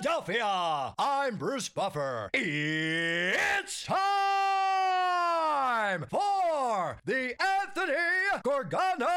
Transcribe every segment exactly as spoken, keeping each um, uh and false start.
Philadelphia, I'm Bruce Buffer. It's time for the Anthony Gargano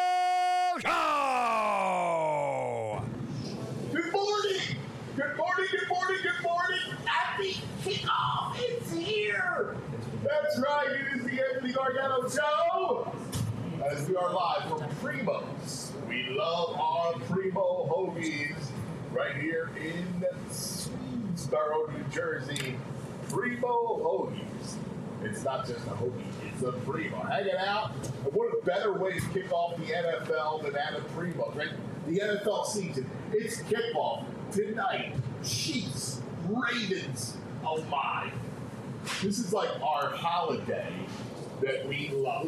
Show! Good morning! Good morning, good morning, good morning! Happy kickoff! It's here! That's right, it is the Anthony Gargano Show! As we are live from Primo's. We love our Primo Hoagies right here in Swedesboro, New Jersey. Primo Hoagies. It's not just a hoagie, it's a Primo. Hanging out. And what a better way to kick off the N F L than at a Primo, right? The N F L season. It's kickoff tonight. Chiefs, Ravens. Oh my. This is like our holiday that we love.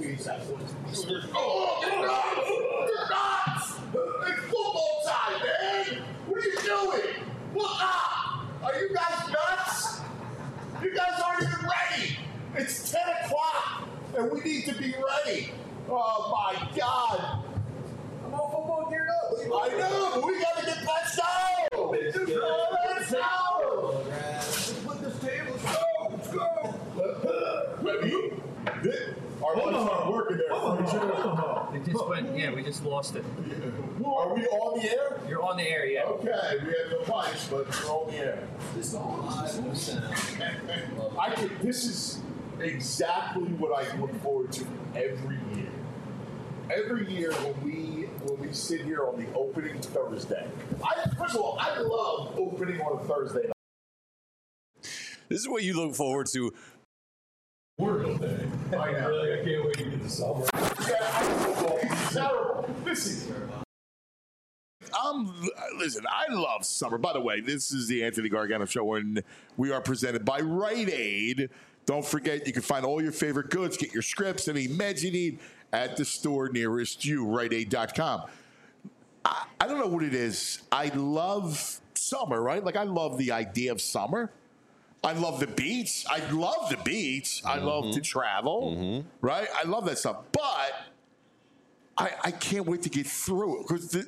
Oh, you're nuts! You're nuts! It's football time, man! What are you doing? Look up! Are you guys nuts? You guys aren't even ready! It's ten o'clock, and we need to be ready. Oh, my God. I'm all football geared up. I know, but we got to get that show! Let's go! Let's go! Put this table. Let's go! Let's go! Wait, you? Our lights aren't working there. It just went, yeah, we just lost it. Are we on the air? You're on the air, yeah. Okay, we have no lights, but we're on the air. This is live no sound. I think this is exactly what I look forward to every year. Every year when we when we sit here on the opening Thursday. I, first of all, I love opening on a Thursday night. This is what you look forward to. Memorial Day. I know. Really, I can't wait to get the summer. Yeah, I football. It's terrible. This is. Um, listen, I love summer. By the way, this is the Anthony Gargano Show, and we are presented by Rite Aid. Don't forget, you can find all your favorite goods, get your scripts, any meds you need at the store nearest you, rite aid dot com. I, I don't know what it is. I love summer, right? Like, I love the idea of summer. I love the beach. I love the beach. I Mm-hmm. love to travel, Mm-hmm. right? I love that stuff. But I, I can't wait to get through it because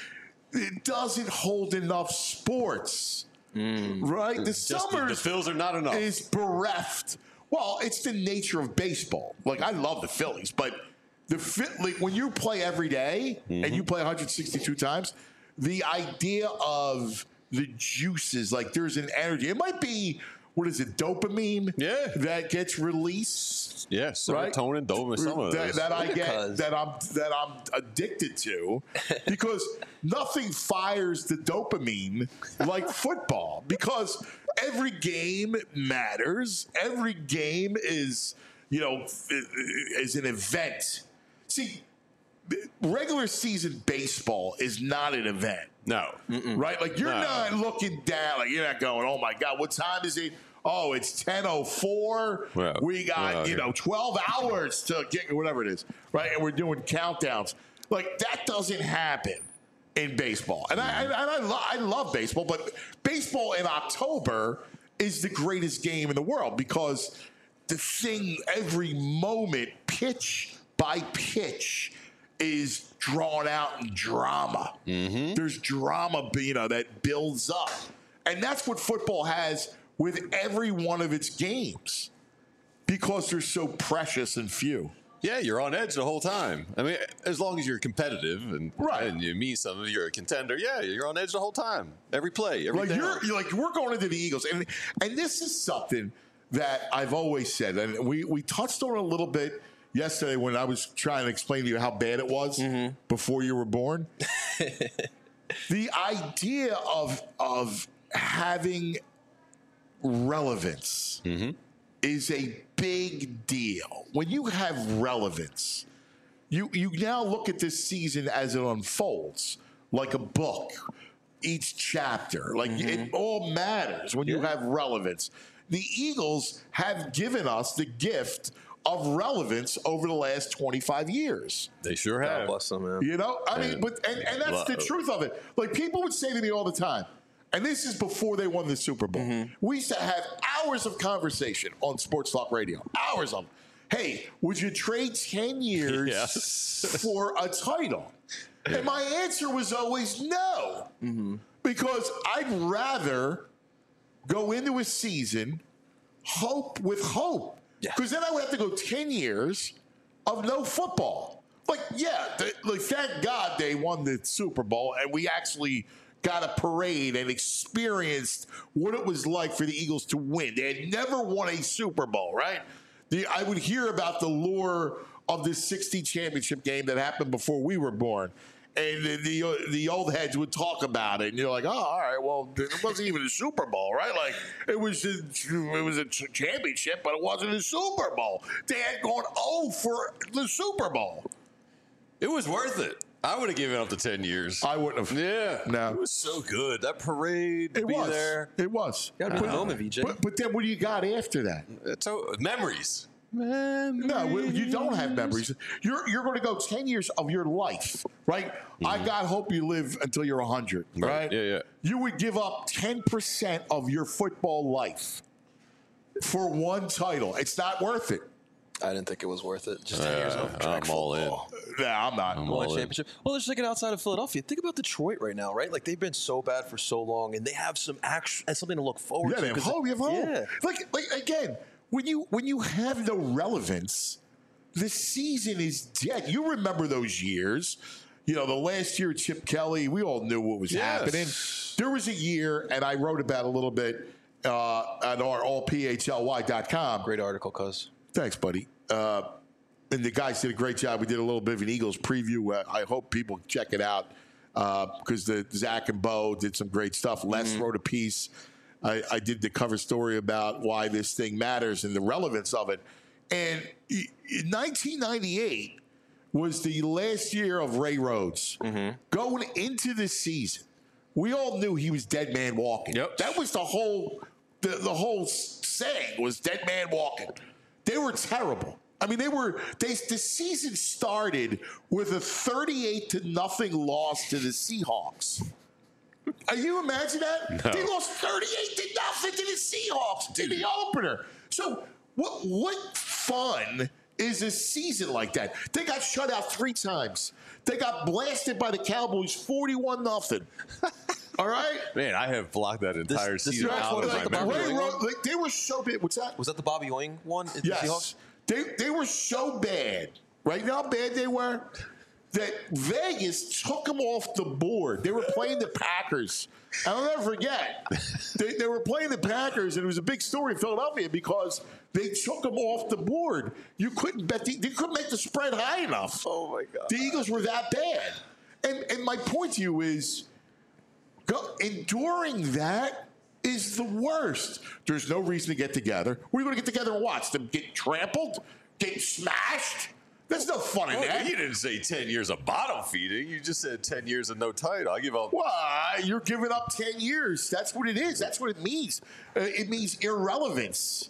it doesn't hold enough sports, Mm. right? The Just the, summer the Phils are not enough. is bereft. Well, it's the nature of baseball. Like, I love the Phillies, but the like, when you play every day Mm-hmm. and you play one hundred sixty-two times, the idea of the juices, like there's an energy. It might be, what is it, dopamine? Yeah. That gets released. Yeah, serotonin, dopamine, some of that, those. that I get, Because- that I'm that I'm addicted to, because nothing fires the dopamine like football. Because every game matters. Every game is, you know, is an event. See, regular season baseball is not an event. No. Right? Like, you're No. not looking down. Like, you're not going, oh, my God, what time is it? Oh, it's ten oh four. Well, we got, well, you know, twelve hours to get whatever it is. Right? And we're doing countdowns. Like, that doesn't happen in baseball. And I, and I, lo- I love baseball, but baseball in October is the greatest game in the world because the thing, every moment, pitch by pitch, is drawn out in drama. Mm-hmm. There's drama, you know, that builds up. And that's what football has with every one of its games because they're so precious and few. Yeah, you're on edge the whole time. I mean, as long as you're competitive and, Right. and you mean something, you're a contender. Yeah, you're on edge the whole time. Every play, every Like down. you're, you're like we're going into the Eagles, and and this is something that I've always said, and we we touched on it a little bit yesterday when I was trying to explain to you how bad it was Mm-hmm. before you were born. The idea of of having relevance Mm-hmm. is a big deal. When you have relevance, you you now look at this season as it unfolds like a book. Each chapter, like it all matters when you have relevance. The Eagles have given us the gift of relevance over the last twenty-five years. They sure God have. bless them, man. You know, I mean, And- but and, and that's the Love. truth of it. Like, people would say to me all the time, and this is before they won the Super Bowl. We used to have hours of conversation on Sports Talk Radio, hours of, hey, would you trade ten years Yes. for a title? And my answer was always no, because I'd rather go into a season hope with hope. Because then I would have to go ten years of no football. Like, yeah, they, like thank God they won the Super Bowl and we actually got a parade and experienced what it was like for the Eagles to win. They had never won a Super Bowl, right? The, I would hear about the lure of this sixty championship game that happened before we were born. And the, the the old heads would talk about it, and you're like, oh, all right, well, it wasn't even a Super Bowl, right? Like, it was a, it was a championship, but it wasn't a Super Bowl. They had gone oh for the Super Bowl. It was worth it. I would have given up the ten years. I wouldn't have. Yeah. No. It was so good. That parade, to It be was. there. It was. Got to be a moment, V J. But, but then what do you got after that? It's so, memories. No, you don't have memories. You're you're going to go ten years of your life, right? Mm-hmm. I God hope you live until you're one hundred, right? Right. Yeah, yeah. You would give up ten percent of your football life for one title. It's not worth it. I didn't think it was worth it. Just ten years Uh, of track I'm all in. football. Nah, I'm not. I'm Won all a in. championship. Well, let's take it outside of Philadelphia. Think about Detroit right now, right? Like they've been so bad for so long, and they have some action and something to look forward Yeah, to. they have 'cause hope. You have hope. Yeah. Like, like again, when you when you have no relevance, the season is dead. You remember those years. You know, the last year, Chip Kelly, we all knew what was Yes. happening. There was a year, and I wrote about it a little bit uh, at our all P H L Y dot com. Great article, cuz. Thanks, buddy. Uh, and the guys did a great job. We did a little bit of an Eagles preview. Uh, I hope people check it out because uh, the Zach and Bo did some great stuff. Les mm-hmm. wrote a piece. I, I did the cover story about why this thing matters and the relevance of it. And in nineteen ninety-eight was the last year of Ray Rhodes. Mm-hmm. Going into the season, we all knew he was dead man walking. Yep. That was the whole the, the whole saying was dead man walking. They were terrible. I mean, they were. They the season started with a thirty-eight to nothing loss to the Seahawks. Are you imagine that? No. They lost thirty-eight to nothing to the Seahawks in the opener. So what? What fun is a season like that? They got shut out three times. They got blasted by the Cowboys, forty-one nothing. All right, Man, I have blocked that entire this season is out of like my the memory. Ray Ewing Rhodes, like, they were so bad. What's that? Was that the Bobby Ewing one? in the Yes. Seahawks? They they were so bad. Right? You know how bad they were? That Vegas took them off the board. They were playing the Packers. I'll never forget. They, they were playing the Packers, and it was a big story in Philadelphia because they took them off the board. You couldn't bet. The, they couldn't make the spread high enough. Oh, my God. The Eagles were that bad. And, and my point to you is, go, enduring that is the worst. There's no reason to get together. What are you going to get together and watch? Them get trampled? Get smashed? There's no fun in Well, that. you didn't say ten years of bottom feeding. You just said ten years of no title. I give up. Well, you're giving up ten years. That's what it is. That's what it means. Uh, it means irrelevance.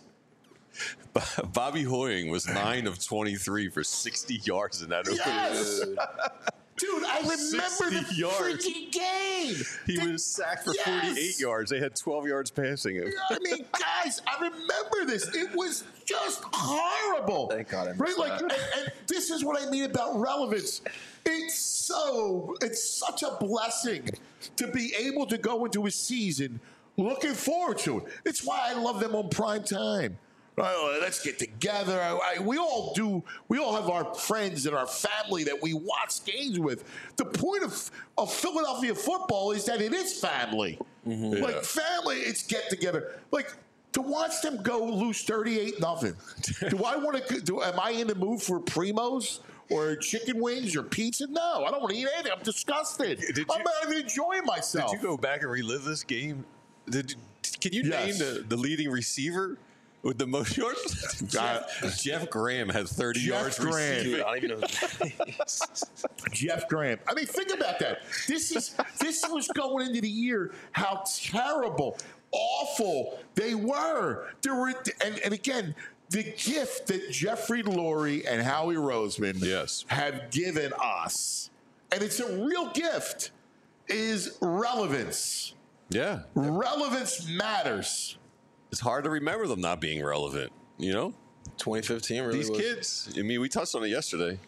Bobby Hoying was nine of twenty-three for sixty yards in that Yes! opening. Dude, I remember the sixty yards. freaking game. He The- was sacked for Yes! forty-eight yards. They had twelve yards passing him. I mean, guys, I remember this. It was just horrible. Thank God I missed Right? Like, that. and, and this is what I mean about relevance. It's so, it's such a blessing to be able to go into a season looking forward to it. It's why I love them on prime time. Right, let's get together. I, I, we all do. We all have our friends and our family that we watch games with. The point of, of Philadelphia football is that it is family. Mm-hmm. Like Yeah. family, it's get together. Like to watch them go lose thirty-eight nothing. Do I want to? Do am I in the mood for primos or chicken wings or pizza? No, I don't want to eat anything. I'm disgusted. Did I'm you- not even enjoying myself. Did you go back and relive this game? Did you, can you Yes. name the, the leading receiver with the most yards? Jeff, Jeff Graham had thirty Jeff yards Graham. receiving. Dude, I don't even know. Jeff Graham. I mean, think about that. This is this was going into the year how terrible, awful they were. There were, and, and again, the gift that Jeffrey Lurie and Howie Roseman Yes. have given us, and it's a real gift, is relevance. Yeah. Relevance matters. It's hard to remember them not being relevant, you know? twenty fifteen really These was. kids, I mean, we touched on it yesterday.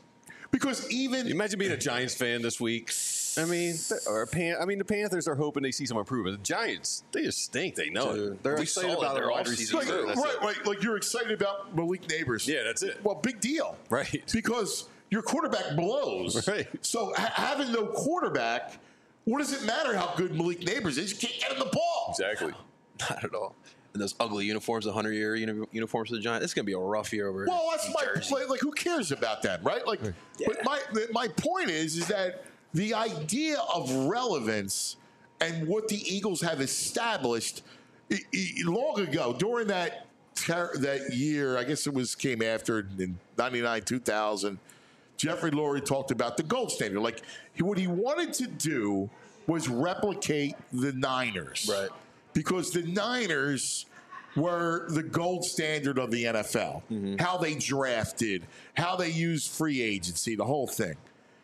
Because even Imagine being a Giants fan this week. I mean, or a Pan- I mean, the Panthers are hoping they see some improvement. The Giants, they just stink. They know Dude, it. they're We excited saw it about in their wide offseason, receiver. like, too. That's right, it. right, like you're excited about Malik Neighbors. Yeah, that's it. Well, big deal, Right. Because your quarterback blows. Right. So ha- having no quarterback, what does it matter how good Malik Neighbors is? You can't get him the ball. Exactly. Not at all. And those ugly uniforms, the hundred-year uni- uniforms for the Giants. It's going to be a rough year over Well, that's in my Jersey. like, like. Who cares about that, right? Like, but my my point is, is that the idea of relevance and what the Eagles have established i- i- long ago during that ter- that year, I guess it was came after in ninety-nine, two thousand. Jeffrey Lurie talked about the gold standard. Like he, what he wanted to do was replicate the Niners, Right. Because the Niners were the gold standard of the N F L. Mm-hmm. How they drafted, how they used free agency, the whole thing.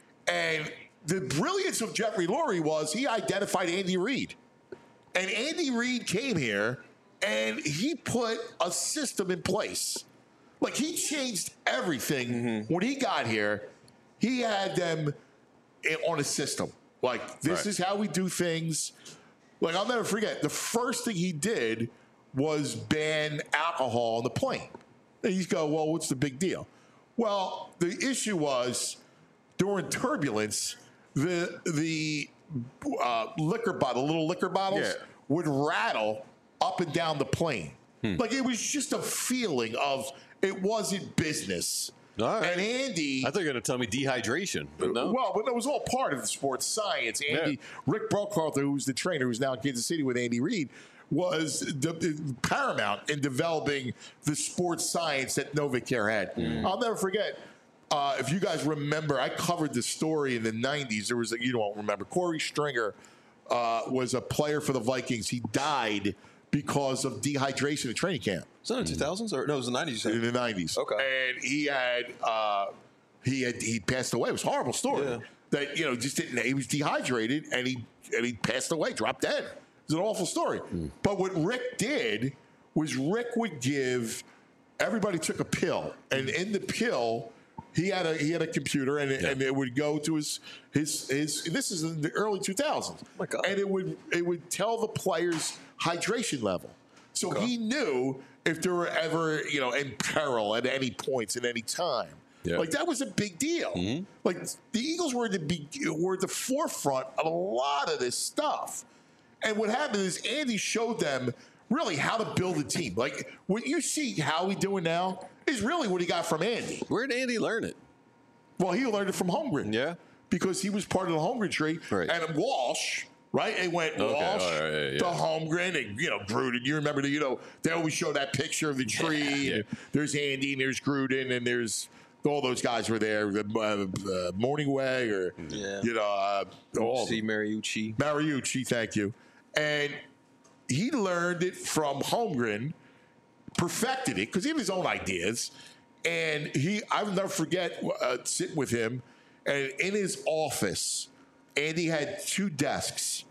And the brilliance of Jeffrey Lurie was he identified Andy Reid. And Andy Reid came here and he put a system in place. Like he changed everything Mm-hmm. when he got here. He had them in- on a system. Like this Right. is how we do things. Like I'll never forget the first thing he did was ban alcohol on the plane. And you go, well, what's the big deal? Well, the issue was during turbulence, the the uh, liquor bottle, little liquor bottles, Yeah. would rattle up and down the plane. Like it was just a feeling of it wasn't business. All right. And Andy, I thought you were going to tell me dehydration, but no. well, but it was all part of the sports science. Andy, Yeah. Rick Brockarther, who's the trainer, who's now in Kansas City with Andy Reid, was the, paramount in developing the sports science that NovaCare had. I'll never forget. Uh, if you guys remember, I covered the story in the nineties. There was, a, you don't remember, Corey Stringer uh, was a player for the Vikings. He died because of dehydration at training camp. Was that in the two thousands? Or, no, it was the nineties. In the nineties. Okay. And he had uh, he had he passed away. It was a horrible story. Yeah. That you know just didn't. He was dehydrated and he and he passed away, dropped dead. It was an awful story. But what Rick did was Rick would give everybody took a pill, and in the pill he had a he had a computer, and, it, and it would go to his his his. This is in the early two thousands. Oh my God. And it would it would tell the players' hydration level. So he knew if they were ever, you know, in peril at any points at any time. Yeah. Like that was a big deal. Like the Eagles were the be- were at the forefront of a lot of this stuff. And what happened is Andy showed them really how to build a team. Like what you see Howie doing now is really what he got from Andy. Where did Andy learn it? Well, he learned it from Holmgren. Yeah. Because he was part of the Holmgren tree. Right. And Walsh, right? It went Okay, Walsh all right, yeah, yeah. to Holmgren and, you know, Gruden. You remember, the, you know, they always show that picture of the tree. Yeah. And there's Andy and there's Gruden and there's all those guys were there. Uh, uh, Morningway or, Yeah. you know, uh, all of See them. Mariucci. Mariucci, thank you. And he learned it from Holmgren, perfected it because he had his own ideas. And he, I'll never forget uh, sitting with him, and in his office, Andy had two desks,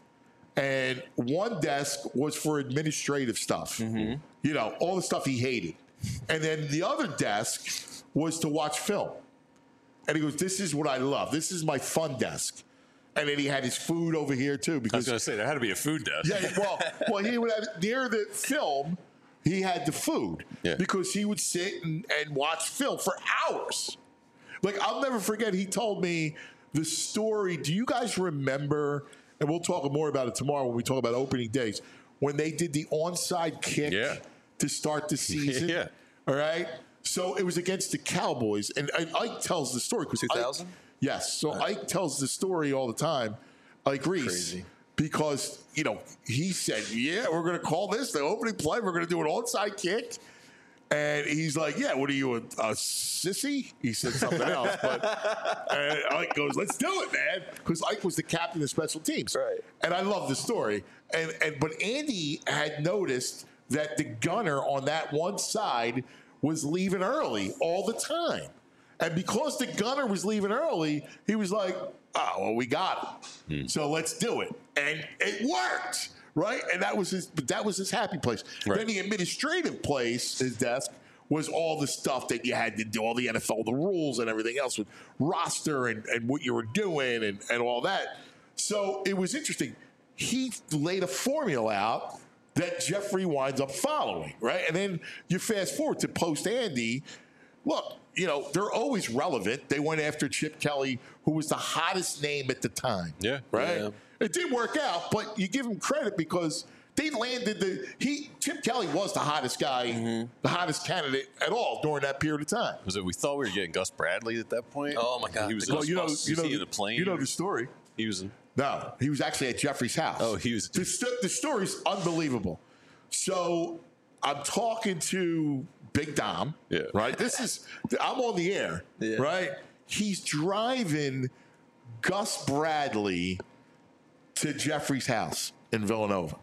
and one desk was for administrative stuff, you know, all the stuff he hated, and then the other desk was to watch film. And he goes, "This is what I love. This is my fun desk." And then he had his food over here too, I was because going to say, there had to be a food desk. yeah, well, well, he would have near the film. He had the food Yeah. because he would sit and, and watch film for hours. Like I'll never forget. He told me the story. Do you guys remember? And we'll talk more about it tomorrow when we talk about opening days. When they did the onside kick Yeah. to start the season. Yeah. All right. So it was against the Cowboys, and, and Ike tells the story because two thousand? Yes. So Ike tells the story all the time. Ike Reese. Crazy. Because, you know, he said, yeah, we're going to call this the opening play. We're going to do an onside kick. And he's like, yeah, what are you, a, a sissy? He said something else. But and Ike goes, let's do it, man. Because Ike was the captain of special teams. Right. And I love the story. And, and But Andy had noticed that the gunner on that one side was leaving early all the time. And because the gunner was leaving early, he was like, oh, well, we got him. So let's do it. And it worked, right? And that was his that was his happy place. Right. Then the administrative place, his desk, was all the stuff that you had to do, all the N F L, the rules and everything else with roster and, and what you were doing and, and all that. So it was interesting. He laid a formula out that Jeffrey winds up following, right? And then you fast forward to post Andy. Look, you know, they're always relevant. They went after Chip Kelly, who was the hottest name at the time. Yeah. Right? Yeah. It did work out, but you give him credit because they landed the he Chip Kelly was the hottest guy, mm-hmm. the hottest candidate at all during that period of time. Was it? We thought we were getting Gus Bradley at that point. Oh my God, He was. the Well, you know, was you know, he in a plane. you know the story. He was. In, No, he was actually at Jeffrey's house. Oh, he was- The, st- the story's unbelievable. So I'm talking to Big Dom. Yeah. Right. This is I'm on the air. Yeah. Right. He's driving Gus Bradley to Jeffrey's house in Villanova.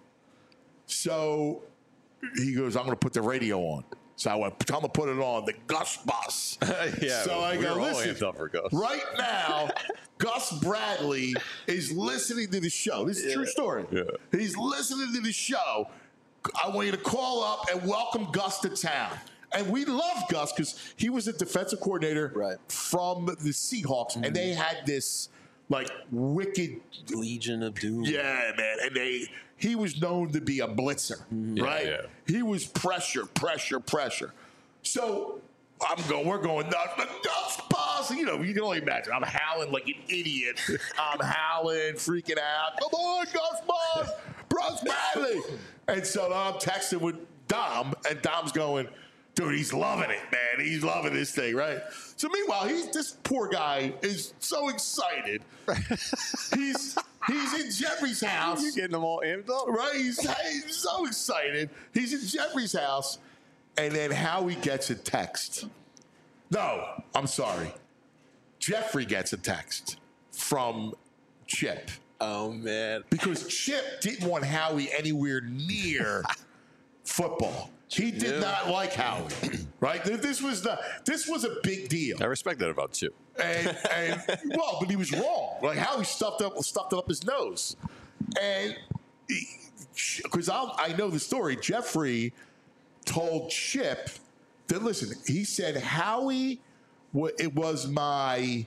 So he goes, I'm going to put the radio on. So I went, I'm going to put it on, the Gus bus. yeah. So I we go, were all listen, amped up for Gus. right now, Gus Bradley is listening to the show. This is a true story. Yeah. He's listening to the show. I want you to call up and welcome Gus to town. And we love Gus because he was a defensive coordinator Right. from the Seahawks, and they had this like wicked, Legion of Doom. yeah, man. And they he was known to be a blitzer, right? yeah. He was pressure, pressure, pressure. So I'm going, we're going nuts. The Gus boss, you know, you can only imagine. I'm howling like an idiot. I'm howling, freaking out. Come on, Gus boss, Bruce Bradley. And so I'm texting with Dom, and Dom's going, dude, he's loving it, man. He's loving this thing, right? So meanwhile, he's this poor guy is so excited. he's he's in Jeffrey's house. You're getting them all amped up. Right? He's, he's so excited. He's in Jeffrey's house, and then Howie gets a text. No, I'm sorry. Jeffrey gets a text from Chip Oh man. because Chip didn't want Howie anywhere near football. He did Yeah. not like Howie, right? This was the this was a big deal. I respect that about Chip. And, and well, but he was wrong. Like how he stuffed up stuffed it up his nose, and because I I know the story. Jeffrey told Chip that listen. He said Howie, wa- it was my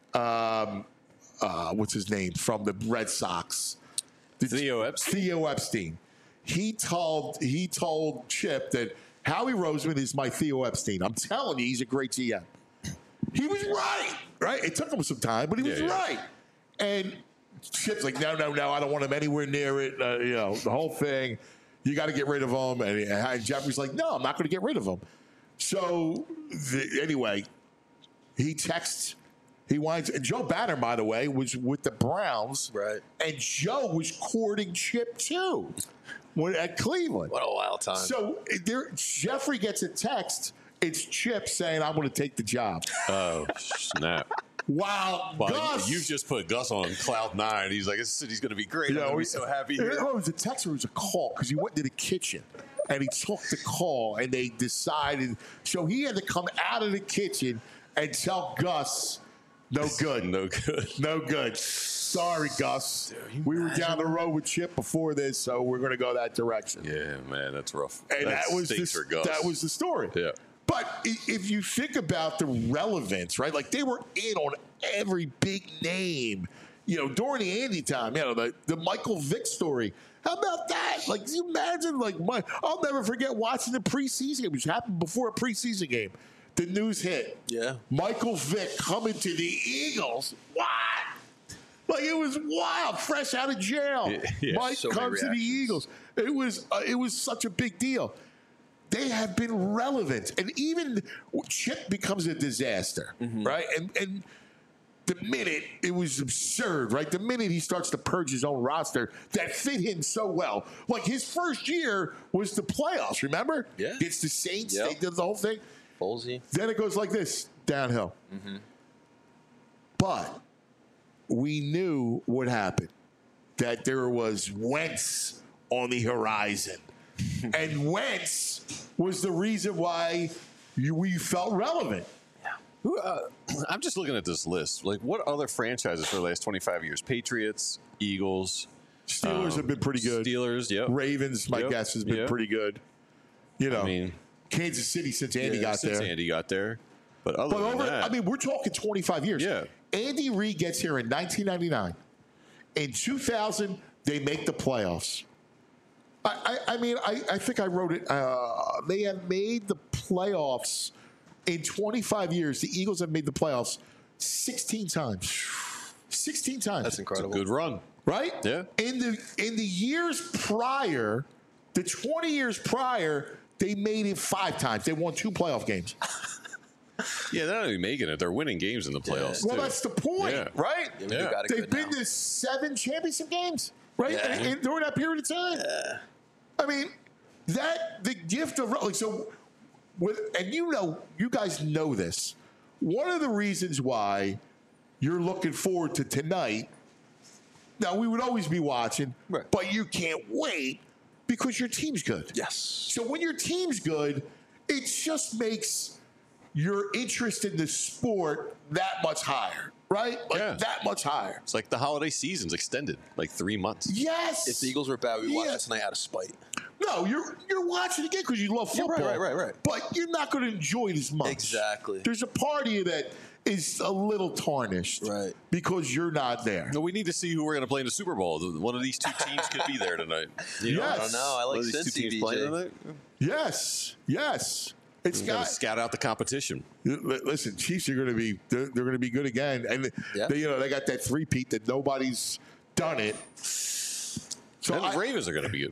um, uh, what's his name from the Red Sox, Theo Epstein. Theo Epstein. He told he told Chip that Howie Roseman is my Theo Epstein. I'm telling you, he's a great G M. He was right, right? It took him some time, but he was Yeah, yeah. right. And Chip's like, no, no, no, I don't want him anywhere near it. Uh, you know, the whole thing. You got to get rid of him. And, and Jeffrey's like, no, I'm not going to get rid of him. So the, anyway, he texts. He winds. And Joe Banner, by the way, was with the Browns. Right. And Joe was courting Chip too when, at Cleveland. What a wild time. So there, Jeffrey gets a text. It's Chip saying, I'm going to take the job. Oh, snap. Wow. Well, Gus. you've just put Gus on cloud nine. He's like, this city's going to be great. I'm going to be so happy It here. was a text or it was a call because he went to the kitchen and he took the call and they decided. So he had to come out of the kitchen and tell Gus, no good. No good. No good. Sorry, Gus. We were down the road with Chip before this, so we're going to go that direction. Yeah, man, that's rough. And that, was the, stinks for Gus. that was the story. Yeah. But i- if you think about the relevance, right? Like they were in on every big name, you know, during the Andy time, you know, the, the Michael Vick story. How about that? Like, can you imagine, like, my, I'll never forget watching the preseason game, which happened before a preseason game. The news hit. Yeah. Michael Vick coming to the Eagles. What? Like it was wild, fresh out of jail. Yeah, yeah, Mike so many comes to the reactions. Eagles. It was uh, it was such a big deal. They have been relevant, and even Chip becomes a disaster, right? And and the minute it was absurd, right? The minute he starts to purge his own roster that fit him so well, like his first year was the playoffs. Remember? Yeah. Against the Saints, Yep. they did the whole thing. Ballsy. Then it goes like this, downhill. But we knew what happened, that there was Wentz on the horizon. And Wentz was the reason why you, we felt relevant. Who, uh, I'm just looking at this list. Like, what other franchises for the last twenty-five years? Patriots, Eagles, Steelers um, have been pretty good. Steelers, yep. Ravens, my Yep, guess, has been yep. pretty good. You know, I mean, Kansas City since Andy Yeah, got since there. Andy got there. But other But than over, that, I mean, we're talking twenty-five years. Yeah. Andy Reid gets here in nineteen ninety-nine. In two thousand, they make the playoffs. I, I, I mean, I, I think I wrote it. Uh, they have made the playoffs in twenty-five years. The Eagles have made the playoffs sixteen times. sixteen times. That's incredible. good run. Right? Yeah. In the in the years prior, the twenty years prior, they made it five times. They won two playoff games. Yeah, they're not even making it. They're winning games in the playoffs. Well, too. that's the point, Yeah. right? Yeah, we Yeah. got it They've good been now. to seven championship games, right? Yeah. In- in- during that period of time. I mean, that the gift of like so, with and you know, you guys know this. One of the reasons why you're looking forward to tonight. Now we would always be watching, Right. but you can't wait because your team's good. Yes. So when your team's good, it just makes your interest in the sport that much higher, right? Like Yeah. that much higher. It's like the holiday season's extended, like three months. Yes. If the Eagles were bad, we'd watch Yeah. it tonight out of spite. No, you're you're watching again because you love Yeah, football. right, right, right, right. But you're not going to enjoy it as much. Exactly. There's a part of you that is a little tarnished, Right. Because you're not there. No, we need to see who we're going to play in the Super Bowl. One of these two teams could be there tonight. You know? Yes. I don't know. I One like of these two Cincy, teams D playing J. tonight. Yes, yes. It's We got got. to scout out the competition. Li- Listen, Chiefs are going to be they're, they're going to be good again, and Yeah. they, you know they got that three-peat that nobody's done it. So and I, the Ravens are going to be good.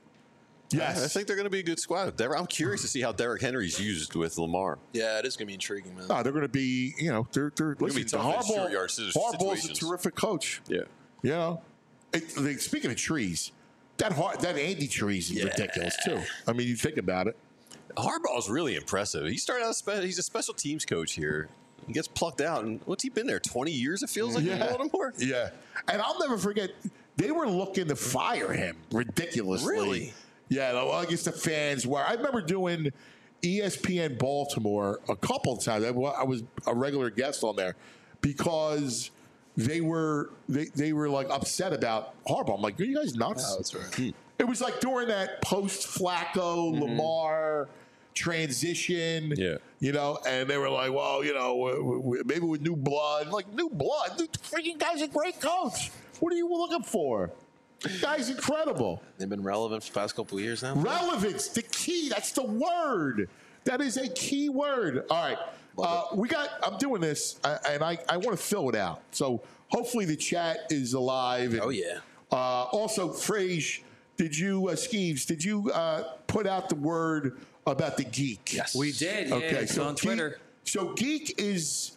yes, I think they're going to be a good squad. Derek- I'm curious to see how Derrick Henry's used with Lamar. Yeah, it is going to be intriguing, man. no, they're going to be you know they're they're gonna be listen, tough in Harbaugh, short yard si- Harbaugh's a situations. terrific coach. Yeah. You know, it, like, speaking of trees, that Har- that Andy trees is Yeah. ridiculous too. I mean, you think about it. Harbaugh's really impressive. He started out, spe- he's a special teams coach here. He gets plucked out, and what's he been there? twenty years, it feels like, in Baltimore? Yeah, and I'll never forget. They were looking to fire him ridiculously. Really? Yeah, well, I guess the fans were. I remember doing E S P N Baltimore a couple of times. I wa- I was a regular guest on there because they were they, they were like upset about Harbaugh. I'm like, are you guys nuts? Oh, that's right. It was like during that post Flacco Lamar transition. Yeah. You know, and they were like, well, you know, w- w- maybe with new blood. Like, new blood? The freaking guy's a great coach. What are you looking for? The guy's incredible. They've been relevant for the past couple of years now. Relevance, the key. That's the word. That is a key word. All right. Uh, we got, I'm doing this, uh, and I, I want to fill it out. So hopefully the chat is alive. And, Oh, yeah. Uh, also, Frage, did you, uh, Skeeves, did you uh, put out the word about the geek? Yes. We did. Yeah, it's on Geek- Twitter. so Geek is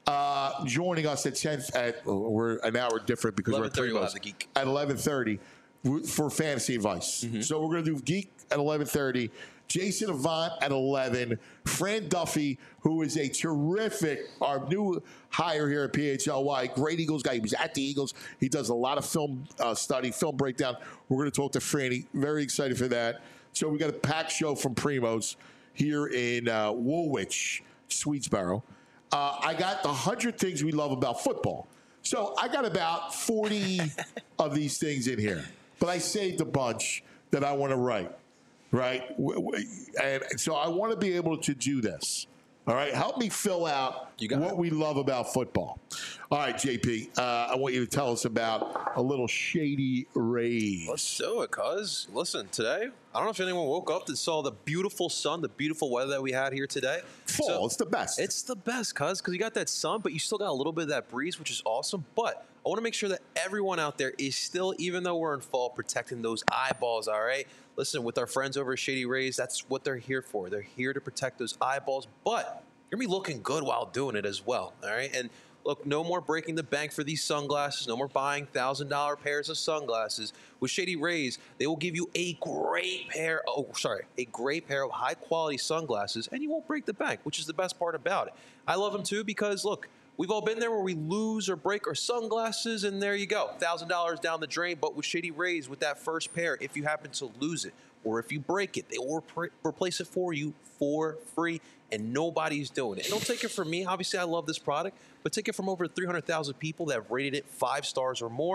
uh, joining us at ten. At oh, we're an hour different because we're at eleven thirty three we'll of us. have the Geek. At eleven thirty for fantasy advice. Mm-hmm. So we're going to do Geek at eleven thirty. Jason Avant at eleven. Fran Duffy, who is a terrific, our new hire here at P H L Y, great Eagles guy. He was at the Eagles. He does a lot of film uh, study, film breakdown. We're going to talk to Franny. Very excited for that. So we got a packed show from Primos here in uh, Woolwich, Swedesboro. Uh, I got the one hundred things we love about football. So I got about forty of these things in here. But I saved a bunch that I want to write, right? W- w- And so I want to be able to do this. All right? Help me fill out You got what it. we love about football. All right, J P, uh, I want you to tell us about a little Shady Rays. Let's do it, cuz. Listen, today, I don't know if anyone woke up and saw the beautiful sun, the beautiful weather that we had here today. Fall, So- it's the best. It's the best, cuz, because you got that sun, but you still got a little bit of that breeze, which is awesome. But I want to make sure that everyone out there is still, even though we're in fall, protecting those eyeballs, all right? Listen, with our friends over at Shady Rays, that's what they're here for. They're here to protect those eyeballs, but you're going to be looking good while doing it as well, all right? And look, no more breaking the bank for these sunglasses. No more buying one thousand dollars pairs of sunglasses. With Shady Rays, they will give you a great pair, oh, sorry, a great pair of high-quality sunglasses, and you won't break the bank, which is the best part about it. I love them, too, because, look, we've all been there where we lose or break our sunglasses, and there you go, one thousand dollars down the drain. But with Shady Rays, with that first pair, if you happen to lose it or if you break it, they will repre- replace it for you for free, and nobody's doing it. And don't take it from me. Obviously, I love this product, but take it from over three hundred thousand people that have rated it five stars or more,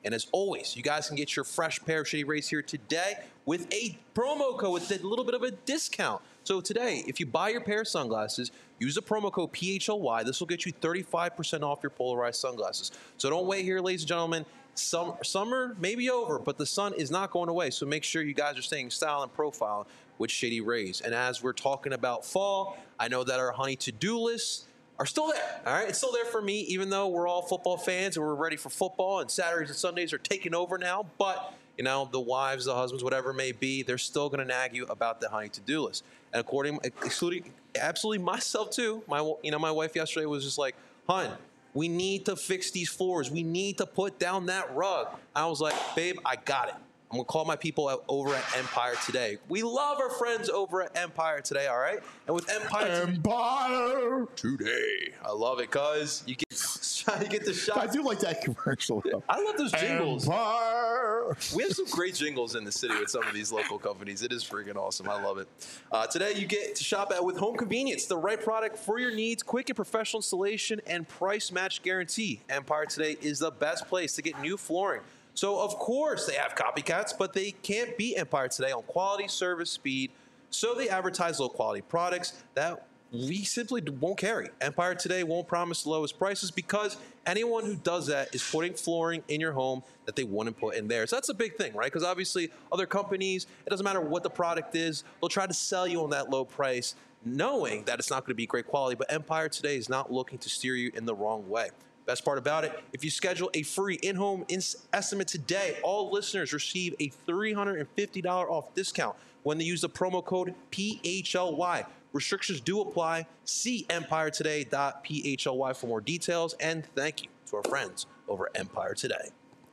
And as always, you guys can get your fresh pair of Shady Rays here today with a promo code with a little bit of a discount. So today, if you buy your pair of sunglasses, use the promo code P H L Y. This will get you thirty-five percent off your polarized sunglasses. So don't wait here, ladies and gentlemen. Some, summer may be over, but the sun is not going away. So make sure you guys are staying style and profile with Shady Rays. And as we're talking about fall, I know that our honey to-do lists are still there. All right, it's still there for me, even though we're all football fans and we're ready for football. And Saturdays and Sundays are taking over now. But you know, the wives, the husbands, whatever it may be, they're still going to nag you about the honey to-do list. And according, excluding absolutely myself too, my you know, my wife yesterday was just like, "Hun, we need to fix these floors. We need to put down that rug." I was like, "Babe, I got it. I'm going to call my people out over at Empire Today." We love our friends over at Empire Today, all right? And with Empire Empire Today, I love it because you get, you get the shot. I do like that commercial. Though. I love those jingles. Empire. We have some great jingles in the city with some of these local companies. It is freaking awesome. I love it. Uh, today, you get to shop at with Home Convenience, the right product for your needs, quick and professional installation, and price match guarantee. Empire Today is the best place to get new flooring. So, of course, they have copycats, but they can't beat Empire Today on quality, service, speed. So they advertise low-quality products that we simply won't carry. Empire Today won't promise the lowest prices because anyone who does that is putting flooring in your home that they wouldn't put in theirs. That's a big thing, right? Because obviously other companies, it doesn't matter what the product is, they'll try to sell you on that low price knowing that it's not going to be great quality. But Empire Today is not looking to steer you in the wrong way. Best part about it, if you schedule a free in-home ins- estimate today, all listeners receive a three hundred fifty dollars off discount when they use the promo code P H L Y. Restrictions do apply. See empire today dot p h l y for more details. And thank you to our friends over at Empire Today.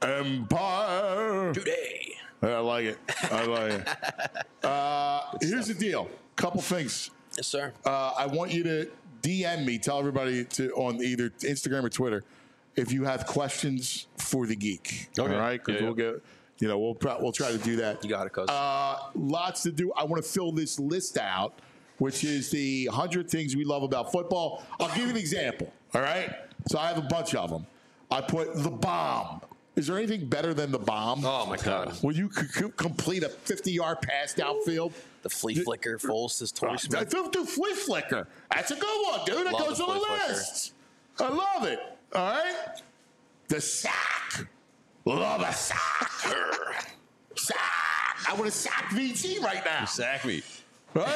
Empire Today. I like it. I like it. Uh, here's the deal. Couple things. Yes, sir. Uh, I want you to D M me. Tell everybody to on either Instagram or Twitter if you have questions for the geek. Okay. All right, because Yeah, we'll yeah. get. You know, we'll we'll try to do that. You got it, cuz. Uh, lots to do. I want to fill this list out, which is the one hundred things we love about football. I'll give you an example, all right? So I have a bunch of them. I put the bomb. Is there anything better than the bomb? Oh, my God. Will you c- c- complete a fifty-yard pass downfield? The flea flicker, Foles, says Torrey Uh, Smith. do, do flea flicker. That's a good one, dude. That Love goes the on the flea flicker. list. I love it. All right? The sack. Love a sack. Sack. I want to sack V T right now. Sack me. Right?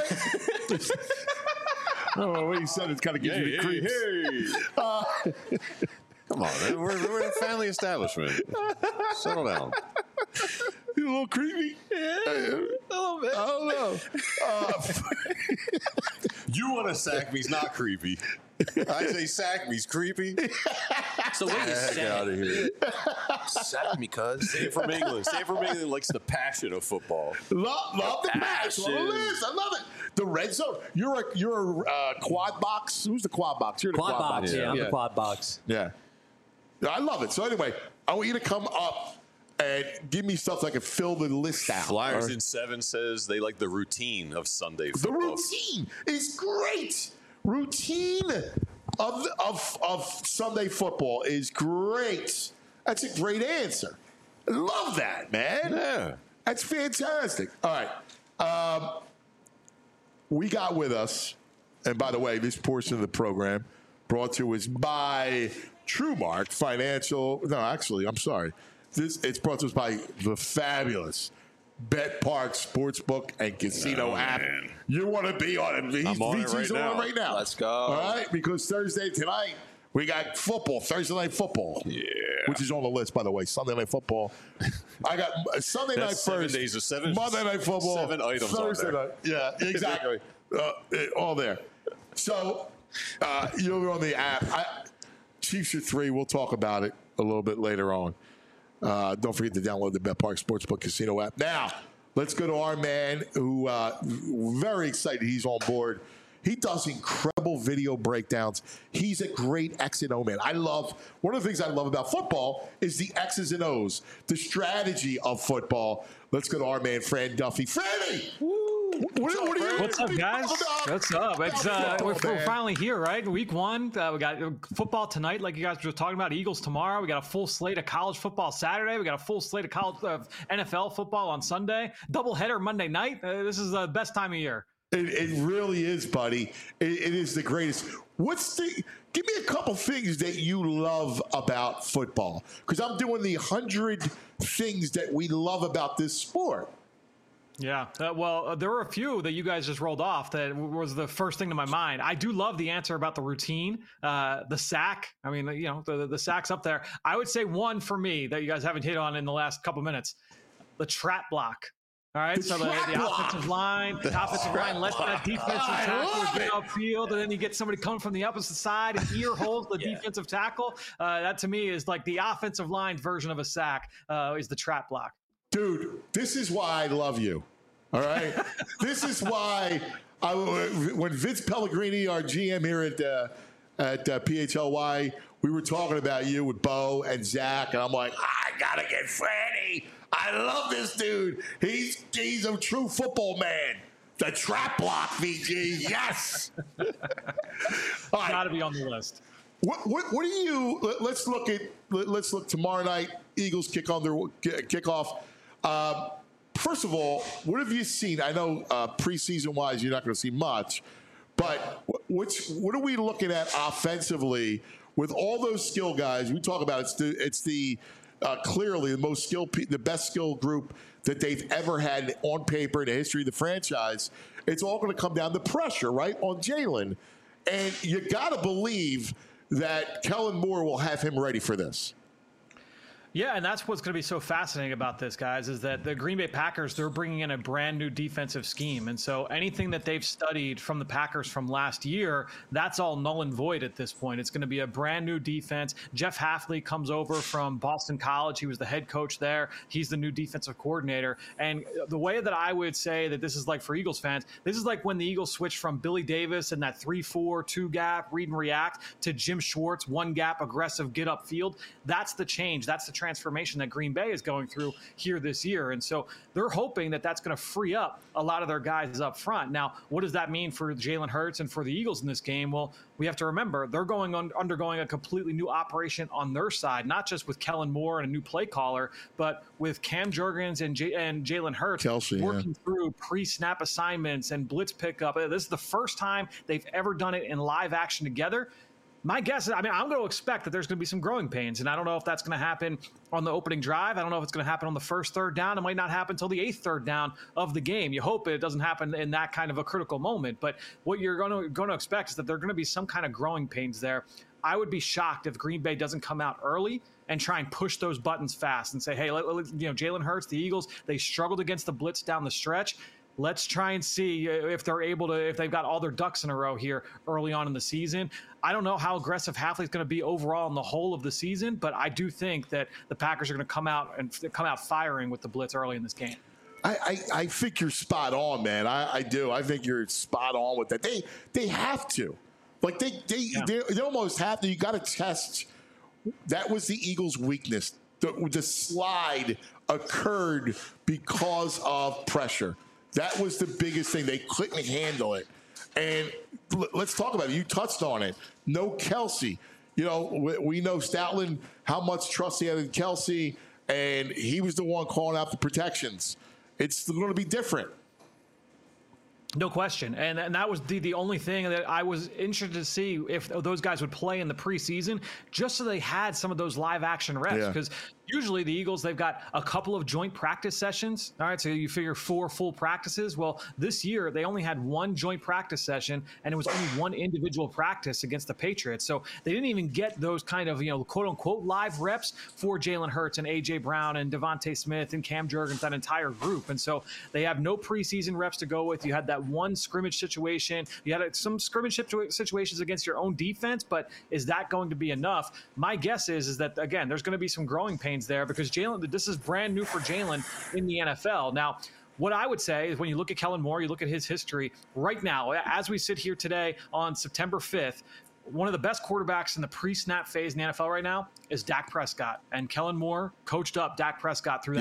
Oh, what you said it kind of gives Hey, you the hey, creeps. hey. Uh, Come on, man. We're, we're a family establishment. Settle down. You a little creepy? Yeah, a little bit. I don't know. Uh, You want to sack me's not creepy. I say sack me's creepy. So what you Heck saying? out of here. Sack me, cuz. Save from England. Save from England likes the passion of football. love, love the match. On the Passion. list. I love it. The red zone. You're a you're a uh, quad box. Who's the quad box? You're the Quad, quad, box, box. yeah, I'm yeah. the quad box. Yeah. I love it. So anyway, I want you to come up and give me stuff so I can fill the list out. Flyers All right? in seven says they like the routine of Sunday The football. routine is great. Routine of, of, of Sunday football is great. That's a great answer. I love that, man. Yeah. That's fantastic. All right. Um, we got with us, and by the way, this portion of the program brought to us by TrueMark Financial. No, actually, I'm sorry. This it's brought to us by the fabulous Bet Park Sportsbook and Casino Oh, app. man. You want to be on it? He's, I'm on it V T's right on now. it right now. Let's go. All right, because Thursday tonight we got football. Thursday night football. Yeah. Which is on the list, by the way. Sunday night football. I got uh, Sunday That's night seven first. days of seven- Monday night football. seven items on Thursday there. night. Yeah, exactly. uh, it- all there. So uh, you're on the app. I, Chiefs are three. We'll talk about it a little bit later on. Uh, don't forget to download the Bet Park Sportsbook Casino app. Now, let's go to our man who uh, very excited he's on board. He does incredible video breakdowns. He's a great X and O man. I love, one of the things I love about football is the X's and O's, the strategy of football. Let's go to our man, Fran Duffy. Franny! What, what are you, What's up, what are you guys? talking about? What's up? It's uh, we're, Football, we're man. finally here, right? Week one. Uh, we got football tonight, like you guys were talking about. Eagles tomorrow. We got a full slate of college football Saturday. We got a full slate of college uh, N F L football on Sunday. Doubleheader Monday night. Uh, this is the best time of year. It, it really is, buddy. It, it is the greatest. What's the? Give me a couple things that you love about football, because I'm doing the hundred things that we love about this sport. Yeah, uh, well, uh, there were a few that you guys just rolled off that w- was the first thing to my mind. I do love the answer about the routine, uh, the sack. I mean, you know, the, the sack's up there. I would say one for me that you guys haven't hit on in the last couple minutes, the trap block. All right, The so the, trap the block. offensive line, the offensive line lets that defensive tackle get upfield, and then you get somebody coming from the opposite side and ear holes the defensive tackle. Uh, that to me is like the offensive line version of a sack uh, is the trap block. Dude, this is why I love you. All right? This is why I, when Vince Pellegrini, our G M here at uh, at uh, P H L Y, we were talking about you with Bo and Zach, and I'm like, I got to get Franny. I love this dude. He's he's a true football man. The trap block, V G. Yes. All right. Got to be on the list. What, what what do you? let- Let's look at. let- Let's look tomorrow night. Eagles kick on their kickoff. Uh, first of all, what have you seen? I know uh, preseason wise, you're not going to see much, but wh- what's what are we looking at offensively with all those skill guys? We talk about it's the it's the uh, clearly the most skilled, pe- the best skill group that they've ever had on paper in the history of the franchise. It's all going to come down to pressure, right, on Jalen, and you got to believe that Kellen Moore will have him ready for this. Yeah, and that's what's going to be so fascinating about this, guys, is that the Green Bay Packers, they're bringing in a brand new defensive scheme. And so anything that they've studied from the Packers from last year, that's all null and void at this point. It's going to be a brand new defense. Jeff Hafley comes over from Boston College. He was the head coach there. He's the new defensive coordinator. And the way that I would say that this is like for Eagles fans, this is like when the Eagles switched from Billy Davis and that three four, two gap, read and react, to Jim Schwartz, one gap, aggressive, get upfield. That's the change. That's the transformation that Green Bay is going through here this year. And so they're hoping that that's going to free up a lot of their guys up front. Now, what does that mean for Jalen Hurts and for the Eagles in this game? Well, we have to remember they're going on, undergoing a completely new operation on their side, not just with Kellen Moore and a new play caller, but with Cam Jurgens and, J- and Jalen Hurts Kelsey, working yeah. through pre-snap assignments and blitz pickup. This is the first time they've ever done it in live action together. My guess is, I mean, I'm going to expect that there's going to be some growing pains, and I don't know if that's going to happen on the opening drive. I don't know if it's going to happen on the first third down. It might not happen until the eighth third down of the game. You hope it doesn't happen in that kind of a critical moment. But what you're going to going to expect is that there are going to be some kind of growing pains there. I would be shocked if Green Bay doesn't come out early and try and push those buttons fast and say, hey, let, let, you know, Jalen Hurts, the Eagles, they struggled against the blitz down the stretch. Let's try and see if they're able to, if they've got all their ducks in a row here early on in the season. I don't know how aggressive Hafley's going to be overall in the whole of the season, but I do think that the Packers are going to come out and come out firing with the blitz early in this game. I, I, I think you're spot on, man. I, I do. I think you're spot on with that. They they have to. Like, they they, Yeah. they, they almost have to. You got to test. That was the Eagles' weakness. The, the slide occurred because of pressure. That was the biggest thing. They couldn't handle it. And l- let's talk about it. You touched on it. No Kelsey. You know, we, we know Stoutland, how much trust he had in Kelsey, and he was the one calling out the protections. It's going to be different. No question. And, and that was the, the only thing that I was interested to see if those guys would play in the preseason, just so they had some of those live action reps. Yeah. Because usually the Eagles, they've got a couple of joint practice sessions. All right, so you figure four full practices. Well, this year they only had one joint practice session, and it was only one individual practice against the Patriots. So they didn't even get those kind of, you know, quote unquote live reps for Jalen Hurts and A J Brown and Devontae Smith and Cam Jurgens, that entire group. And so they have no preseason reps to go with. You had that one scrimmage situation. You had some scrimmage situ- situations against your own defense, but is that going to be enough? My guess is, is that, again, there's going to be some growing pains there because Jalen, this is brand new for Jalen in the N F L. Now, what I would say is when you look at Kellen Moore, you look at his history right now, as we sit here today on September fifth, one of the best quarterbacks in the pre-snap phase in the N F L right now is Dak Prescott. And Kellen Moore coached up Dak Prescott through that Yeah.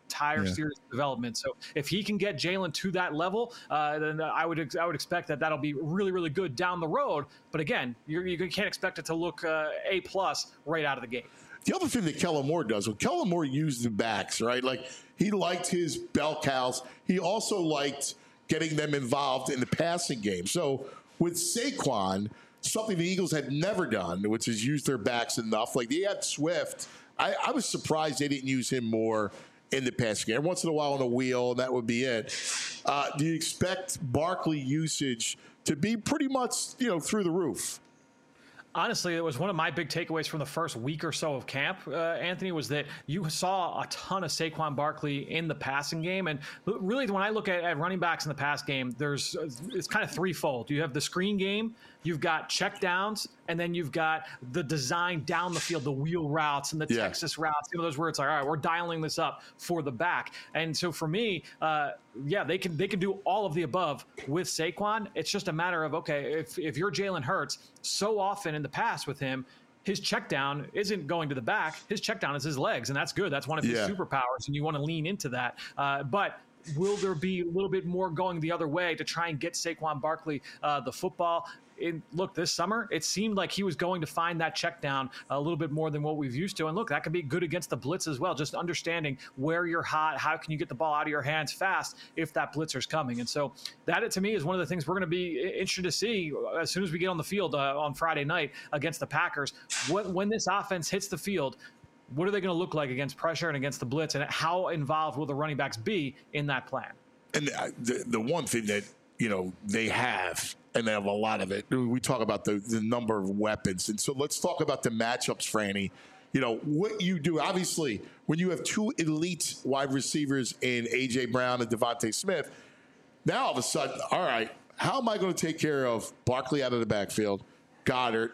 entire Yeah. series of development. So if he can get Jalen to that level, uh, then I would ex- I would expect that that'll be really, really good down the road. But again, you're, you can't expect it to look uh, A plus right out of the gate. The other thing that Kellen Moore does, well, Kellen Moore used the backs, right? Like, he liked his bell cows. He also liked getting them involved in the passing game. So with Saquon, something the Eagles had never done, which is use their backs enough. Like, they had Swift. I, I was surprised they didn't use him more in the passing game. Once in a while on a wheel, and that would be it. Uh, do you expect Barkley usage to be pretty much, you know, through the roof? Honestly, it was one of my big takeaways from the first week or so of camp, uh, Anthony, was that you saw a ton of Saquon Barkley in the passing game. And really, when I look at, at running backs in the pass game, there's it's kind of threefold. You have the screen game, you've got check downs, and then you've got the design down the field, the wheel routes and the Yeah. Texas routes. You know, those where it's like, all right, we're dialing this up for the back. And so for me, uh, yeah, they can they can do all of the above with Saquon. It's just a matter of, okay, if if you're Jalen Hurts, so often in the past with him, his check down isn't going to the back. His check down is his legs, and that's good. That's one of his Yeah. superpowers, and you want to lean into that. Uh, but will there be a little bit more going the other way to try and get Saquon Barkley uh, the football? In, look, this summer, it seemed like he was going to find that check down a little bit more than what we've used to. And look, that could be good against the blitz as well, just understanding where you're hot, how can you get the ball out of your hands fast if that blitzer's coming. And so that, to me, is one of the things we're going to be interested to see as soon as we get on the field uh, on Friday night against the Packers. When, when this offense hits the field, what are they going to look like against pressure and against the blitz, and how involved will the running backs be in that plan? And uh, the, the one thing that, you know, they have, and they have a lot of it, we talk about the, the number of weapons. And so let's talk about the matchups, Franny. You know, what you do, obviously, when you have two elite wide receivers in A J. Brown and Devontae Smith, now all of a sudden, all right, how am I going to take care of Barkley out of the backfield, Goddard,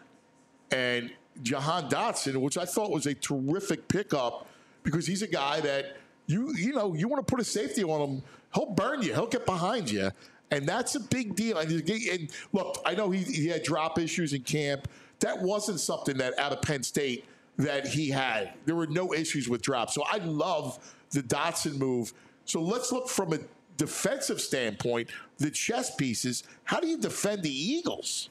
and Jahan Dotson, which I thought was a terrific pickup because he's a guy that, you you know, you want to put a safety on him, he'll burn you, he'll get behind you. And that's a big deal. And, and look, I know he, he had drop issues in camp. That wasn't something that out of Penn State that he had. There were no issues with drops. So I love the Dotson move. So let's look from a defensive standpoint, the chess pieces. How do you defend the Eagles?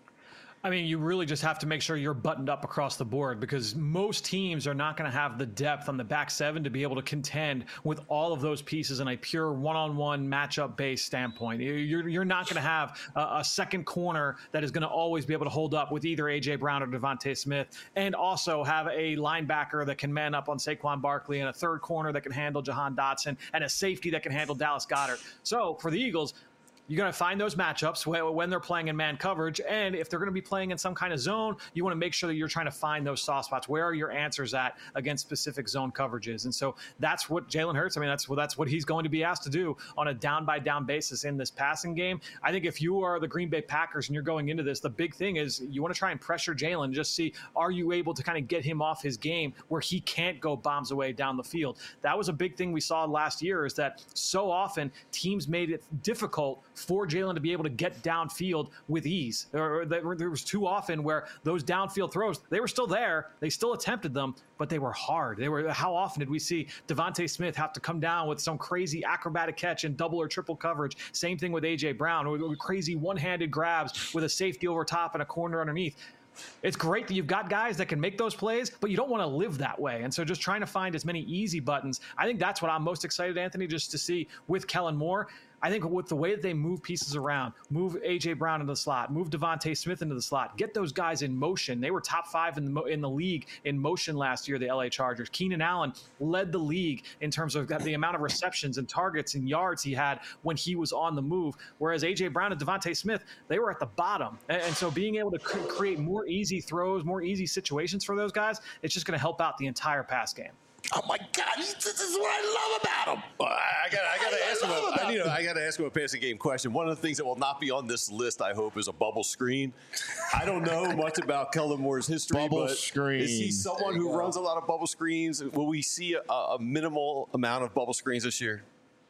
I mean, you really just have to make sure you're buttoned up across the board, because most teams are not going to have the depth on the back seven to be able to contend with all of those pieces in a pure one-on-one matchup-based standpoint. You're, you're not going to have a, a second corner that is going to always be able to hold up with either A J. Brown or Devontae Smith, and also have a linebacker that can man up on Saquon Barkley, and a third corner that can handle Jahan Dotson, and a safety that can handle Dallas Goedert. So for the Eagles, you're going to find those matchups when they're playing in man coverage. And if they're going to be playing in some kind of zone, you want to make sure that you're trying to find those soft spots. Where are your answers at against specific zone coverages? And so that's what Jalen Hurts, I mean, that's, that's what he's going to be asked to do on a down-by-down basis in this passing game. I think if you are the Green Bay Packers and you're going into this, the big thing is you want to try and pressure Jalen, just see, are you able to kind of get him off his game where he can't go bombs away down the field? That was a big thing we saw last year, is that so often teams made it difficult for Jalen to be able to get downfield with ease. There, there was too often where those downfield throws, they were still there, they still attempted them, but they were hard. They were. How often did we see Devontae Smith have to come down with some crazy acrobatic catch in double or triple coverage? Same thing with A J. Brown, or, or crazy one-handed grabs with a safety over top and a corner underneath. It's great that you've got guys that can make those plays, but you don't want to live that way. And so just trying to find as many easy buttons, I think that's what I'm most excited, Anthony, just to see with Kellen Moore. I think with the way that they move pieces around, move A J. Brown into the slot, move Devontae Smith into the slot, get those guys in motion. They were top five in the in the league in motion last year, the L A Chargers. Keenan Allen led the league in terms of the amount of receptions and targets and yards he had when he was on the move, whereas A J. Brown and Devontae Smith, they were at the bottom. And, and so being able to create more easy throws, more easy situations for those guys, it's just going to help out the entire pass game. Oh my God! This is what I love about him. Well, I got, I got to ask him. love A, about I, you know, him. I got to ask him a passing game question. One of the things that will not be on this list, I hope, is a bubble screen. I don't know much about Kellen Moore's history, Bubble but screen. is he someone who runs a lot of bubble screens? Will we see a, a minimal amount of bubble screens this year?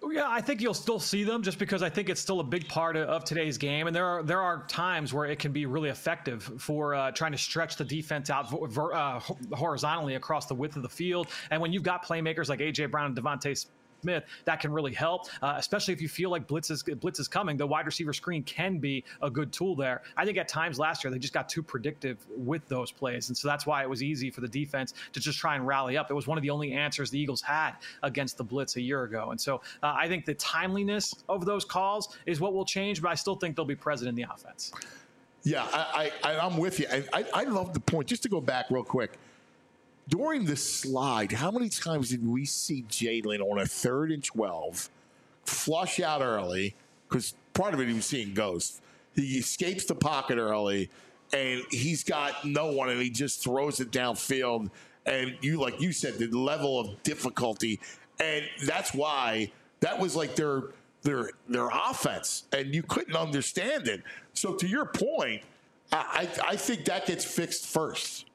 Yeah, I think you'll still see them just because I think it's still a big part of, of today's game. And there are there are times where it can be really effective for uh, trying to stretch the defense out ver, uh, horizontally across the width of the field. And when you've got playmakers like A J Brown and Devontae Smith, that can really help, uh, especially if you feel like blitz is, blitz is coming. The wide receiver screen can be a good tool there. I think at times last year they just got too predictive with those plays, and so that's why it was easy for the defense to just try and rally up. It was one of the only answers the Eagles had against the blitz a year ago, and so uh, I think the timeliness of those calls is what will change, but I still think they'll be present in the offense. Yeah, I, I, I'm with you. I, I, I love the point. Just to go back real quick, during the slide, how many times did we see Jalen on a third and twelve flush out early? Because part of it he was seeing ghosts. He escapes the pocket early, and he's got no one, and he just throws it downfield. And you, like you said, the level of difficulty, and that's why that was like their their their offense, and you couldn't understand it. So to your point, I I think that gets fixed first.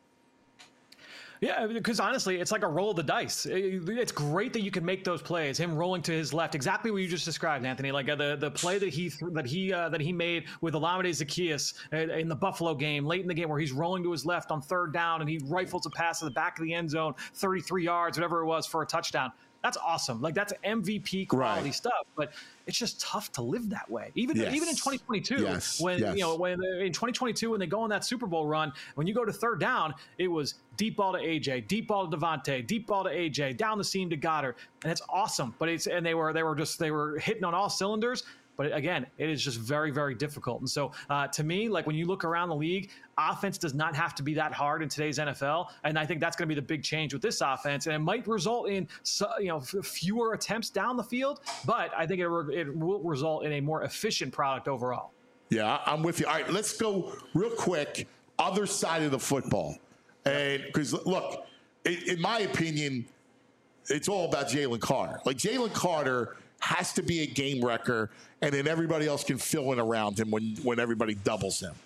Yeah, because honestly, it's like a roll of the dice. It's great that you can make those plays. Him rolling to his left, exactly what you just described, Anthony. Like uh, the the play that he that he uh, that he made with Olamide Zaccheaus in the Buffalo game, late in the game, where he's rolling to his left on third down and he rifles a pass to the back of the end zone, thirty-three yards, whatever it was, for a touchdown. That's awesome. Like that's M V P quality right. stuff. But it's just tough to live that way. Even yes. even in twenty twenty-two, yes. when yes. you know when in twenty twenty-two when they go on that Super Bowl run, when you go to third down, it was deep ball to A J, deep ball to Devontae, deep ball to A J, down the seam to Goddard, and it's awesome. But it's and they were they were just they were hitting on all cylinders. But again, it is just very, very difficult. And so uh, to me, like when you look around the league, offense does not have to be that hard in today's N F L. And I think that's going to be the big change with this offense. And it might result in you know fewer attempts down the field, but I think it, re- it will result in a more efficient product overall. Yeah, I'm with you. All right, let's go real quick. Other side of the football. And because, look, in, in my opinion, it's all about Jalen Carter. Like Jalen Carter has to be a game wrecker, and then everybody else can fill in around him when, when everybody doubles him.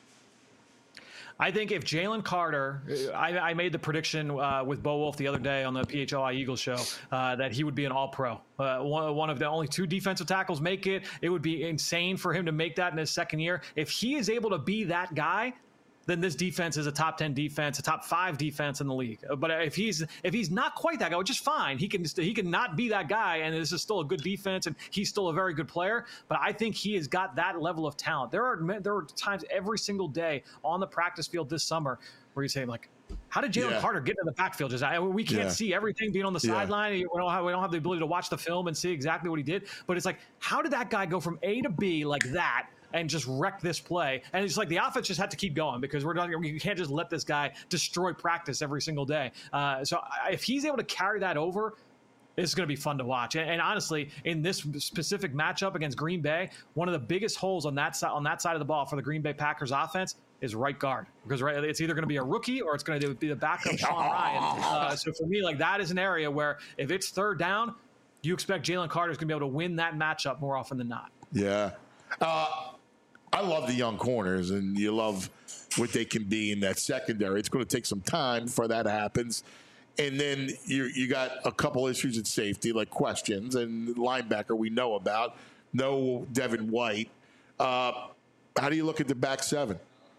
I think if Jalen Carter, I, I made the prediction uh, with Bo Wolf the other day on the P H L I Eagles show uh, that he would be an all-pro. Uh, one, one of the only two defensive tackles make it. It would be insane for him to make that in his second year. If he is able to be that guy, then this defense is a top ten defense, a top five defense in the league. But if he's if he's not quite that guy, which is fine, he can he can not be that guy, and this is still a good defense, and he's still a very good player. But I think he has got that level of talent. There are there are times every single day on the practice field this summer where you say like, how did Jalen yeah. Carter get into the backfield? Just I, we can't yeah. see everything being on the yeah. sideline. We don't have we don't have the ability to watch the film and see exactly what he did. But it's like, how did that guy go from A to B like that and just wreck this play? And it's like the offense just had to keep going because we're not, you can't just let this guy destroy practice every single day. Uh, so if he's able to carry that over, it's going to be fun to watch. And, and honestly, in this specific matchup against Green Bay, one of the biggest holes on that side on that side of the ball for the Green Bay Packers offense is right guard, because right, it's either going to be a rookie or it's going to be the backup Sean Ryan. Uh, so for me, like that is an area where if it's third down, you expect Jalen Carter is going to be able to win that matchup more often than not. Yeah. Uh, I love the young corners, and you love what they can be in that secondary. It's going to take some time before that happens. And then you you got a couple issues at safety, like questions, and linebacker we know about. No Devin White. Uh, how do you look at the back seven?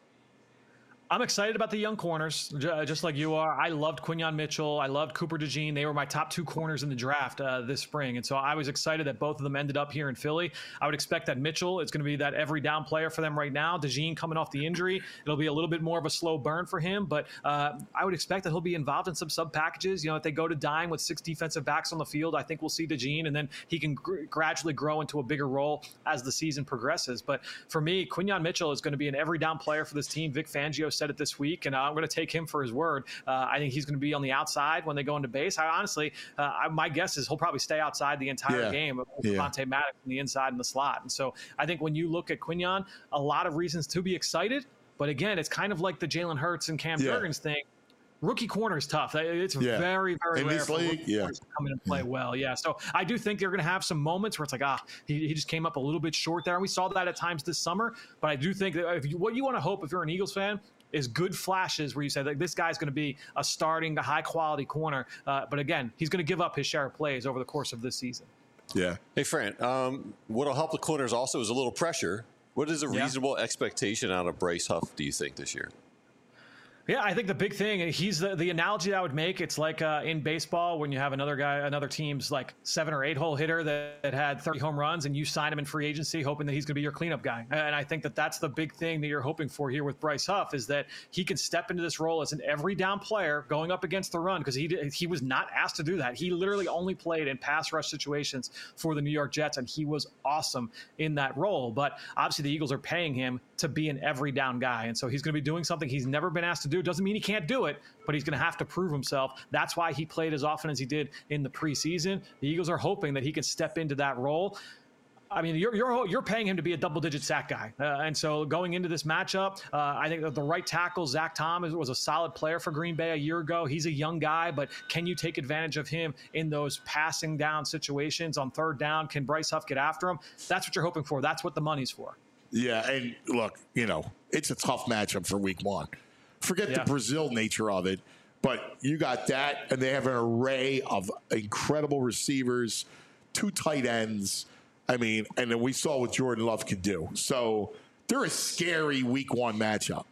I'm excited about the young corners, just like you are. I loved Quinyon Mitchell. I loved Cooper DeJean. They were my top two corners in the draft uh, this spring. And so I was excited that both of them ended up here in Philly. I would expect that Mitchell is going to be that every down player for them right now. DeJean coming off the injury, it'll be a little bit more of a slow burn for him. But uh, I would expect that he'll be involved in some sub packages. You know, if they go to dime with six defensive backs on the field, I think we'll see DeJean, and then he can gr- gradually grow into a bigger role as the season progresses. But for me, Quinyon Mitchell is going to be an every down player for this team. Vic Fangio said it this week, and I'm going to take him for his word. Uh, I think he's going to be on the outside when they go into base. I honestly, uh, I, my guess is he'll probably stay outside the entire yeah. game with yeah. Devontae Maddox on the inside and the slot. And so I think when you look at Quinyon, a lot of reasons to be excited. But again, it's kind of like the Jalen Hurts and Cam yeah. Jurgens thing. Rookie corner is tough. It's yeah. very, very in rare this for league, rookie yeah. corners to come in and play yeah. well. Yeah, so I do think they're going to have some moments where it's like, ah, he, he just came up a little bit short there, and we saw that at times this summer. But I do think that if you, what you want to hope if you're an Eagles fan is good flashes where you say that this guy's going to be a starting, a high-quality corner. Uh, but again, he's going to give up his share of plays over the course of this season. Yeah. Hey, Fran, um, what'll help the corners also is a little pressure. What is a Yeah. reasonable expectation out of Bryce Huff, do you think, this year? Yeah, I think the big thing, he's the, the analogy I would make, it's like uh, in baseball when you have another guy, another team's like seven or eight hole hitter that, that had thirty home runs and you sign him in free agency hoping that he's going to be your cleanup guy. And I think that that's the big thing that you're hoping for here with Bryce Huff is that he can step into this role as an every down player going up against the run because he he was not asked to do that. He literally only played in pass rush situations for the New York Jets and he was awesome in that role. But obviously the Eagles are paying him to be an every down guy. And so he's going to be doing something he's never been asked to do. Doesn't mean he can't do it, but he's going to have to prove himself. That's why he played as often as he did in the preseason. The Eagles are hoping that he can step into that role. I mean, you're you're you're paying him to be a double-digit sack guy, uh, and so going into this matchup, uh, I think that the right tackle Zach Tom was a solid player for Green Bay a year ago. He's a young guy, but can you take advantage of him in those passing down situations on third down? Can Bryce Huff get after him? That's what you're hoping for. That's what the money's for. Yeah, and look, you know, it's a tough matchup for week one. Forget Yeah. the Brazil nature of it, but you got that, and they have an array of incredible receivers, two tight ends. I mean, and then we saw what Jordan Love could do. So they're a scary week one matchup.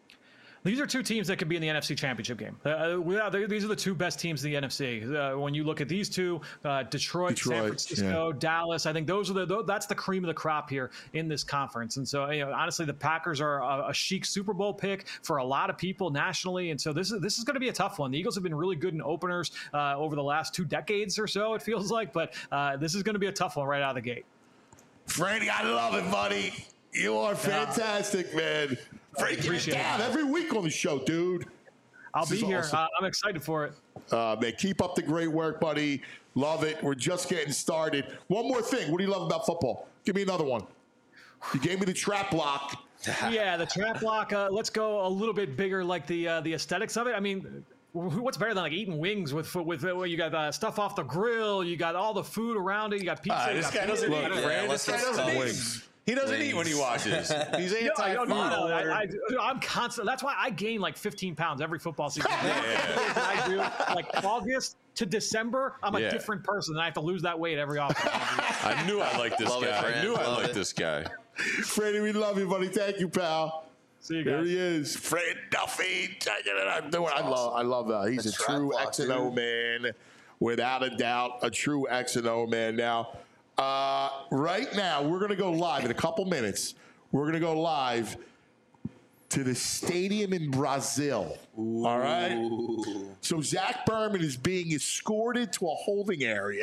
These are two teams that could be in the N F C Championship game. Uh, without, these are the two best teams in the N F C. Uh, when you look at these two, uh, Detroit, Detroit, San Francisco, yeah. Dallas, I think those are the that's the cream of the crop here in this conference. And so, you know, honestly, the Packers are a, a chic Super Bowl pick for a lot of people nationally. And so this is this is going to be a tough one. The Eagles have been really good in openers uh, over the last two decades or so, it feels like. But uh, this is going to be a tough one right out of the gate. Franny, I love it, buddy. You are fantastic, man. Frank, get it down every week on the show, dude. I'll This be is here. awesome. Uh, I'm excited for it. Uh, man, keep up the great work, buddy. Love it. We're just getting started. One more thing. What do you love about football? Give me another one. You gave me the trap block. Yeah, the trap block. Uh, let's go a little bit bigger, like the uh, the aesthetics of it. I mean, what's better than like eating wings with with uh, you got uh, stuff off the grill, you got all the food around it, you got pizza. Ah, you this got guy pizza, doesn't you eat, got- Fran. This guy doesn't eat. Wings. He doesn't Wings. eat when he watches. He's No, I anti-food. don't know. I, I, I'm constant. That's why I gain like fifteen pounds every football season. I do like August to December. I'm a Yeah. different person, and I have to lose that weight every off. I knew I liked this Love it, guy. I Fran. knew I Love liked it. this guy. Freddie, we love you, buddy. Thank you, pal. See you There guys. he is, Fred Duffy. Checking it out. Doing- I love, I love that. He's The a trap true block, X and O dude. man, without a doubt, a true X and O man. Now, uh, right now, we're gonna go live in a couple minutes. We're gonna go live to the stadium in Brazil. All right. So Zach Berman is being escorted to a holding area.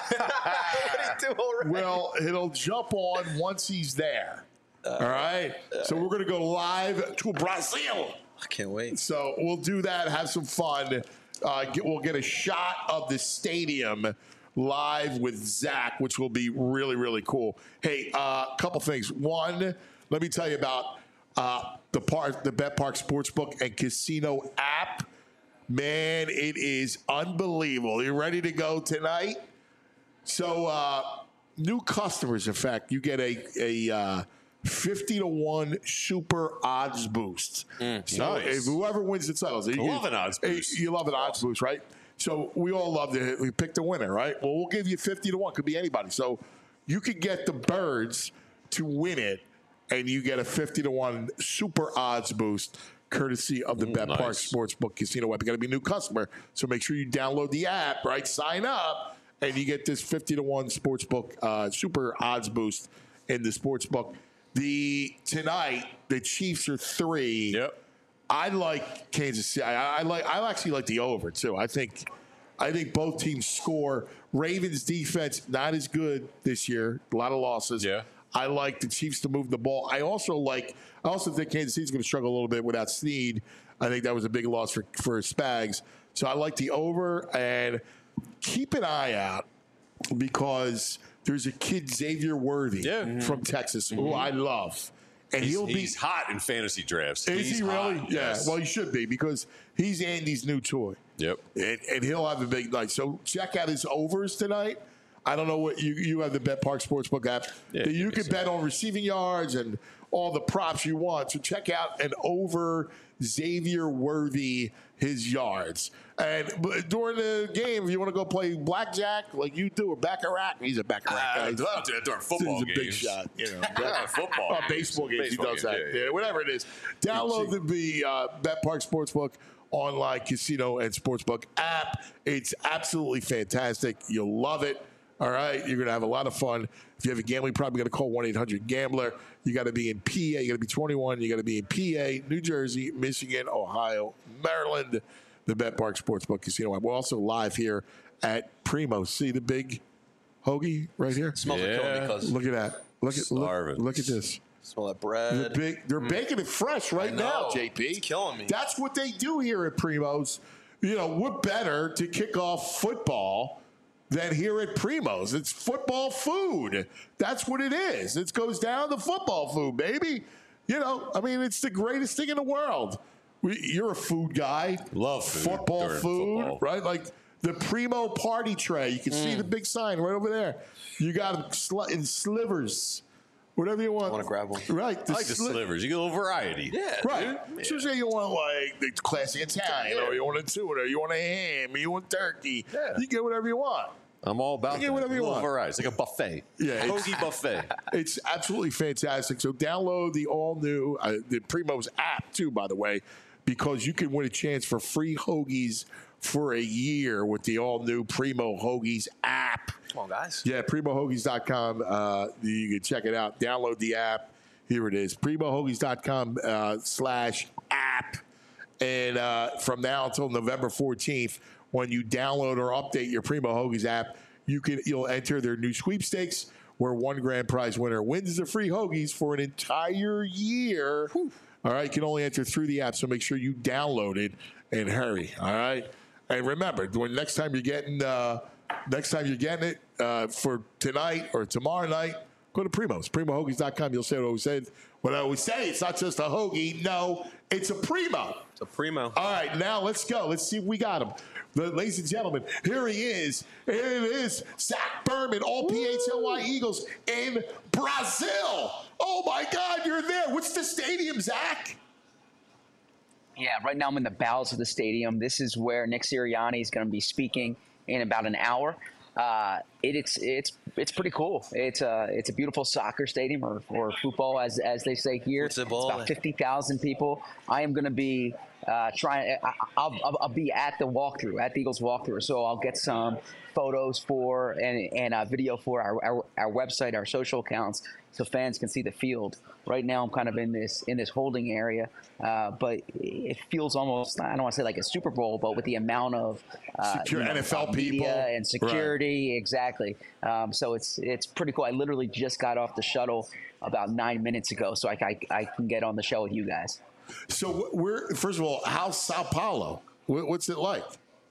Well, he'll jump on once he's there. All right. So we're gonna go live to Brazil. I can't wait. So we'll do that, have some fun. Uh, get, we'll get a shot of the stadium live with Zach, which will be really, really cool. Hey, a uh, couple things. One, let me tell you about uh, the park, the Bet Park Sportsbook and Casino app. Man, it is unbelievable. You ready to go tonight? So, uh, new customers, in fact, you get a a uh, fifty to one super odds boost. so nice. if whoever wins the titles, you love an odds hey, boost. You love an odds boost, right? So we all love to we pick the winner, right? Well, we'll give you fifty to one. Could be anybody. So you could get the Birds to win it, and you get a fifty to one super odds boost, courtesy of the Bet Park nice. Sportsbook Casino app. You got to be a new customer, so make sure you download the app, right? Sign up, and you get this fifty to one sportsbook uh, super odds boost in the sportsbook. The tonight, the Chiefs are three. Yep. I like Kansas City. I, I like. I actually like the over too. I think. I think both teams score. Ravens defense not as good this year. A lot of losses. Yeah. I like the Chiefs to move the ball. I also like. I also think Kansas City's going to struggle a little bit without Snead. I think that was a big loss for for Spags. So I like the over, and keep an eye out because there's a kid Xavier Worthy Yeah. from Texas who I love, and He's, he'll be. he's hot in fantasy drafts. Is he's he really? hot, Yeah. yes. Well, he should be because he's Andy's new toy. Yep. And, and he'll have a big night. So check out his overs tonight. I don't know what you you have the Bet Park Sportsbook app Yeah, that you you can can bet on receiving yards and all the props you want. So check out an over Xavier Worthy his yards. And but during the game, if you want to go play blackjack like you do or baccarat, he's a baccarat Uh, guy. I don't do that during football He's a big games. shot, you know. Yeah, football Oh, games. baseball games, Baseball he does games, that. yeah, Yeah, whatever it is. Download the, the uh, Bet Park Sportsbook online casino and sportsbook app. It's absolutely fantastic. You'll love it. All right, you're going to have a lot of fun. If you have a gambling problem, you got to call one eight hundred gambler. You got to be in P A. You got to be twenty-one. You got to be in P A, New Jersey, Michigan, Ohio, Maryland. The Bet Park Sportsbook Casino. We're also live here at Primo. See the big hoagie right here? Smells like Yeah. killing me, cuz. Look at that. Look at look, Starving. look at this. Smell that The bread. big, they're baking it fresh right I now, know. J P. It's killing me. That's what they do here at Primo's. You know, what better to kick off football than here at Primo's? It's football food. That's what it is. It goes down to football food, baby. You know, I mean, it's the greatest thing in the world. We, you're a food guy. Love food Football during food, football. right? Like the Primo party tray. You can Mm. see the big sign right over there. You got sli- in slivers. Whatever you want. I wanna grab one. Right. I like the sli- slivers. You get a little variety. Yeah. Right. So say you want like the classic Italian, Yeah. or you want a tuna, or you want a ham, or you want turkey. Yeah. You get whatever you want. I'm all about You get that. whatever you a little want. variety. It's like a buffet. Yeah, it's- Hoagie buffet. It's absolutely fantastic. So download the all new uh, the Primo's app too, by the way, because you can win a chance for free hoagies for a year with the all new Primo Hoagies app. Come on, guys. Yeah, primo hoagies dot com. Uh, you can check it out. Download the app. Here it is, primo hoagies dot com uh, slash app. And uh, from now until November fourteenth, when you download or update your Primo Hoagies app, you can you'll enter their new sweepstakes, where one grand prize winner wins the free hoagies for an entire year. All right, you can only enter through the app, so make sure you download it and hurry. All right, and remember, when next time you're getting uh, next time you're getting it uh, for tonight or tomorrow night, go to Primo's, primo hoagies dot com. You'll say what I always said. What I always say, it's not just a hoagie. No, it's a Primo. It's a Primo. All right, now let's go. Let's see if we got him. The, ladies and gentlemen, here he is. Here it is, Zach Berman, all P H L Y Eagles in Brazil. Oh, my God, you're there. What's the stadium, Zach? Yeah, right now I'm in the bowels of the stadium. This is where Nick Sirianni is going to be speaking in about an hour. Uh, it, it's it's it's pretty cool. It's a it's a beautiful soccer stadium, or, or football as as they say here. It's Football. about fifty thousand people. I am going to be uh, trying. I, I'll, I'll I'll be at the walkthrough, at the Eagles walkthrough. So I'll get some photos for and and uh, video for our, our our website, our social accounts, so fans can see the field. Right now, I'm kind of in this in this holding area, uh, but it feels almost, I don't want to say like a Super Bowl, but with the amount of uh, Secure you know, N F L uh, media people. and security, exactly. Um, so it's it's pretty cool. I literally just got off the shuttle about nine minutes ago, so I, I, I can get on the show with you guys. So we're first of all, how's Sao Paulo? What- What's it like?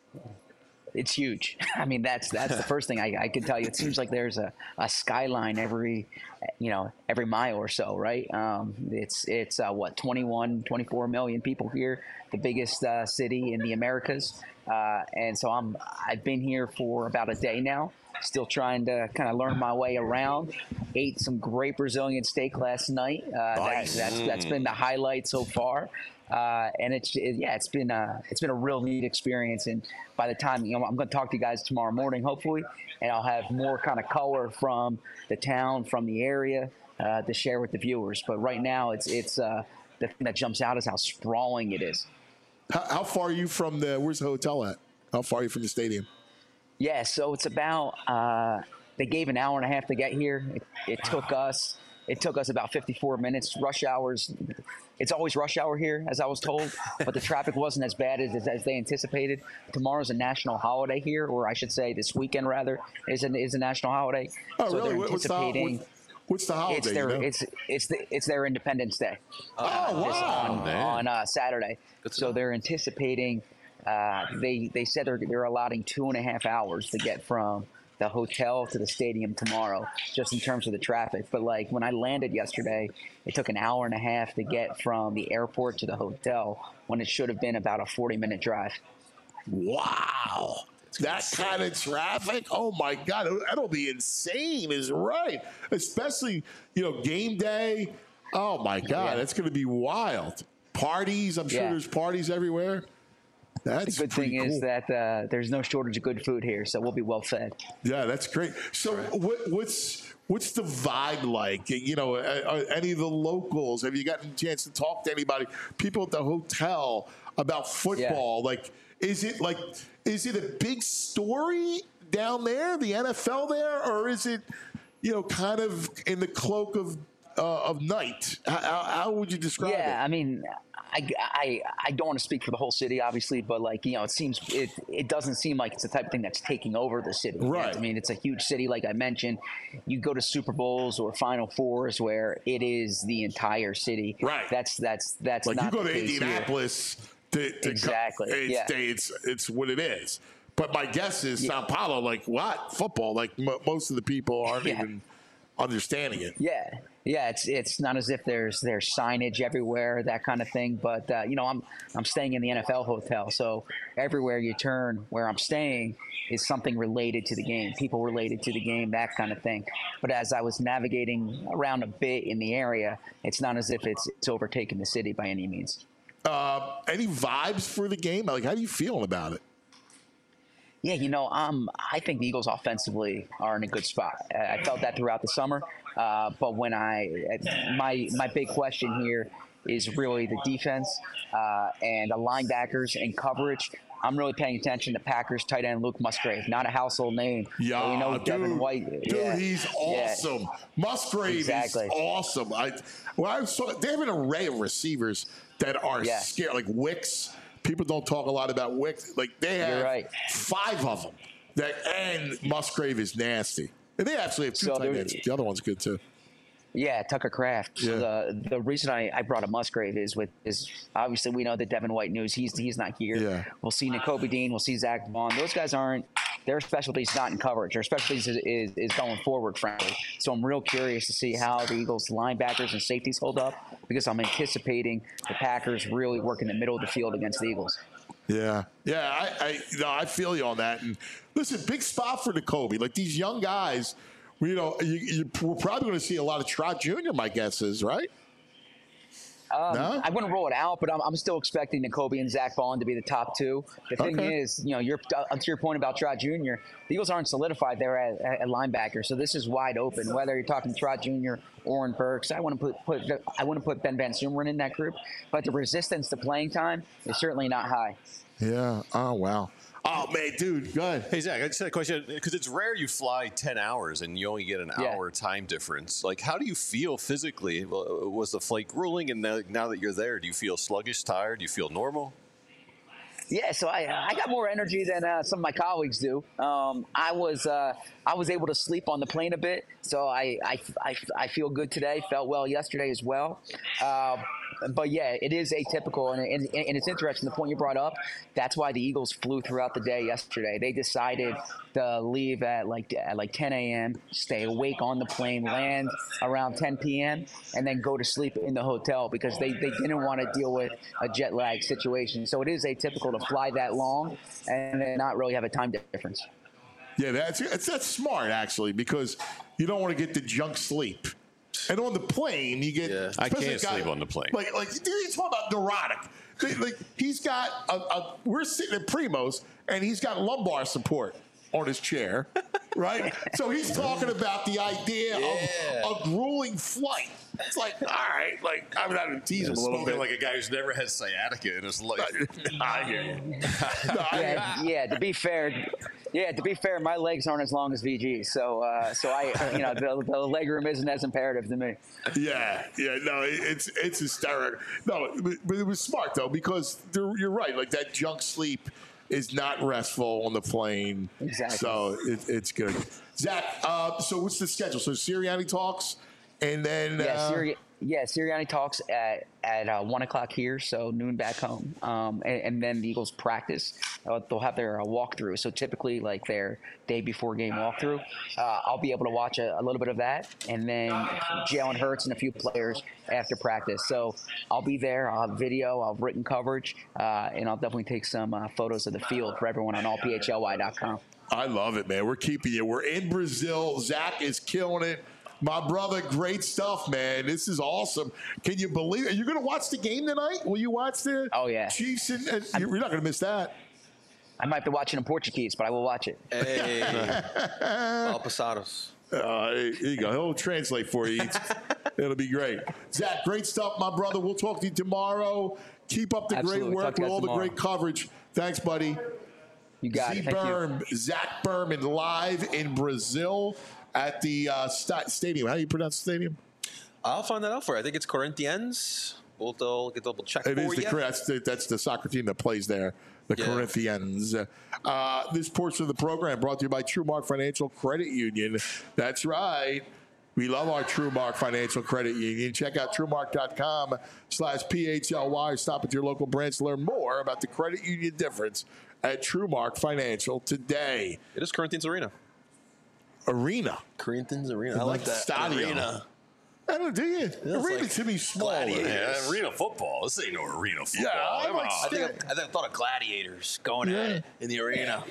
It's huge. I mean, that's that's the first thing I, I can tell you. It seems like there's a, a skyline every, you know, every mile or so, right? Um, it's it's uh, what twenty-one, twenty-four million people here, the biggest uh, city in the Americas, uh, and so I'm I've been here for about a day now, still trying to kind of learn my way around. Ate some great Brazilian steak last night. Uh, Nice. that, that's that's been the highlight so far. Uh, and it's it, yeah, it's been a it's been a real neat experience. And by the time you know, I'm going to talk to you guys tomorrow morning, hopefully, and I'll have more kind of color from the town, from the area, uh, to share with the viewers. But right now, it's it's uh, the thing that jumps out is how sprawling it is. How, how far are you from the? Where's the hotel at? How far are you from the stadium? Yeah, so it's about uh, they gave an hour and a half to get here. It, it took us it took us about fifty-four minutes. Rush hours. It's always rush hour here, as I was told, but the traffic wasn't as bad as, as they anticipated. Tomorrow's a national holiday here, or I should say this weekend, rather, is a, is a national holiday. Oh, so really? they're What- what's the, anticipating what, what's the holiday? it's their you know? it's it's the, it's their Independence Day. oh, This wow. on, on uh, Saturday. Good to So know. they're anticipating. Uh, they they said they're they're allotting two and a half hours to get from the hotel to the stadium tomorrow, just in terms of the traffic. But like when I landed yesterday, it took an hour and a half to get from the airport to the hotel, when it should have been about a forty minute drive. Wow. That kind of traffic? Oh, my God. That'll be insane, is right. Especially, you know, game day. Oh my God, Yeah. that's going to be wild. Parties, I'm sure Yeah. there's parties everywhere. That's The good pretty thing cool. is that uh, there's no shortage of good food here, so we'll be well fed. Yeah, that's great. So, what, what's what's the vibe like? You know, are, are any of the locals? Have you gotten a chance to talk to anybody? People at the hotel about football? Like, is it like is it a big story down there, the N F L there, or is it, you know, kind of in the cloak of uh, of night? How, how would you describe Yeah, it? I mean, I, I, I don't want to speak for the whole city, obviously, but like, you know, it seems it it doesn't seem like it's the type of thing that's taking over the city. Right. I mean, it's a huge city, like I mentioned. You go to Super Bowls or Final Fours where it is the entire city. Right. That's that's that's Like not you go the to case here. Indianapolis, to, to Exactly, co- it's, yeah. it's it's what it is. But my guess is Sao Paulo, like what football? Like m- most of the people aren't Yeah. even understanding it. Yeah, yeah. It's it's not as if there's there's signage everywhere, that kind of thing. But uh, you know, I'm I'm staying in the N F L hotel, so everywhere you turn, where I'm staying is something related to the game, people related to the game, that kind of thing. But as I was navigating around a bit in the area, it's not as if it's it's overtaken the city by any means. Uh, any vibes for the game? Like, how do you feeling about it? Yeah, you know, um, I think the Eagles offensively are in a good spot. I I felt that throughout the summer, uh, but when I my my big question here is really the defense uh, and the linebackers and coverage. I'm really paying attention to Packers tight end Luke Musgrave, not a household name. Yeah, but we know dude, Devin White. dude, yeah, he's yeah. awesome. Musgrave Exactly. is awesome. I, well, I saw they have an array of receivers that are Yeah. scared, like Wicks. People don't talk a lot about Wicks. Like they have You're right. five of them. That and Musgrave is nasty. And they actually have two So tight there- ends. The other one's good too. Yeah, Tucker Kraft. So Yeah. the the reason I, I brought up Musgrave is with is obviously we know that Devin White news. He's he's not here. Yeah. We'll see Nakobe Dean. We'll see Zach Vaughn. Those guys aren't. Their specialty's not in coverage. Their specialty is, is is going forward, frankly. So I'm real curious to see how the Eagles linebackers and safeties hold up because I'm anticipating the Packers really working the middle of the field against the Eagles. Yeah, yeah, I, I, no, I feel you on that. And listen, big spot for Nakobe. Like these young guys, you know, you, you, we're probably going to see a lot of Trot Junior My guess is right. Um, No? I wouldn't rule it out, but I'm, I'm still expecting Nakobe and Zach Vaughn to be the top two. The thing Okay. is, you know, you're, uh, to your point about Trot Junior, the Eagles aren't solidified there at, at, at linebacker, so this is wide open. Whether you're talking Trot Junior, Oren Burks, I want to put, put I want to put Ben Van Sumeren in that group, but the resistance to playing time is certainly not high. Yeah. Oh wow. Oh man, dude, go ahead. Hey Zach, I just had a question because it's rare you fly ten hours and you only get an Yeah. hour time difference. Like, how do you feel physically? Well, was the flight grueling? And now, now that you're there, do you feel sluggish, tired? Do you feel normal? Yeah, so I I got more energy than uh, some of my colleagues do. Um, I was uh, I was able to sleep on the plane a bit, so I I, I, I feel good today. Felt well yesterday as well. Uh, but yeah, it is atypical, and, and, and it's interesting. The point you brought up, that's why the Eagles flew throughout the day yesterday. They decided to leave at like at like ten a.m., stay awake on the plane, land around ten p.m., and then go to sleep in the hotel because they, they didn't want to deal with a jet lag situation. So it is atypical to fly that long and then not really have a time difference. Yeah, that's that's, that's smart actually because you don't want to get the junk sleep. And on the plane, you get. Yeah, I especially can't a guy- sleep on the plane. Like, like dude, he's talking about neurotic. Like, like, he's got a, a. We're sitting at Primo's, and he's got lumbar support on his chair, right? So he's talking about the idea Yeah. of a grueling flight. It's like, all right, like I'm not going to tease him a little Spoken bit. like a guy who's never had sciatica in his life. I hear you. No, I hear Yeah, yeah. To be fair, yeah. To be fair, my legs aren't as long as V G, so uh, so I, you know, the, the leg room isn't as imperative to me. Yeah, yeah, no, it- it's it's hysterical. No, but but it was smart though because there- you're right. Like that junk sleep is not restful on the plane. Exactly. So it, it's good. Zach, uh, so what's the schedule? So Sirianni talks, and then Yeah, uh, Siri- yeah, Sirianni talks at at uh, one o'clock here, so noon back home, um, and, and then the Eagles practice. Uh, they'll have their uh, walkthrough. So typically, like their day before game walkthrough, uh, I'll be able to watch a, a little bit of that, and then Jalen Hurts and a few players after practice. So I'll be there. I'll have video, I'll have written coverage, uh, and I'll definitely take some uh, photos of the field for everyone on all P H L Y dot com. I love it, man. We're keeping you. We're in Brazil. Zach is killing it. My brother, great stuff, man. This is awesome. Can you believe it? You're going to watch the game tonight? Will you watch the Oh, yeah. Chiefs? And, and you're not going to miss that. I might be watching in Portuguese, but I will watch it. Hey, Al Pasados. Uh, here you go. He'll translate for you. It'll be great. Zach, great stuff, my brother. We'll talk to you tomorrow. Keep up the Absolutely. great work Talk to with you all guys the great coverage. Thanks, buddy. You got Z it. Thank you. Berm, Zach Berman, live in Brazil at the uh, sta- stadium. How do you pronounce the stadium? I'll find that out for you. I think it's Corinthians. We'll double, get double check It for is the, you. Cor- that's the that's the soccer team that plays there, the Yeah. Corinthians. Uh, this portion of the program brought to you by TrueMark Financial Credit Union. That's right. We love our TrueMark Financial Credit Union. Check out TrueMark.com slash PHLY or stop at your local branch to learn more about the credit union difference at TrueMark Financial today. It is Corinthians Arena. Arena. Corinthians Arena. I Like like that. stadium. Arena. I don't do you? Arena like to be smaller. Yeah, arena football. This ain't no arena football. Yeah, I Come like on. I think I, I, think I thought of gladiators going Yeah. at it in the arena.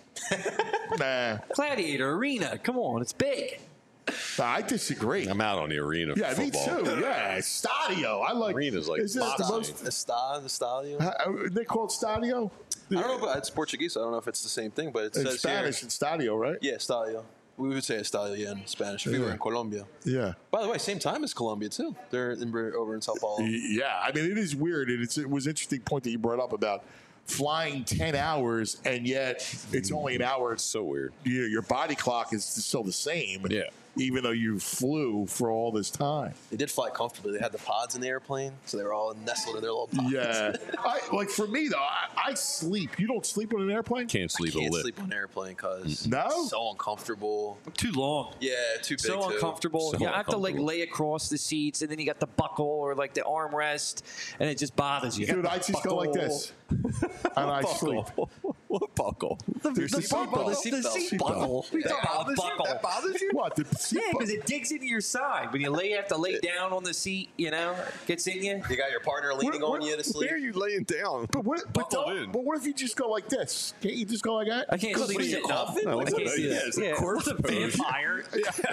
Nah, Gladiator Arena. Come on, it's big. I disagree. I'm out on the arena Yeah, football. me too. Yeah, Stadio. I like. Arena's like is this the boxing. most? The sta, the stadio. Uh, they call it Stadio. I don't know, but it's Portuguese. So I don't know if it's the same thing, but it In says Spanish, here. it's Stadio, right? Yeah, stadio. We would say estadio, yeah, in Spanish. If we were Yeah. in Colombia. Yeah. By the way, same time as Colombia too. They're in, over in Sao Paulo. Yeah, I mean, it is weird, and it's, it was an interesting point that you brought up about flying ten hours, and yet it's only an hour. It's so weird. You know, your body clock is still the same. Yeah. Even though you flew for all this time. They did fly comfortably. They had the pods in the airplane, so they were all nestled in their little pods. Yeah. I, like for me though, I, I sleep. You don't sleep on an airplane? Can't sleep Can't a lip. sleep on an airplane because No? it's so uncomfortable. Too long. Yeah, too big. So too. uncomfortable. So you have to like uncomfortable. lay across the seats, and then you got the buckle or like the armrest, and it just bothers you. Dude, I just go like this. And I sleep. What buckle? The, There's the the buckle, seatbelt. the, the Seatbelt. seat buckle. Seatbelt. That bothers you? Buckle. That bothers you? What? The Yeah, because it digs into your side. When you lay, you have to lay down on the seat, you know, gets in you. You got your partner leaning What- on you to sleep. Where are you laying down? But what, but, Buckled don't- in. but what if you just go like this? Can't you just go like that? I can't What sleep are you, sitting up. coffin? I No, can't it's see a- that. yeah, it's a Yeah, corpse what's a pose. vampire?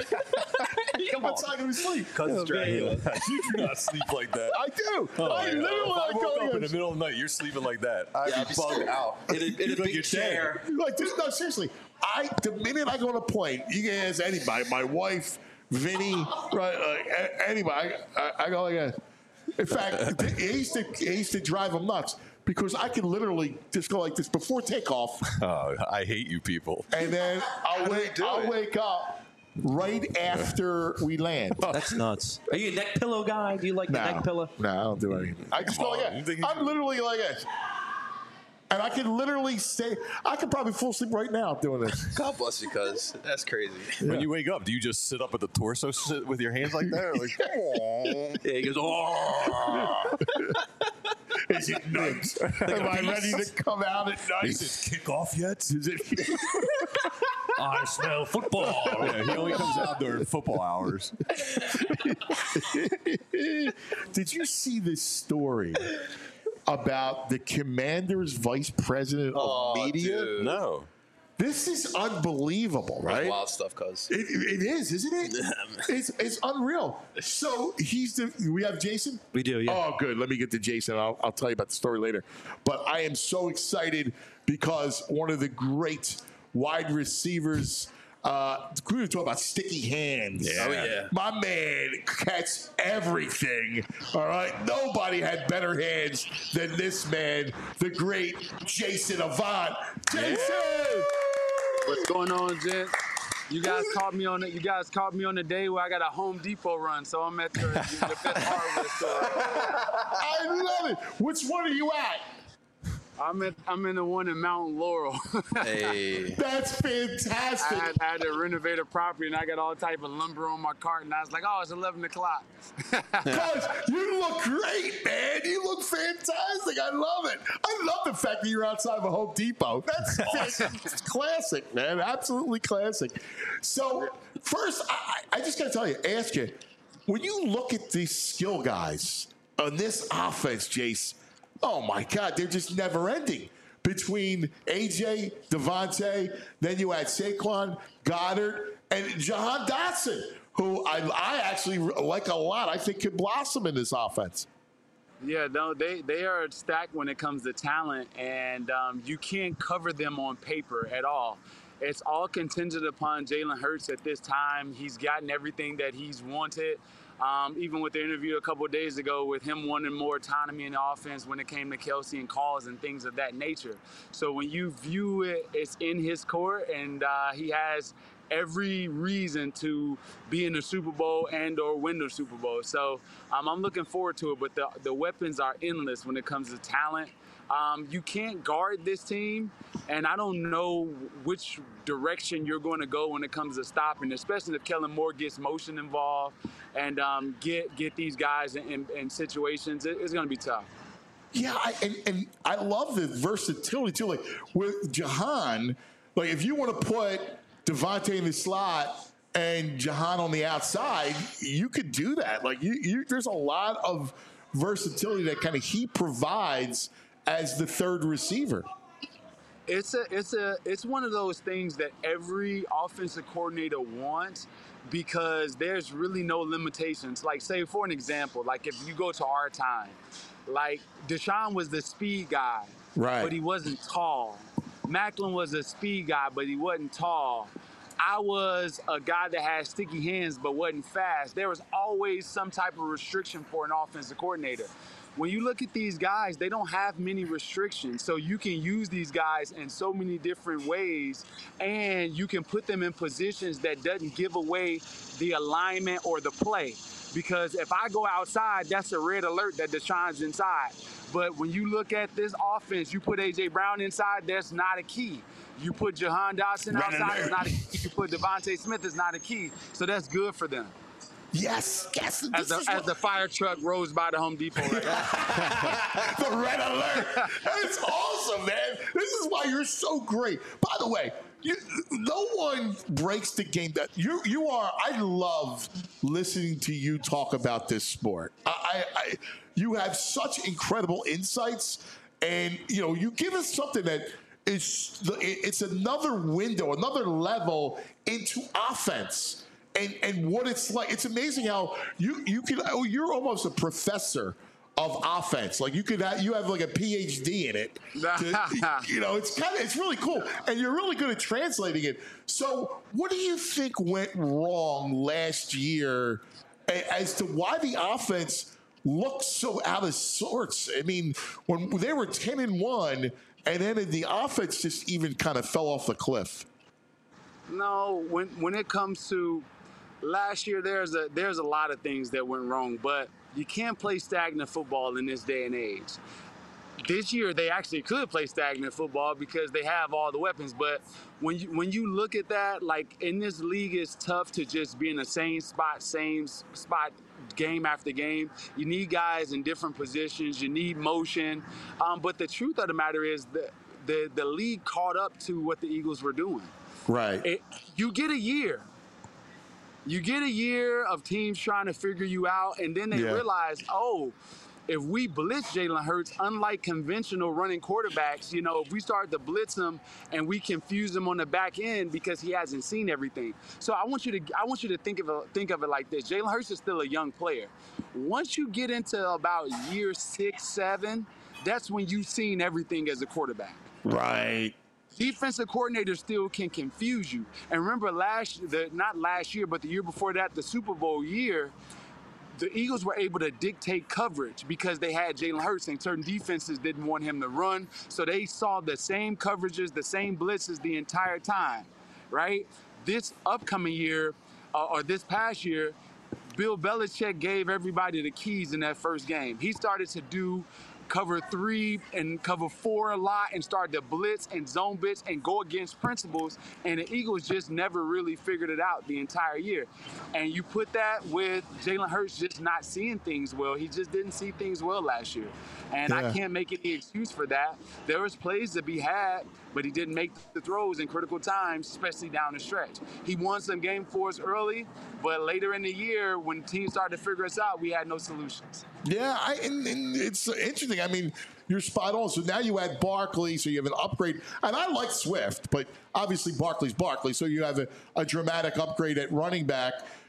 Come on. That's not going to sleep. Because Dracula. You do not sleep like that. I do. Oh, I yeah. literally If I like woke go up in the like middle of the night, you're sleeping like that. I'd Yeah, be I'd be bugged scared. out. In a, in a You'd like big you're chair. Like this, no, seriously. I the minute I go on a plane, you can ask anybody, my wife, Vinny, right, like a- anybody. I, I, I go like that. In fact, it used to it used to drive them nuts because I can literally just go like this before takeoff, Oh, I hate you people. and then I'll do wake they do I'll it? wake up right after we land. That's nuts. Are you a neck pillow guy? Do you like the No, neck pillow? no, I don't do anything. I just go on, like you that. think you I'm should- literally like this. And I can literally stay. I could probably fall asleep right now doing this. God bless you, cuz. That's crazy. When you wake up, do you just sit up at the torso sit with your hands like that? Or like, "Aw." Yeah, he goes, oh. Is it night? Am I ready to come out at night? Is it kick off yet? Is it? I smell football. Yeah, he only comes out during football hours. Did you see this story about the Commander's vice president of Oh, media? dude. No. This is unbelievable, right? Wild stuff, cuz. It, it is, isn't it? it's it's unreal. So he's the. We have Jason. We do, yeah. Oh, good. Let me get to Jason. I'll, I'll tell you about the story later. But I am so excited because one of the great wide receivers. Uh, we were talking about sticky hands. Yeah. Oh, yeah. My man catch everything. All right. Nobody had better hands than this man, the great Jason Avant. Jason! What's going on, gents? You guys caught me on it. You guys caught me on the day where I got a Home Depot run, so I'm at the, the best hardware store. I love it. Which one are you at? I'm at I'm in the one in Mountain Laurel. Hey. That's I fantastic. had, I had to renovate a property, and I got all type of lumber on my cart, and I was like, oh, it's eleven o'clock. Guys, you look great, man. You look fantastic. I love it. I love the fact that you're outside of a Home Depot. That's awesome. It's classic, man. Absolutely classic. So, first, I, I just got to tell you, ask you, when you look at these skill guys on this offense, Jace, oh my God, they're just never ending. Between A J, Devontae, then you had Saquon, Goddard, and Jahan Dotson, who I, I actually like a lot. I think could blossom in this offense. Yeah, no, they, they are stacked when it comes to talent, and um, you can't cover them on paper at all. It's all contingent upon Jalen Hurts at this time. He's gotten everything that he's wanted. Um, even with the interview a couple of days ago with him wanting more autonomy in the offense when it came to Kelsey and calls and things of that nature. So when you view it, it's in his court, and uh, he has every reason to be in the Super Bowl and or win the Super Bowl. So um, I'm looking forward to it, but the, the weapons are endless when it comes to talent. Um, you can't guard this team, and I don't know which direction you're going to go when it comes to stopping, especially if Kellen Moore gets motion involved and um, get get these guys in, in, in situations. It, it's going to be tough. Yeah, I, and, and I love the versatility, too. Like, with Jahan, like, if you want to put Devontae in the slot and Jahan on the outside, you could do that. Like, you, you there's a lot of versatility that kind of he provides as the third receiver. It's a, it's a, it's one of those things that every offensive coordinator wants because there's really no limitations. Like, say, for an example, like if you go to our time, like Deshaun was the speed guy, right? But he wasn't tall. Macklin was a speed guy, but he wasn't tall. I was a guy that had sticky hands but wasn't fast. There was always some type of restriction for an offensive coordinator. When you look at these guys, they don't have many restrictions. So you can use these guys in so many different ways, and you can put them in positions that doesn't give away the alignment or the play. Because if I go outside, that's a red alert that Deshaun's inside. But when you look at this offense, you put A J Brown inside, that's not a key. You put Jahan Dotson outside, it's not a key. You put Devontae Smith, it's not a key. So that's good for them. Yes, yes. As the, as the fire truck rolls by the Home Depot right now. The red alert. That's awesome, man. This is why you're so great. By the way, you, no one breaks the game. That you you are. I love listening to you talk about this sport. I, I, I you have such incredible insights, and you know you give us something that is it's another window, another level into offense. And, and what it's like, it's amazing how you you can oh, you're almost a professor of offense. Like you could have, you have like a P H D in it. To, you know, it's kind of it's really cool, and you're really good at translating it. So, what do you think went wrong last year as to why the offense looked so out of sorts? I mean, when they were ten and one, and then the offense just even kind of fell off the cliff. No, when when it comes to last year, there's a there's a lot of things that went wrong, but you can't play stagnant football in this day and age. This year, they actually could play stagnant football because they have all the weapons. But when you when you look at that, like in this league, it's tough to just be in the same spot, same spot, game after game. You need guys in different positions. You need motion. Um, but the truth of the matter is that the the league caught up to what the Eagles were doing. Right. It, you get a year. You get a year of teams trying to figure you out, and then they yeah. realize, oh, if we blitz Jalen Hurts, unlike conventional running quarterbacks, you know, if we start to blitz him and we confuse him on the back end because he hasn't seen everything. So I want you to I want you to think of it, think of it like this. Jalen Hurts is still a young player. Once you get into about year six, seven, that's when you've seen everything as a quarterback. Right. Defensive coordinators still can confuse you. And remember last, the, not last year, but the year before that, the Super Bowl year, the Eagles were able to dictate coverage because they had Jalen Hurts, and certain defenses didn't want him to run. So they saw the same coverages, the same blitzes the entire time, right? This upcoming year, uh, or this past year, Bill Belichick gave everybody the keys in that first game. He started to do cover three and cover four a lot and start to blitz and zone blitz and go against principles, and the Eagles just never really figured it out the entire year. And you put that with Jalen Hurts just not seeing things well. He just didn't see things well last year. And yeah. I can't make any excuse for that. There was plays to be had, but he didn't make the throws in critical times, especially down the stretch. He won some game for us early, but later in the year, when teams started to figure us out, we had no solutions. Yeah, I, and, and it's interesting. I mean, you're spot on. So now you add Barkley, so you have an upgrade. And I like Swift, but obviously Barkley's Barkley, so you have a, a dramatic upgrade at running back.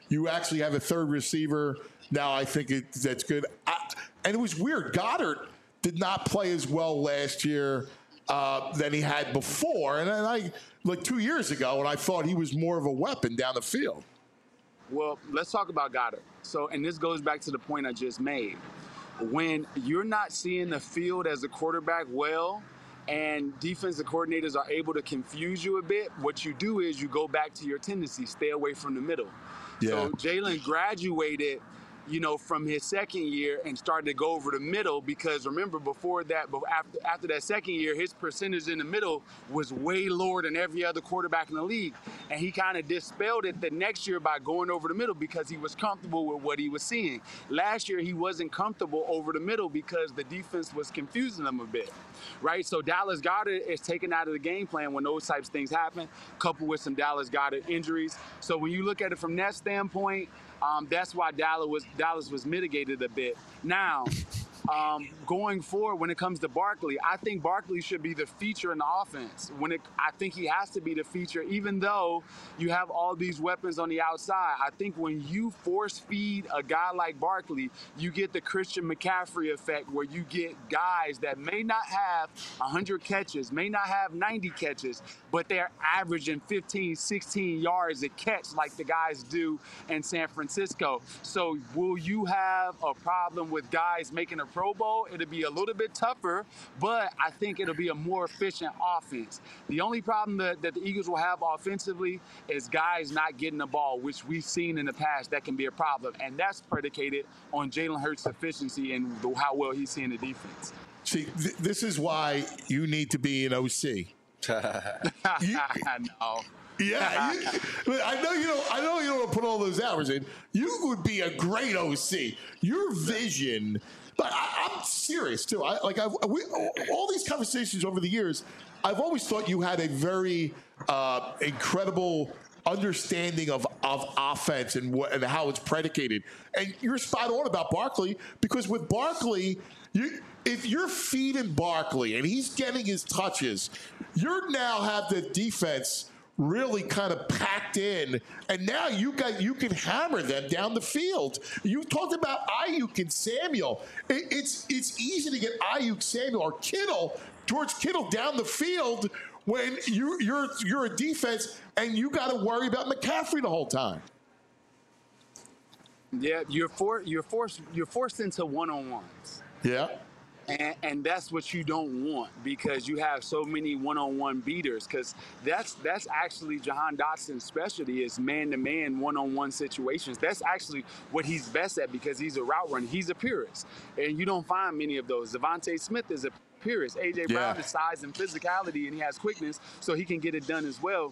You actually have a third receiver now. I think it, that's good. I, and it was weird. Goddard did not play as well last year uh, than he had before. And, and I, like two years ago, and I thought he was more of a weapon down the field. Well, let's talk about Goddard. So, and this goes back to the point I just made. When you're not seeing the field as a quarterback well, and defensive coordinators are able to confuse you a bit, what you do is you go back to your tendency, stay away from the middle. Yeah. So Jalen graduated, you know, from his second year and started to go over the middle because remember before that, after, after that second year, his percentage in the middle was way lower than every other quarterback in the league. And he kind of dispelled it the next year by going over the middle because he was comfortable with what he was seeing. Last year, he wasn't comfortable over the middle because the defense was confusing him a bit, right? So Dallas Goedert is taken out of the game plan when those types of things happen, coupled with some Dallas Goedert injuries. So when you look at it from that standpoint, Um, that's why Dallas was Dallas was mitigated a bit. Now, um, going forward, when it comes to Barkley, I think Barkley should be the feature in the offense. When it, I think he has to be the feature, even though you have all these weapons on the outside. I think when you force feed a guy like Barkley, you get the Christian McCaffrey effect, where you get guys that may not have one hundred catches, may not have ninety catches, but they're averaging fifteen, sixteen yards a catch like the guys do in San Francisco. So will you have a problem with guys making a Pro Bowl? It'll be a little bit tougher, but I think it'll be a more efficient offense. The only problem that, that the Eagles will have offensively is guys not getting the ball, which we've seen in the past that can be a problem. And that's predicated on Jalen Hurts' efficiency and the, how well he's seeing the defense. See, th- this is why you need to be an O C. you, I know. Yeah, you, I know you don't. I know you don't want to put all those hours in. You would be a great O C. Your vision, but I, I'm serious too. I like I've, we, all these conversations over the years. I've always thought you had a very uh, incredible understanding of, of offense and what and how it's predicated. And you're spot on about Barkley, because with Barkley, you if you're feeding Barkley and he's getting his touches, you now have the defense really kind of packed in, and now you got you can hammer them down the field. You talked about Ayuk and Samuel. It, it's it's easy to get Ayuk, Samuel, or Kittle, George Kittle down the field when you you're you're a defense and you got to worry about McCaffrey the whole time. Yeah, you're for you're forced you're forced into one-on-ones. Yeah. And, and that's what you don't want, because you have so many one-on-one beaters, because that's that's actually Jahan Dotson's specialty, is man-to-man, one-on-one situations. That's actually what he's best at, because he's a route runner. He's a purist, and you don't find many of those. Devontae Smith is a purist. A J. Brown Yeah. is size and physicality, and he has quickness, so he can get it done as well.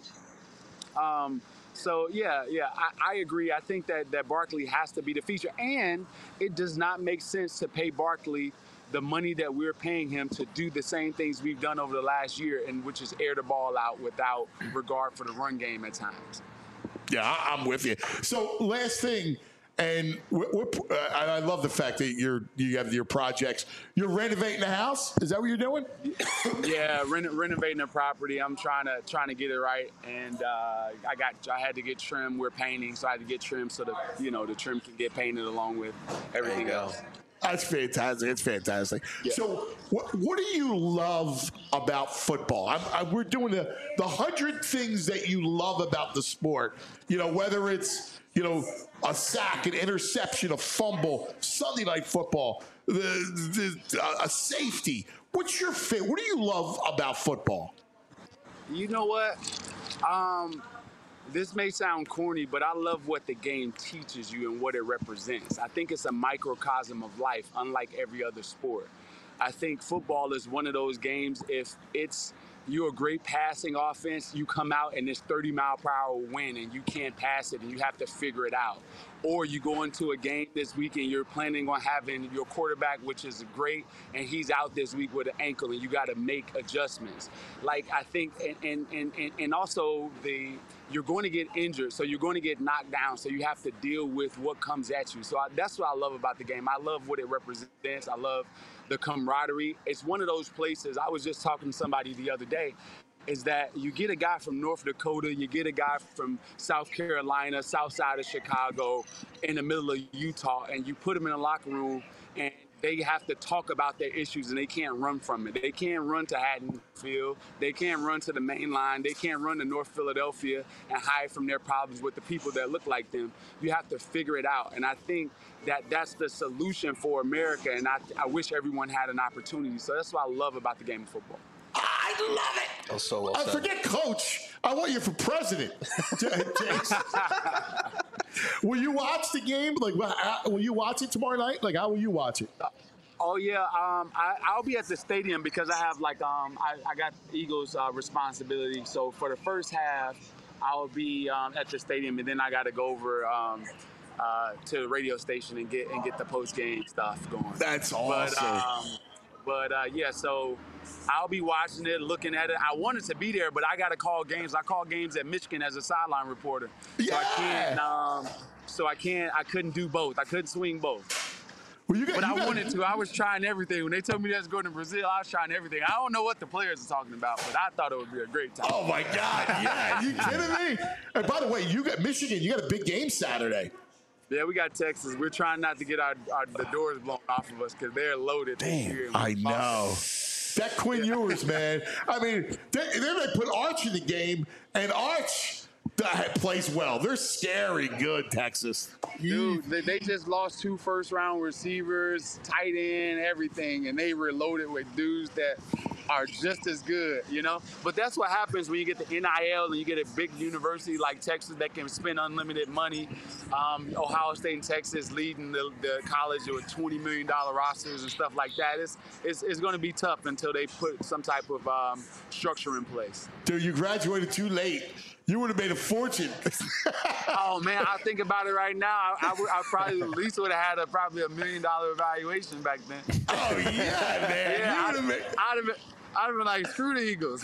Um, So, yeah, yeah, I, I agree. I think that, that Barkley has to be the feature. And it does not make sense to pay Barkley the money that we're paying him to do the same things we've done over the last year, and which is air the ball out without regard for the run game at times. Yeah, I, I'm with you. So, last thing, and we're, we're, uh, I love the fact that you're you have your projects. You're renovating the house. Is that what you're doing? Yeah, reno- renovating the property. I'm trying to trying to get it right, and uh, I got I had to get trim. We're painting, so I had to get trim so that you know the trim can get painted along with everything else. That's fantastic. It's fantastic. Yeah. So, what what do you love about football? I'm, I, we're doing the the hundred things that you love about the sport. You know, whether it's you know a sack, an interception, a fumble, Sunday night football, the, the uh, a safety. What's your favorite? What do you love about football? You know what? Um, this may sound corny, but I love what the game teaches you and what it represents. I think it's a microcosm of life, unlike every other sport. I think football is one of those games, if it's you're a great passing offense, you come out and it's thirty mile per hour wind and you can't pass it and you have to figure it out. Or you go into a game this week and you're planning on having your quarterback, which is great, and he's out this week with an ankle and you got to make adjustments. Like, I think, and, and, and, and also the you're going to get injured, so you're going to get knocked down, so you have to deal with what comes at you. So I, that's what I love about the game. I love what it represents. I love the camaraderie. It's one of those places. I was just talking to somebody the other day. is that you get a guy from North Dakota, you get a guy from South Carolina, south side of Chicago, in the middle of Utah, and you put them in a locker room, and they have to talk about their issues, and they can't run from it. They can't run to Haddonfield. They can't run to the main line. They can't run to North Philadelphia and hide from their problems with the people that look like them. You have to figure it out. And I think that that's the solution for America, and I, I wish everyone had an opportunity. So that's what I love about the game of football. I love it. Oh, so well I said. forget coach. I want you for president. Jason. Will you watch the game? Like, will you watch it tomorrow night? Like, how will you watch it? Oh yeah, um, I, I'll be at the stadium because I have like um, I, I got Eagles uh, responsibility. So for the first half, I'll be um, at the stadium, and then I got to go over um, uh, to the radio station and get and get the post game stuff going. That's awesome. But, um, but uh, yeah, so I'll be watching it, looking at it. I wanted to be there, but I got to call games. I call games at Michigan as a sideline reporter. Yeah. So I can't. Um, so I can't. I couldn't do both. I couldn't swing both. Well, you got, but you I got, wanted to. I was trying everything. When they told me that's going to Brazil, I was trying everything. I don't know what the players are talking about, but I thought it would be a great time. Oh my God! Yeah, you kidding me? And by the way, you got Michigan. You got a big game Saturday. Yeah, we got Texas. We're trying not to get our, our the doors blown off of us because they're loaded. Damn, I know. That Quinn Ewers, man. I mean, they, then they put Arch in the game, and Arch plays well. They're scary good, Texas. Dude, they, they just lost two first-round receivers, tight end, everything, and they were loaded with dudes that are just as good, you know? But that's what happens when you get the N I L and you get a big university like Texas that can spend unlimited money. Um, Ohio State and Texas leading the, the college with twenty million dollars rosters and stuff like that. It's, it's, it's going to be tough until they put some type of um, structure in place. Dude, you graduated too late. You would have made a fortune. Oh man, I think about it right now. I, I, would, I probably at least would have had a probably a million dollar evaluation back then. Oh yeah, man. Yeah, I'd I'd, have been, I'd have been, I'd have been like, screw the Eagles.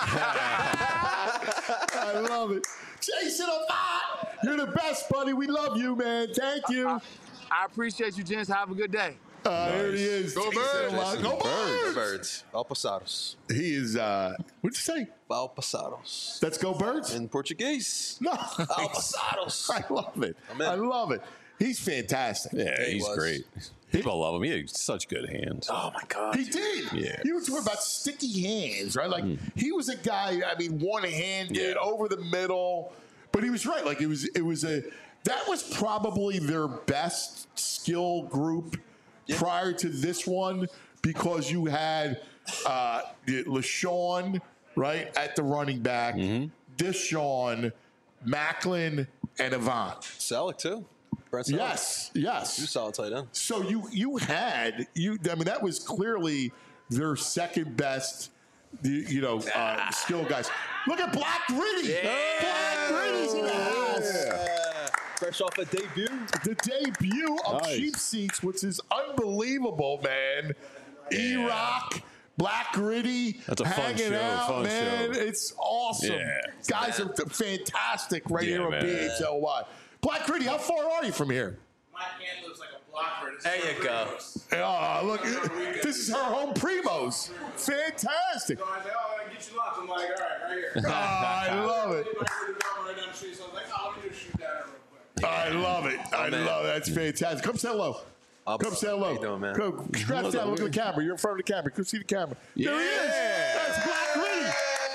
I love it, Jason Avant. You're the best, buddy. We love you, man. Thank you. I, I appreciate you, gents. Have a good day. Uh, nice. There he is. Go Birds. Go Birds. Go Birds. Valpasados. He is, uh, what'd you say? Valpasados. Let's go Birds? In Portuguese. No. Valpasados. I love it. I love it. He's fantastic. Yeah, he he's was. great. People love him. He had such good hands. Oh, my God. He did. Yeah. You were talking about sticky hands, right? Like, mm. he was a guy, I mean, one-handed, yeah. over the middle. But he was right. Like, it was, it was a, that was probably their best skill group yeah. prior to this one, because you had uh, LaShawn, right, at the running back, mm-hmm. Deshaun, Macklin, and Avant. Selleck, too. Yes, yes. You solid tight end. So you you had you. I mean, that was clearly their second best, you, you know, uh, skill guys. Look at Black Gritty. Yeah. Black Gritty's in the house. Yeah. Fresh off a debut. The debut of Nice. Cheap Seats, which is unbelievable, man. E Rock. Black Gritty, That's a fun hanging show, out, fun man. show. It's awesome. Yeah. Guys are fantastic right Yeah, here on man. B H L Y. Black Gritty, how far are you from here? My hand looks like a blocker. There you go. Oh, look, this is her home Primos. Fantastic. So I said, oh, I get you locked. I'm like, all right, right here. Oh, I love it. Anybody would have gone right down the street, so I was like, oh, let me just shoot that real quick. I love it. I man. love it. That's fantastic. Come say hello. I'll Come say hello. How you doing, man? Go, scratch down. Look at the camera. You're in front of the camera. Come see the camera. There he is. That's Black Gritty.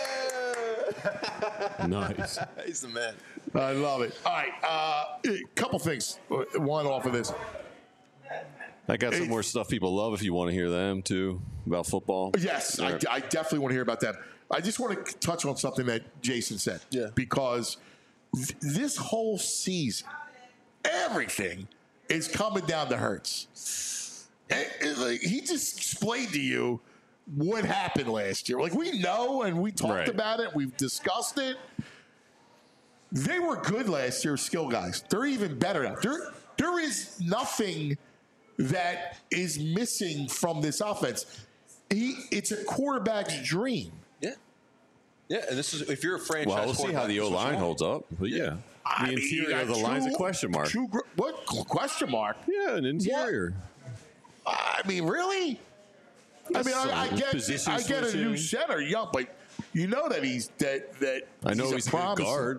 Nice. He's the man. I love it. All right. Uh, a couple things. One off of this. I got some more stuff people love if you want to hear them too about football. Yes, I, I definitely want to hear about that. I just want to touch on something that Jason said. Yeah. Because th- this whole season, everything is coming down to Hurts. And, and, like, he just explained to you what happened last year. Like, we know, and we talked Right. about it. We've discussed it. They were good last year, skill guys. They're even better now. There, there is nothing that is missing from this offense. He, it's a quarterback's dream. Yeah. Yeah, and this is if you're a franchise. Well, we'll see how the O line holds up. But yeah, I the mean, you interior of got the line's a two- question mark. two gr- what question mark? Yeah, an interior. I mean, really? I mean, I, I Some get, position I get a new switching. center, young, but You know that he's that that. I know he's, he's a, a good guard.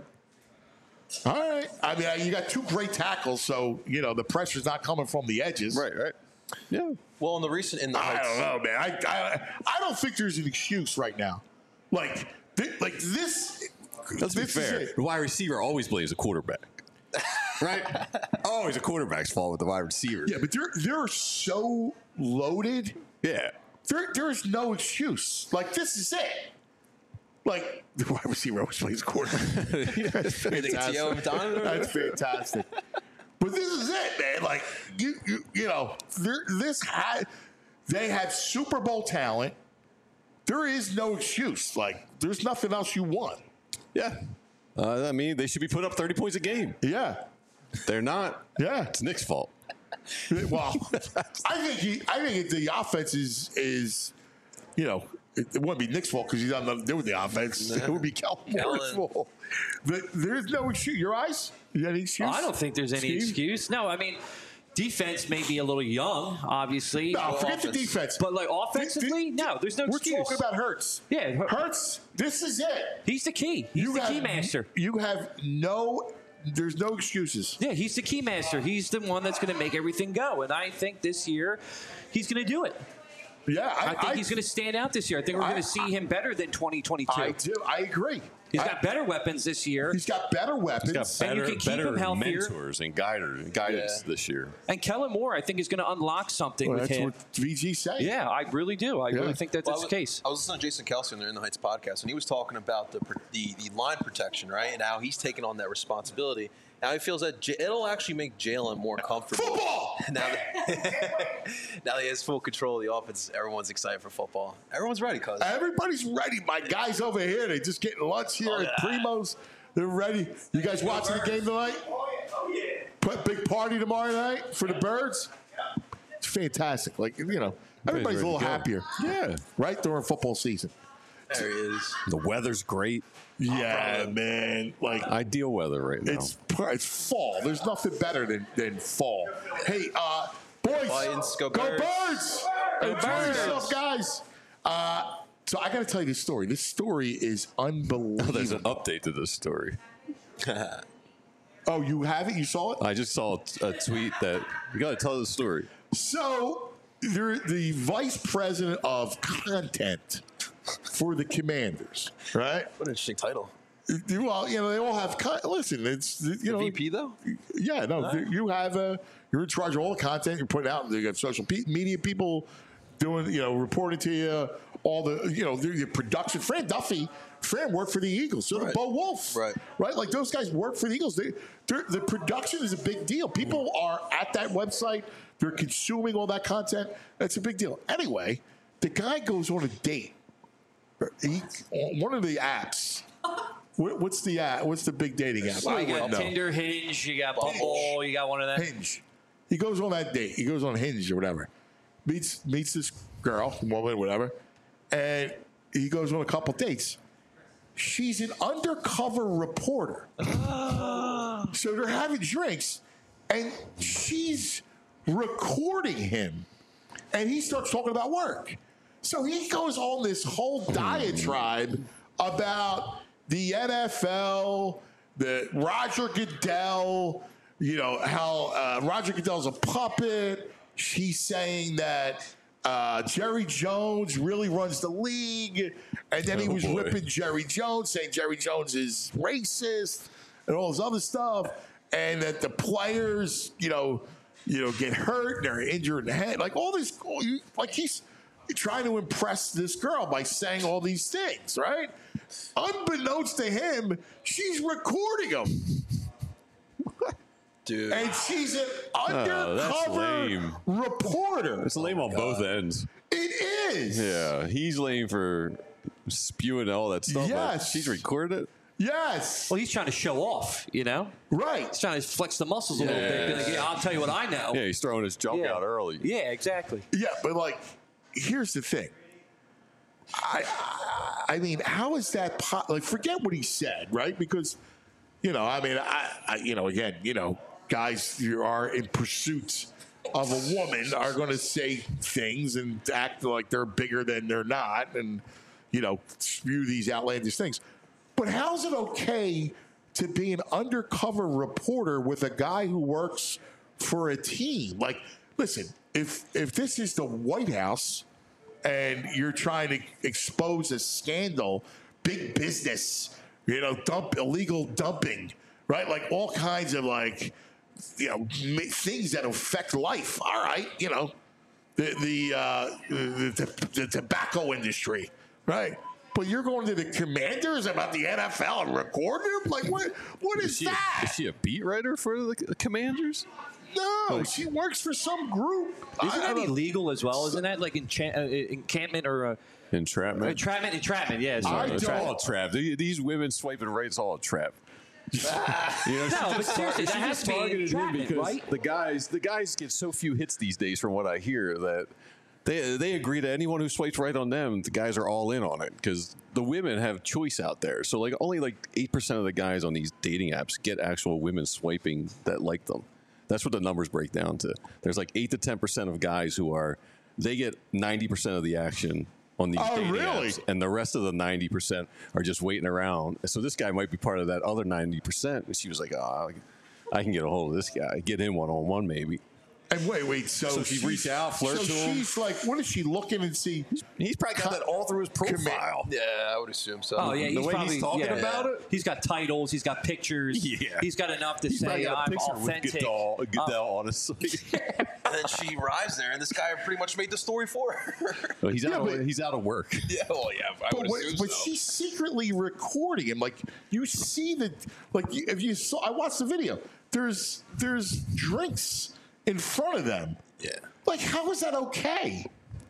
All right. I mean, you got two great tackles, so you know the pressure's not coming from the edges. Right. Right. Yeah. Well, in the recent in the I don't know, man. I, I I don't think there's an excuse right now. Like th- like this. Let's be this fair. is it. The wide receiver always blames the quarterback. Right? Always a quarterback's fault with the wide receiver. Yeah, but they're they're so loaded. Yeah. There there is no excuse. Like this is it. Like the wide receiver always plays quarterback. That's fantastic. That's fantastic. But this is it, man. Like you you you know, there this had they have Super Bowl talent. There is no excuse. Like there's nothing else you want. Yeah. Uh, I mean, they should be putting up thirty points a game. Yeah. They're not. Yeah. It's Nick's fault. Well, I think he, I think the offense is is, you know, it, it wouldn't be Nick's fault because he's got nothing to do with the offense. It would be Kellen Moore's fault. But there's no excuse. Your eyes? You got any excuse? I don't think there's any Steve? excuse. No, I mean, defense may be a little young, obviously. No, forget offense. the defense. But like offensively, no, there's no We're excuse. talking about Hurts. Yeah, Hur- Hurts. This is it. He's the key. He's You the have- key master. You have no. There's no excuses. Yeah, he's the key master. He's the one that's going to make everything go. And I think this year he's going to do it. Yeah, I, I think I, he's going to stand out this year. I think we're I- going to see him better than twenty twenty-two. I do. I agree. He's I- got better weapons this year. He's got better weapons. He's got And you better, can keep better him healthier. mentors and guiders, guidance Yeah. this year. And Kellen Moore, I think, is going to unlock something Well, with that's him. what V G saying. Yeah, I really do. I Yeah. really think that Well, that's I the was- case. I was listening to Jason Kelsey on the In the Heights podcast, and he was talking about the the, the line protection, right, and how he's taking on that responsibility. Now he feels that J- it'll actually make Jalen more comfortable. Football! Now that, now that he has full control of the offense, everyone's excited for football. Everyone's ready, cuz. Everybody's ready. My guys over here, they just getting lunch here at Primo's. They're ready. You guys watching the game tonight? Oh, yeah. Oh, yeah. Put big party tomorrow night for the Birds. It's fantastic. Like, you know, everybody's a little happier. Yeah. Right during football season. There he is. The weather's great. Yeah, man. Like, Ideal weather right now. it's it's fall. There's nothing better than, than fall. Hey, uh, boys, Lions, go go Birds. Birds! Go Enjoy Birds. yourself, guys. Uh, so I got to tell you this story. This story is unbelievable. Oh, there's an update to this story. Oh, you have it? You saw it? I just saw a tweet that you got to tell the story. So, they're the vice president of content for the Commanders, right? What an interesting title. Well, you know, they all have. Con- listen, it's you know, V P though. yeah, no, you have a. You're in charge of all the content you're putting out. You have social pe- media people doing, you know, reporting to you. All the, you know, the, the production. Fran Duffy, Fran worked for the Eagles. So did Right. Bo Wolf, Right. Right, like those guys work for the Eagles. They, they're- the production is a big deal. People are at that website. They're consuming all that content. That's a big deal. Anyway, the guy goes on a date. He, on one of the apps. What, what's the app? What's the big dating app? So I you got wouldn't know. Tinder, Hinge, you got Bumble, you got one of them. Hinge. He goes on that date. He goes on Hinge or whatever. Meets meets this girl, woman, whatever, and he goes on a couple dates. She's an undercover reporter. So they're having drinks, and she's recording him, and he starts talking about work. So he goes on this whole diatribe about the N F L, the Roger Goodell, you know, how uh, Roger Goodell's a puppet. She's saying that uh, Jerry Jones really runs the league. And then he Oh, was boy. ripping Jerry Jones, saying Jerry Jones is racist and all this other stuff. And that the players, you know, you know, get hurt and they're injured in the head. Like all this, like he's trying to impress this girl by saying all these things, right? Unbeknownst to him, she's recording him. Dude. And she's an Oh, that's undercover lame. reporter. It's lame on both ends. It is. Yeah, he's lame for spewing all that stuff. but Yes. She's recorded it. Yes. Well, he's trying to show off, you know? Right. He's trying to flex the muscles a little bit. Be like, yeah, I'll tell you what I know. Yeah, he's throwing his junk Yeah. out early. Yeah, exactly. Yeah, but like, here's the thing. I, I, I mean, how is that? Po- like, forget what he said, right? Because, you know, I mean, I, I you know, again, you know, guys who are in pursuit of a woman are going to say things and act like they're bigger than they're not, and you know, spew these outlandish things. But how's it okay to be an undercover reporter with a guy who works for a team? Like, listen, if if this is the White House and you're trying to expose a scandal, big business, you know, dump illegal dumping, right? Like all kinds of like, you know, things that affect life. All right, you know, the the uh, the, the, the tobacco industry, right? But you're going to the Commanders about the N F L and recording them? Like, what? What is, is she, that? Is she a beat writer for the Commanders? No, she works for some group. Isn't that illegal as well? Isn't that like enchant, uh, encampment or uh, entrapment? Entrapment, entrapment. Yeah, sorry. It's all a trap. These women swiping right, it's all a trap. you know, no, but seriously, that she has just to be targeted him entrapment, because right? the guys, the guys get so few hits these days, from what I hear, that they they agree to anyone who swipes right on them. The guys are all in on it because the women have choice out there. So like only like eight percent of the guys on these dating apps get actual women swiping that like them. That's what the numbers break down to. There's like eight to ten percent of guys who are, they get ninety percent of the action on these oh, dating really? apps, and the rest of the ninety percent are just waiting around. So this guy might be part of that other ninety percent. And she was like, oh, I can get a hold of this guy, get him one on one maybe. And wait, wait. So, So she reached out, flirt so to him. she's like, what is she looking and see? He's probably got that all through his profile. Yeah, I would assume so. Oh yeah, The he's way probably he's talking yeah. about it? He's got titles. He's got pictures. Yeah. He's got enough to He's probably say got a I'm picture authentic. with Goodell, Goodell honestly. And then she arrives there, and this guy pretty much made the story for her. Well, he's, Yeah, out but- of, he's out of work. yeah, well, yeah, I But, would what, assume but so. she's secretly recording him. Like you see that, like you- if you saw, I watched the video. There's there's drinks in front of them. Yeah. Like how is that okay?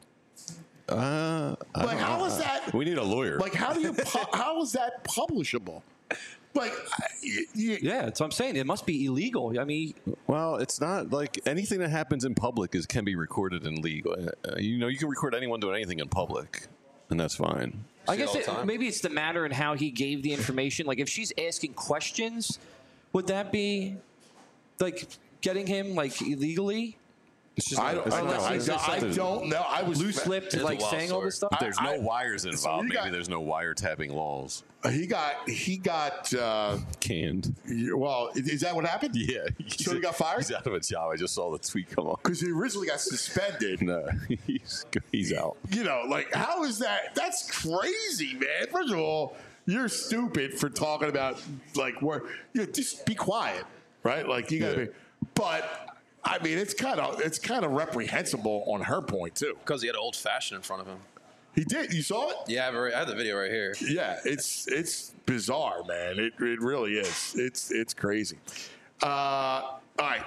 Uh, I Like don't how know. is that? We need a lawyer. Like how do you? pu- how is that publishable? Like, I- y- y- Yeah, that's what I'm saying. It must be illegal. I mean, Well, it's not like anything that happens in public is can be recorded and legal. Uh, you know, you can record anyone doing anything in public, and that's fine. I See it guess all the it, time. maybe it's the matter in how he gave the information. Like, if she's asking questions, would that be like getting him like illegally? It's just I not- don't, it's I, not- don't, I, it's don't, just I something- don't know. I was Loose lipped, It's a like wild saying all this story. stuff. There's I- no I- wires so involved. you Maybe got- there's no wiretapping laws. He got he got. Uh, Canned. well, is that what happened? Yeah. So he got fired? He's out of a job. I just saw the tweet come on. Because he originally got suspended. No, he's he's out. You know, like how is that? That's crazy, man. First of all, you're stupid for talking about like where you know, just be quiet, right? Like you gotta Yeah. be. But I mean, it's kind of it's kind of reprehensible on her point too. Because he had an old fashioned in front of him. He did. You saw it? Yeah, I have, a, I have the video right here. Yeah, it's it's bizarre, man. It it really is. It's it's crazy. Uh, all right,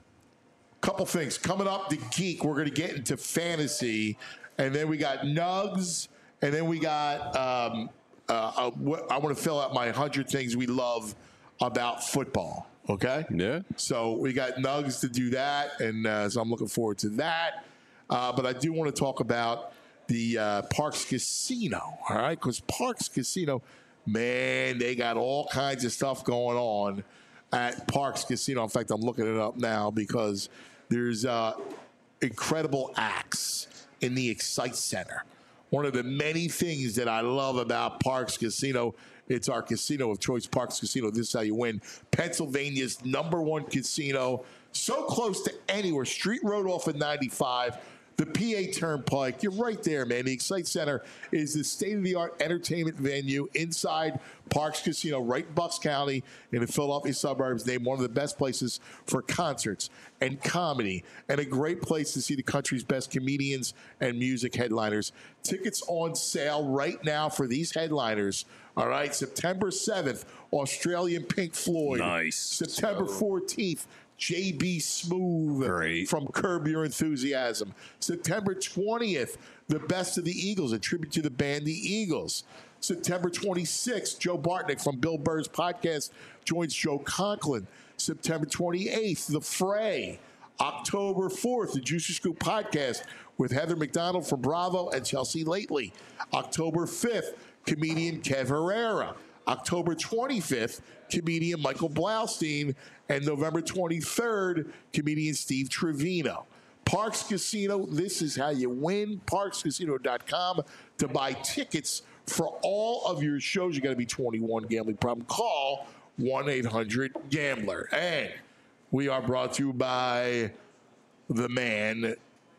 couple things coming up. The geek. We're going to get into fantasy, and then we got Nugs, and then we got. Um, uh, uh, I want to fill out my hundred things we love about football. Okay. Yeah. So we got Nugs to do that, and uh, so I'm looking forward to that. Uh, but I do want to talk about the uh, Parks Casino, all right? Because Parks Casino, man, they got all kinds of stuff going on at Parks Casino. In fact, I'm looking it up now because there's uh, incredible acts in the Excite Center. One of the many things that I love about Parks Casino, it's our casino of choice, Parks Casino. This is how you win. Pennsylvania's number one casino, so close to anywhere. Street Road off of ninety-five. The P A Turnpike, you're right there, man. The Excite Center is the state-of-the-art entertainment venue inside Parks Casino, right in Bucks County in the Philadelphia suburbs. Named one of the best places for concerts and comedy, and a great place to see the country's best comedians and music headliners. Tickets on sale right now for these headliners. All right, September seventh, Australian Pink Floyd. Nice. September fourteenth, J B Smooth Great. from Curb Your Enthusiasm. September twentieth, The Best of the Eagles, a tribute to the band The Eagles. September twenty-sixth, Joe Bartnick from Bill Burr's podcast joins Joe Conklin. September twenty-eighth, The Fray. October fourth, the Juicy Scoop podcast with Heather McDonald from Bravo and Chelsea Lately. October fifth, comedian Kev Herrera. October twenty-fifth, comedian Michael Blaustein. And November twenty-third, comedian Steve Trevino. Parks Casino, this is how you win. parks casino dot com to buy tickets for all of your shows. You got to be twenty-one. Gambling problem. Call one eight hundred gambler. And we are brought to you by the man,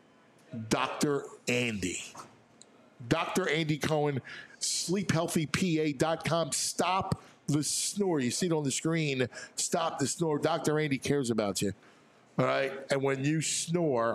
Doctor Andy. Doctor Andy Cohen, sleep healthy P A dot com. Stop the snore. You see it on the screen. Stop the snore. Doctor Andy cares about you. All right? And when you snore,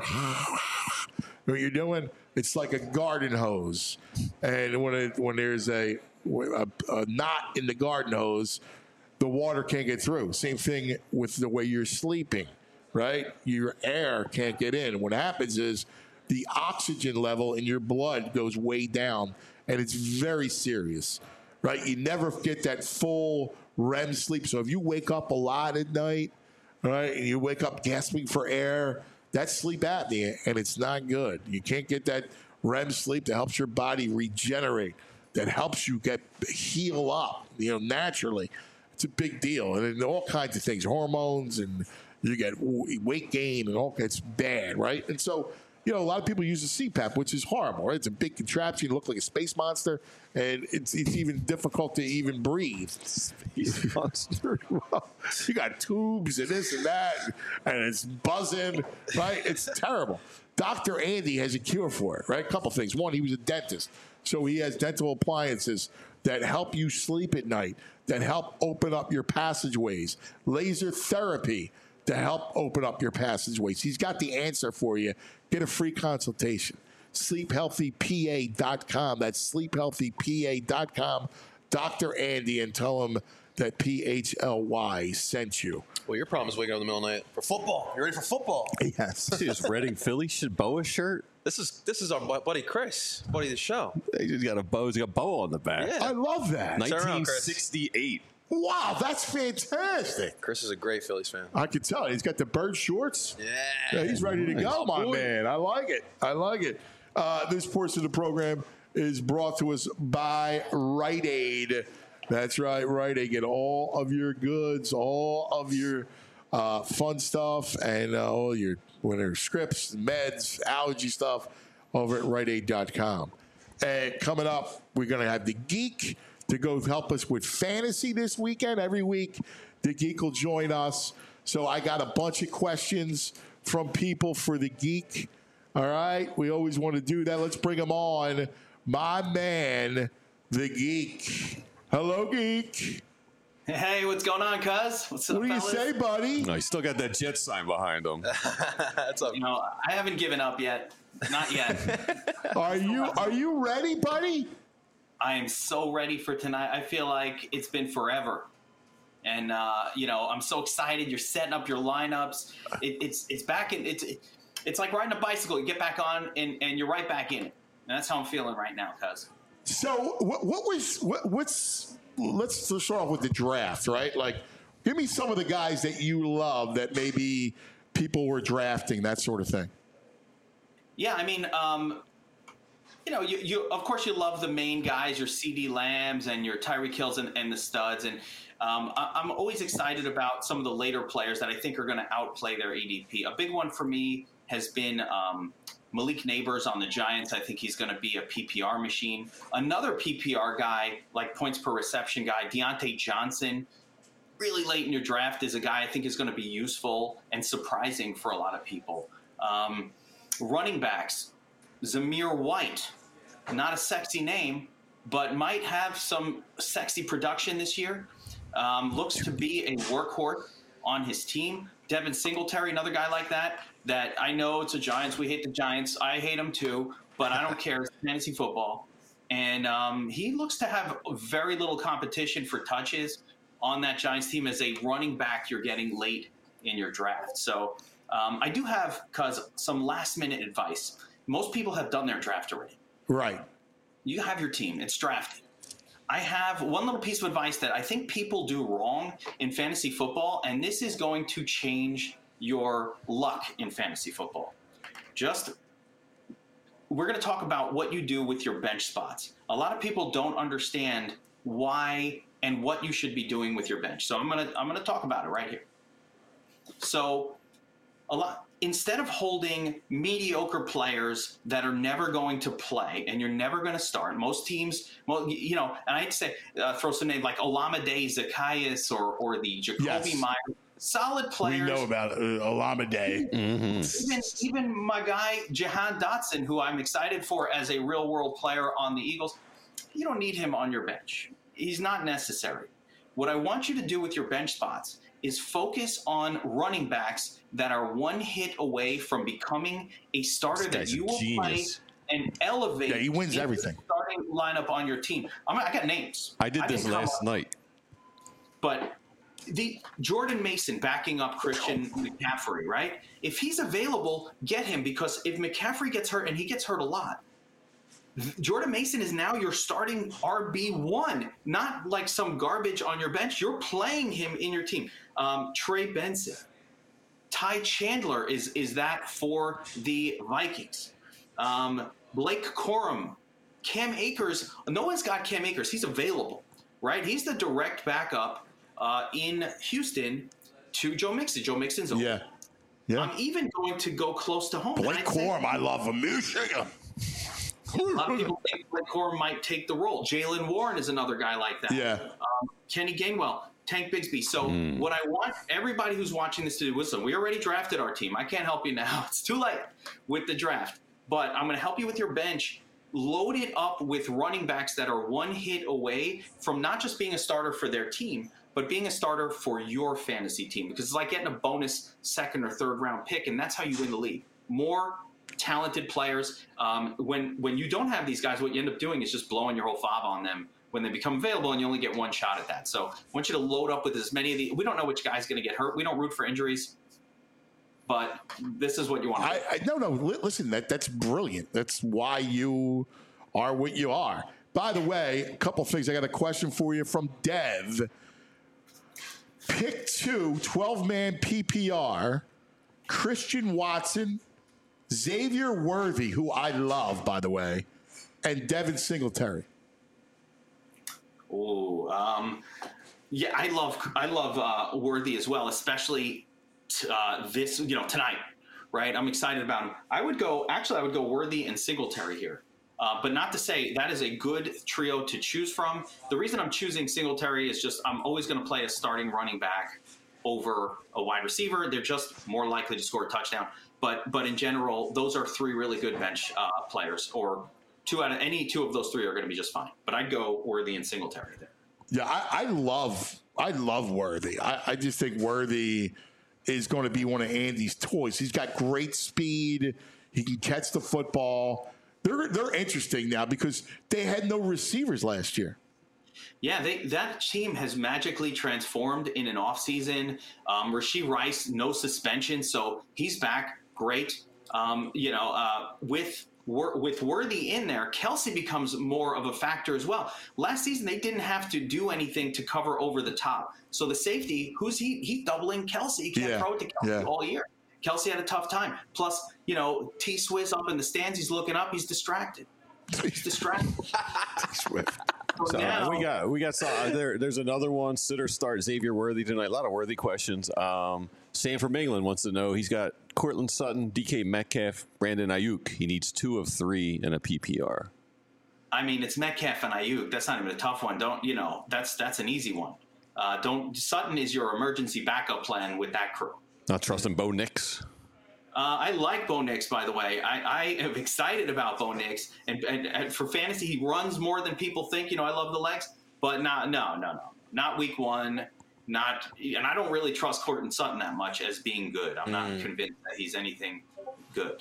what you're doing, it's like a garden hose. And when it, when there's a, a, a knot in the garden hose, the water can't get through. Same thing with the way you're sleeping, right? Your air can't get in. What happens is the oxygen level in your blood goes way down, and it's very serious, right? You never get that full R E M sleep. So if you wake up a lot at night, right, and you wake up gasping for air, that's sleep apnea, and it's not good. You can't get that R E M sleep that helps your body regenerate, that helps you get heal up, you know, naturally. It's a big deal, and all kinds of things, hormones, and you get weight gain, and all. It's bad, right? And so, you know, a lot of people use the C PAP, which is horrible, right? It's a big contraption. You look like a space monster, and it's it's even difficult to even breathe. Space monster. You got tubes and this and that, and it's buzzing, right? It's terrible. Doctor Andy has a cure for it, right? A couple things. One, he was a dentist, so he has dental appliances that help you sleep at night, that help open up your passageways. Laser therapy to help open up your passageways. He's got the answer for you. Get a free consultation. sleep healthy P A dot com. That's sleep healthy P A dot com. Doctor Andy, and tell him that P H L Y sent you. Well, your problem is waking up in the middle of the night for football. You ready for football? Yes. See this Reading Philly Boa shirt? This is this is our buddy Chris, buddy of the show. He just got a bow. He's got a bow on the back. Yeah. I love that. nineteen sixty-eight. Wow, that's fantastic. Chris is a great Phillies fan. I can tell. He's got the bird shorts. Yeah. Yeah, he's ready to go, Oh, my boy. man. I like it. I like it. Uh, this portion of the program is brought to us by Rite Aid. That's right, Rite Aid. Get all of your goods, all of your uh, fun stuff, and uh, all your whether scripts, meds, allergy stuff over at rite aid dot com. And coming up, we're going to have the Geek to go help us with fantasy this weekend. Every week, the Geek will join us. So I got a bunch of questions from people for the Geek. All right? We always want to do that. Let's bring him on. My man, the Geek. Hello, Geek. Hey, what's going on, cuz? What's up, What do you fellas? say, buddy? No, he's still got that jet sign behind him. That's up. You know, I haven't given up yet. Not yet. Are you Are you ready, buddy? I am so ready for tonight. I feel like it's been forever. And, uh, you know, I'm so excited. You're setting up your lineups. It, it's it's back in. It's it's like riding a bicycle. You get back on, and, and you're right back in it. And that's how I'm feeling right now, cuz. So what, what was what, what's let's start off with the draft, right? Like, give me some of the guys that you love that maybe people were drafting, that sort of thing. Yeah, I mean, um, you know, you, you of course you love the main guys, your CeeDee Lambs and your Tyreek Hills and, and the studs, and um, I, I'm always excited about some of the later players that I think are going to outplay their A D P. A big one for me has been um, Malik Neighbors on the Giants. I think he's going to be a P P R machine. Another P P R guy, like points per reception guy, Deontay Johnson, really late in your draft is a guy I think is going to be useful and surprising for a lot of people. Um, running backs, Zamir White, not a sexy name, but might have some sexy production this year. Um, looks to be a workhorse on his team. Devin Singletary, another guy like that, that I know it's the Giants. We hate the Giants. I hate them too, but I don't care. It's fantasy football. And um, he looks to have very little competition for touches on that Giants team as a running back you're getting late in your draft. So um, I do have, cuz, some last-minute advice. Most people have done their draft already. Right. You have your team. It's drafted. I have one little piece of advice that I think people do wrong in fantasy football, and this is going to change your luck in fantasy football. Just, we're going to talk about what you do with your bench spots. A lot of people don't understand why and what you should be doing with your bench. So I'm going to I'm going to talk about it right here. So a lot instead of holding mediocre players that are never going to play and you're never going to start, most teams, well, you know, and I'd say uh, throw some names like Olamide Zacchaeus or or the Jacoby Yes. Myers, solid players. We know about uh, Olamide. Even, even my guy, Jahan Dotson, who I'm excited for as a real world player on the Eagles, you don't need him on your bench. He's not necessary. What I want you to do with your bench spots is focus on running backs that are one hit away from becoming a starter This that guy's you a will genius. play and elevate. Yeah, he wins into the everything. Starting lineup on your team. I'm, I got names. I did can this come last up- night. But the Jordan Mason backing up Christian McCaffrey, right? If he's available, get him, because if McCaffrey gets hurt, and he gets hurt a lot, Jordan Mason is now your starting R B one, not like some garbage on your bench. You're playing him in your team. Um, Trey Benson, Ty Chandler is is that for the Vikings. Um, Blake Corum, Cam Akers. No one's got Cam Akers. He's available, right? He's the direct backup uh, in Houston to Joe Mixon. Joe Mixon's over. Yeah. Yeah. I'm even going to go close to home. Blake And I'd say- Corum, I love him. Michigan. A lot of people think Blake Corum might take the role. Jalen Warren is another guy like that. Yeah. Um, Kenny Gainwell, Tank Bigsby. So what I want everybody who's watching this to do, listen, we already drafted our team. I can't help you now. It's too late with the draft. But I'm going to help you with your bench. Load it up with running backs that are one hit away from not just being a starter for their team, but being a starter for your fantasy team. Because it's like getting a bonus second or third round pick, and that's how you win the league. More talented players. Um, when when you don't have these guys, what you end up doing is just blowing your whole fob on them when they become available, and you only get one shot at that. So I want you to load up with as many of the. We don't know which guy's going to get hurt. We don't root for injuries, but this is what you want. To I, I no no. Li- listen, that that's brilliant. That's why you are what you are. By the way, a couple things. I got a question for you from Dev. Pick two, twelve-man P P R, Christian Watson, Xavier Worthy, who I love, by the way, and Devin Singletary. Oh, um, yeah, I love I love uh, Worthy as well, especially t- uh, this you know tonight, right? I'm excited about him. I would go actually I would go Worthy and Singletary here, uh, but not to say that is a good trio to choose from. The reason I'm choosing Singletary is just I'm always going to play a starting running back over a wide receiver. They're just more likely to score a touchdown. But but in general, those are three really good bench uh, players, or two out of any two of those three are going to be just fine. But I'd go Worthy and Singletary there. Yeah, I, I love I love Worthy. I, I just think Worthy is going to be one of Andy's toys. He's got great speed. He can catch the football. They're they're interesting now because they had no receivers last year. Yeah, they, that team has magically transformed in an offseason. Um, Rashee Rice, no suspension, so he's back. Great. Um, you know, uh, with with Worthy in there, Kelsey becomes more of a factor as well. Last season, they didn't have to do anything to cover over the top. So the safety, who's he? He's doubling Kelsey. He can't Yeah, throw it to Kelsey yeah. all year. Kelsey had a tough time. Plus, you know, T Swizz up in the stands, he's looking up, he's distracted. He's distracted. So now- we got we got uh, there. There's another one. Sitter start Xavier Worthy tonight. A lot of Worthy questions. Um, Sam from England wants to know. He's got Cortland Sutton, D K Metcalf, Brandon Ayuk. He needs two of three in a P P R. I mean, it's Metcalf and Ayuk. That's not even a tough one. Don't you know? That's that's an easy one. Uh, don't Sutton is your emergency backup plan with that crew. Not trusting Bo Nix. Uh, I like Bo Nix, by the way. I, I am excited about Bo Nix, and, and, and for fantasy, he runs more than people think. You know, I love the legs, but not no no no not week one. Not and I don't really trust Cortland Sutton that much as being good. I'm not convinced that he's anything good.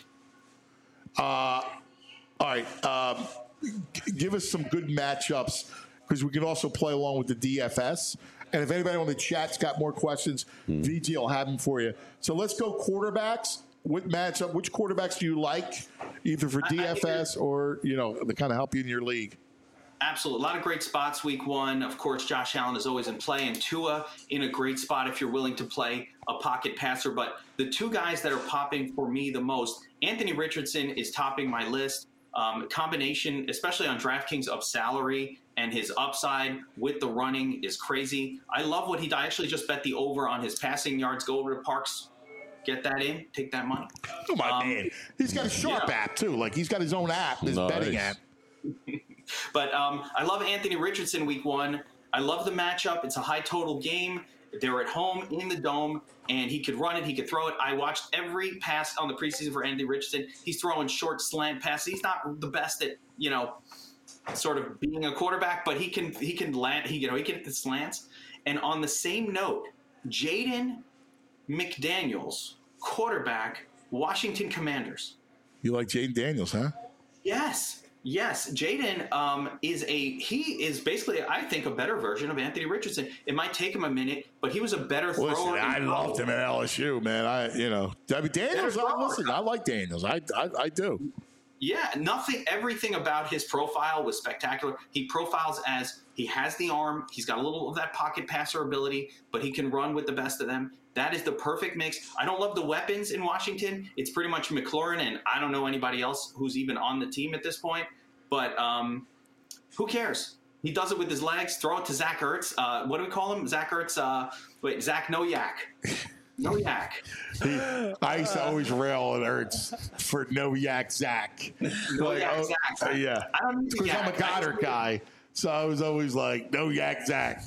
Uh, all right. Um, g- give us some good matchups because we can also play along with the D F S. And if anybody on the chat's got more questions, V G will have them for you. So let's go quarterbacks. What matchup? Which quarterbacks do you like, either for D F S or you know to kind of help you in your league? Absolutely. A lot of great spots week one. Of course, Josh Allen is always in play, and Tua in a great spot if you're willing to play a pocket passer. But the two guys that are popping for me the most, Anthony Richardson is topping my list. Um, combination, especially on DraftKings, of salary and his upside with the running is crazy. I love what he I actually just bet the over on his passing yards. Go over to Parks get that in, take that money. Oh my Um, man, he's got a Sharp yeah. app too. Like he's got his own app, his Nice. betting app. But um, I love Anthony Richardson week one. I love the matchup. It's a high total game. They're at home in the Dome, and he could run it. He could throw it. I watched every pass on the preseason for Anthony Richardson. He's throwing short slant passes. He's not the best at, you know, sort of being a quarterback, but he can he can land. He you know he can hit the slants. And on the same note, Jaden McDaniels, quarterback, Washington Commanders. You like Jaden Daniels, huh? Yes. Yes, Jaden um, is a he is basically I think a better version of Anthony Richardson. It might take him a minute, but he was a better thrower. Listen, I loved him at L S U, man. I you know I mean, Daniels. I, listen, I like Daniels. I, I I do. Yeah, nothing. Everything about his profile was spectacular. He profiles as he has the arm. He's got a little of that pocket passer ability, but he can run with the best of them. That is the perfect mix. I don't love the weapons in Washington. It's pretty much McLaurin, and I don't know anybody else who's even on the team at this point. But um, who cares? He does it with his legs. Throw it to Zach Ertz. Uh, what do we call him? Zach Ertz. Uh, wait, Zach No Yak. No Yak. He, I used to always rail at Ertz for No Yak Zach. No Like, Yak oh, Zach. uh, yeah. I don't need Because I'm a yak. Goddard guy, so I was always like No Yak Zach.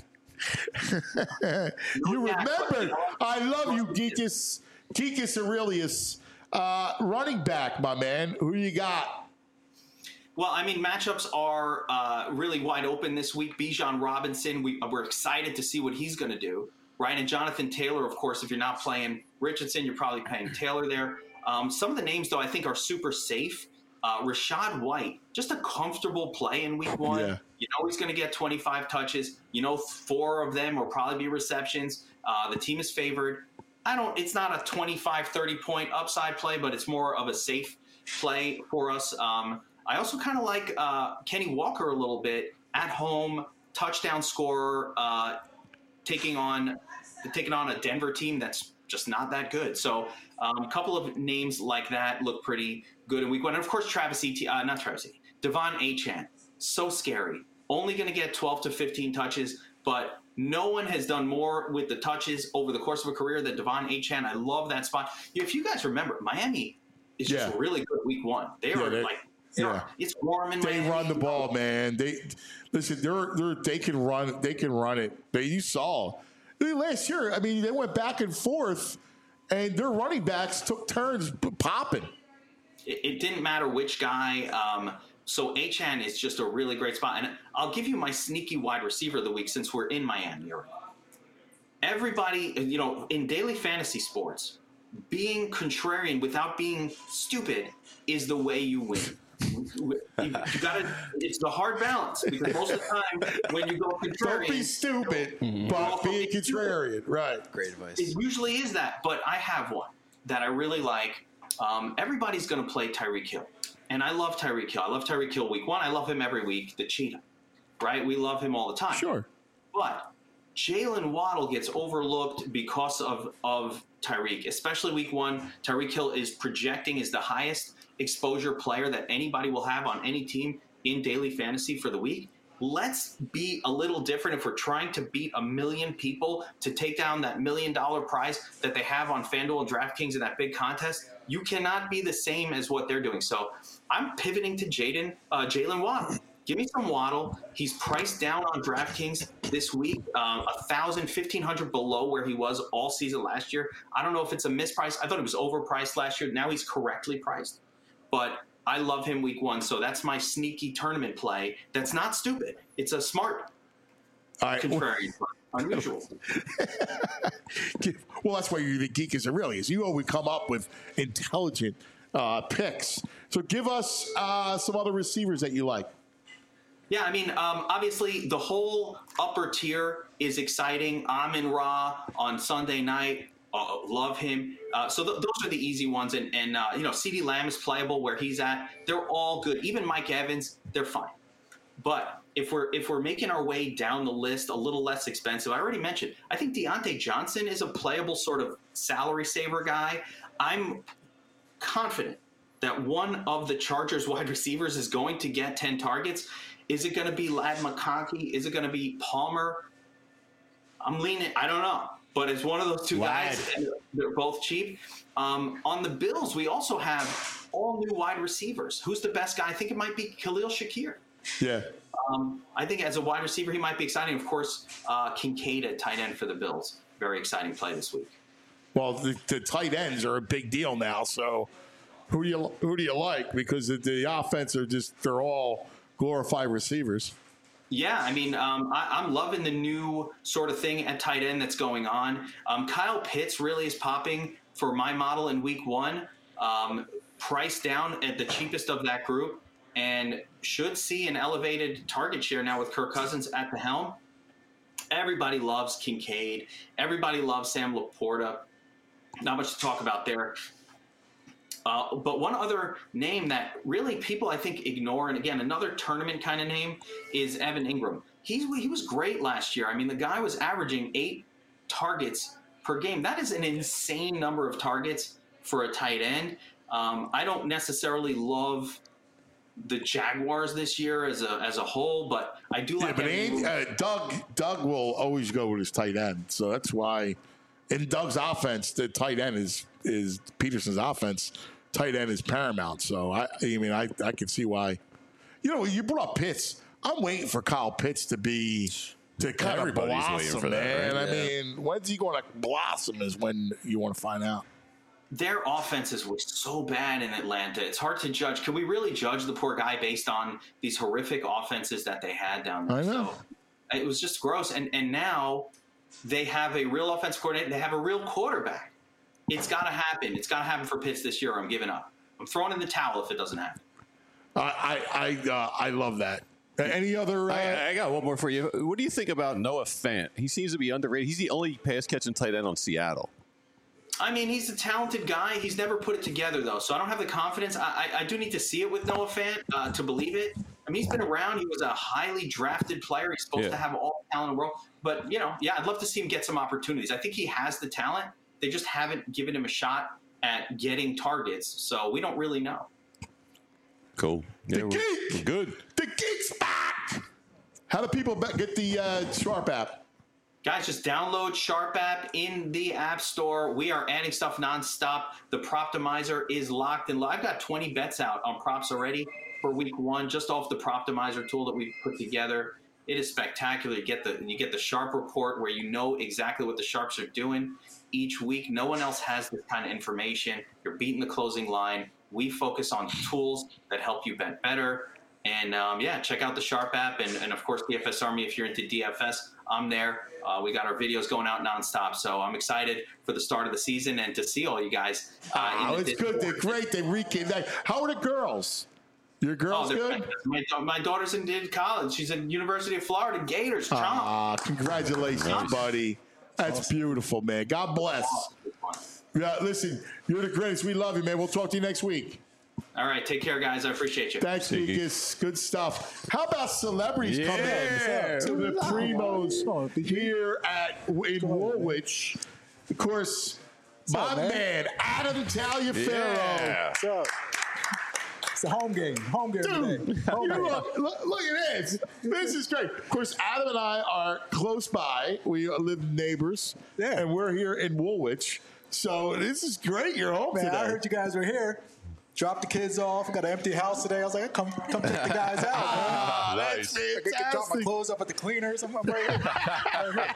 You remember? I love you, Geekus. Geekus Aurelius. Uh, running back, my man. Who you got? Well, I mean, matchups are uh, really wide open this week. Bijan Robinson, we, we're excited to see what he's going to do, right? And Jonathan Taylor, of course, if you're not playing Richardson, you're probably playing Taylor there. Um, some of the names, though, I think are super safe. Uh, Rashad White, just a comfortable play in week one. Yeah. You know he's going to get twenty-five touches. You know four of them will probably be receptions. Uh, the team is favored. I don't. It's not a twenty-five, thirty-point upside play, but it's more of a safe play for us. Um, I also kind of like uh, Kenny Walker a little bit at home, touchdown scorer, uh, taking on taking on a Denver team that's just not that good. So um, a couple of names like that look pretty good in week one. And of course, Travis Etienne, uh, not Travis Etienne, Devon Achane, so scary. Only going to get twelve to fifteen touches, but no one has done more with the touches over the course of a career than Devon Achane. I love that spot. If you guys remember, Miami is just Yeah. really good week one. They Yeah, are they- like, Yeah. it's warm in They Miami. run the ball, man. They listen. They're they are they can run. They can run it. They you saw I mean, last year. I mean, they went back and forth, and their running backs took turns p- popping. It, it didn't matter which guy. Um, so Achane is just a really great spot. And I'll give you my sneaky wide receiver of the week since we're in Miami already. Everybody, you know, in daily fantasy sports, being contrarian without being stupid is the way you win. You, you gotta. It's the hard balance because most of the time when you go contrarian, Don't be stupid, but be a contrarian. Right. Great advice. it usually is that. But I have one that I really like. Um, everybody's going to play Tyreek Hill, and I love Tyreek Hill. I love Tyreek Hill week one. I love him every week. The cheetah, right? We love him all the time. Sure. But Jalen Waddle gets overlooked because of, of Tyreek, especially week one. Tyreek Hill is projecting as the highest exposure player that anybody will have on any team in daily fantasy for the week. Let's be a little different if we're trying to beat a million people to take down that million dollar prize that they have on FanDuel and DraftKings in that big contest. You cannot be the same as what they're doing. So I'm pivoting to Jaden, uh, Jalen Waddle. Give me some Waddle. He's priced down on DraftKings this week, um, one thousand, fifteen hundred below where he was all season last year. I don't know if it's a misprice. I thought it was overpriced last year. Now he's correctly priced. But I love him week one. So that's my sneaky tournament play. That's not stupid. It's a smart All right. contrarian play. Unusual. Well, that's why you're the geek as Aurelius. You always come up with intelligent uh, picks. So give us uh, some other receivers that you like. Yeah, I mean, um, obviously the whole upper tier is exciting. Amon Ra on Sunday night. Uh, love him. Uh, so th- those are the easy ones. And, and uh, you know, CeeDee Lamb is playable where he's at. They're all good. Even Mike Evans, they're fine. But if we're if we're making our way down the list a little less expensive, I already mentioned, I think Deontay Johnson is a playable sort of salary saver guy. I'm confident that one of the Chargers wide receivers is going to get ten targets. Is it going to be Ladd McConkey? Is it going to be Palmer? I'm leaning. I don't know. but it's one of those two Lad. guys, and they're both cheap. Um, on the Bills, we also have all new wide receivers. Who's the best guy? I think it might be Khalil Shakir. Yeah. Um, I think as a wide receiver, he might be exciting. Of course, uh, Kincaid at tight end for the Bills. Very exciting play this week. Well, the, the tight ends are a big deal now. So who do you who do you like? Because the, the offense are just they're all glorified receivers. Yeah, I mean, um, I, I'm loving the new sort of thing at tight end that's going on. Um, Kyle Pitts really is popping for my model in week one, um, priced down at the cheapest of that group, and should see an elevated target share now with Kirk Cousins at the helm. Everybody loves Kincaid. Everybody loves Sam Laporta. Not much to talk about there. Uh, but one other name that really people, I think, ignore, and again, another tournament kind of name, is Evan Ingram. He's, he was great last year. I mean, the guy was averaging eight targets per game. That is an insane number of targets for a tight end. Um, I don't necessarily love the Jaguars this year as a as a whole, but I do like. Yeah, but Andy, uh, Doug Doug will always go with his tight end, so that's why in Doug's offense, the tight end is is Peterson's offense. Tight end is paramount. So I, I mean, I I can see why. You know, you brought up Pitts. I'm waiting for Kyle Pitts to be to kind of Everybody's blossom, waiting for man. that, right? I Yeah. mean, when's he going to blossom? Is when you want to find out. Their offenses were so bad in Atlanta. It's hard to judge. Can we really judge the poor guy based on these horrific offenses that they had down there? I know. So it was just gross. And and now they have a real offense coordinator. They have a real quarterback. It's got to happen. It's got to happen for Pitts this year. Or I'm giving up. I'm throwing in the towel if it doesn't happen. I I I, uh, I love that. Any other? Uh, I, I got one more for you. What do you think about Noah Fant? He seems to be underrated. He's the only pass catching tight end on Seattle. I mean, he's a talented guy. He's never put it together, though, so I don't have the confidence. I, I, I do need to see it with Noah Fant uh, to believe it. I mean, he's been around. He was a highly drafted player. He's supposed Yeah. to have all the talent in the world. But, you know, yeah, I'd love to see him get some opportunities. I think he has the talent. They just haven't given him a shot at getting targets, so we don't really know. Cool. Yeah, the we're, geek, we're good. The geek's back. How do people be- get the uh, Sharp app? Guys, just download Sharp app in the App Store. We are adding stuff nonstop. The Proptimizer is locked and I've got twenty bets out on props already for week one, just off the Proptimizer tool that we've put together. It is spectacular. You get the you get the Sharp report where you know exactly what the Sharps are doing each week. No one else has this kind of information. You're beating the closing line. We focus on tools that help you bet better. And um, yeah, check out the Sharp app. And, and of course, D F S Army, if you're into D F S, I'm there. Uh, we got our videos going out nonstop. So I'm excited for the start of the season and to see all you guys. Uh, Oh, in the it's good. They're great. They recap. How are the girls? Your girls Oh, they're good? fantastic. My, my daughter's in, in college. She's at University of Florida Gators. Chomp. Ah, congratulations, buddy. That's beautiful, man. God bless. Yeah, listen, you're the greatest. We love you, man. We'll talk to you next week. All right, take care, guys. I appreciate you. Thanks, Lucas. Good stuff. How about celebrities Yeah. coming to the Primos here at in Woolwich? Of course, my up, man? man Adam Taliaferro. Yeah. What's up? It's a home game. Home game Dude, today. Home you game. look, look, look at this. This is great. Of course, Adam and I are close by. We live neighbors, Yeah. and we're here in Woolwich. So this is great. You're home Man, today. I heard you guys were here. Dropped the kids off. Got an empty house today. I was like, come, come check the guys out. Ah, man. that's I could drop my fantastic. clothes up at the cleaners. I'm, I'm right here.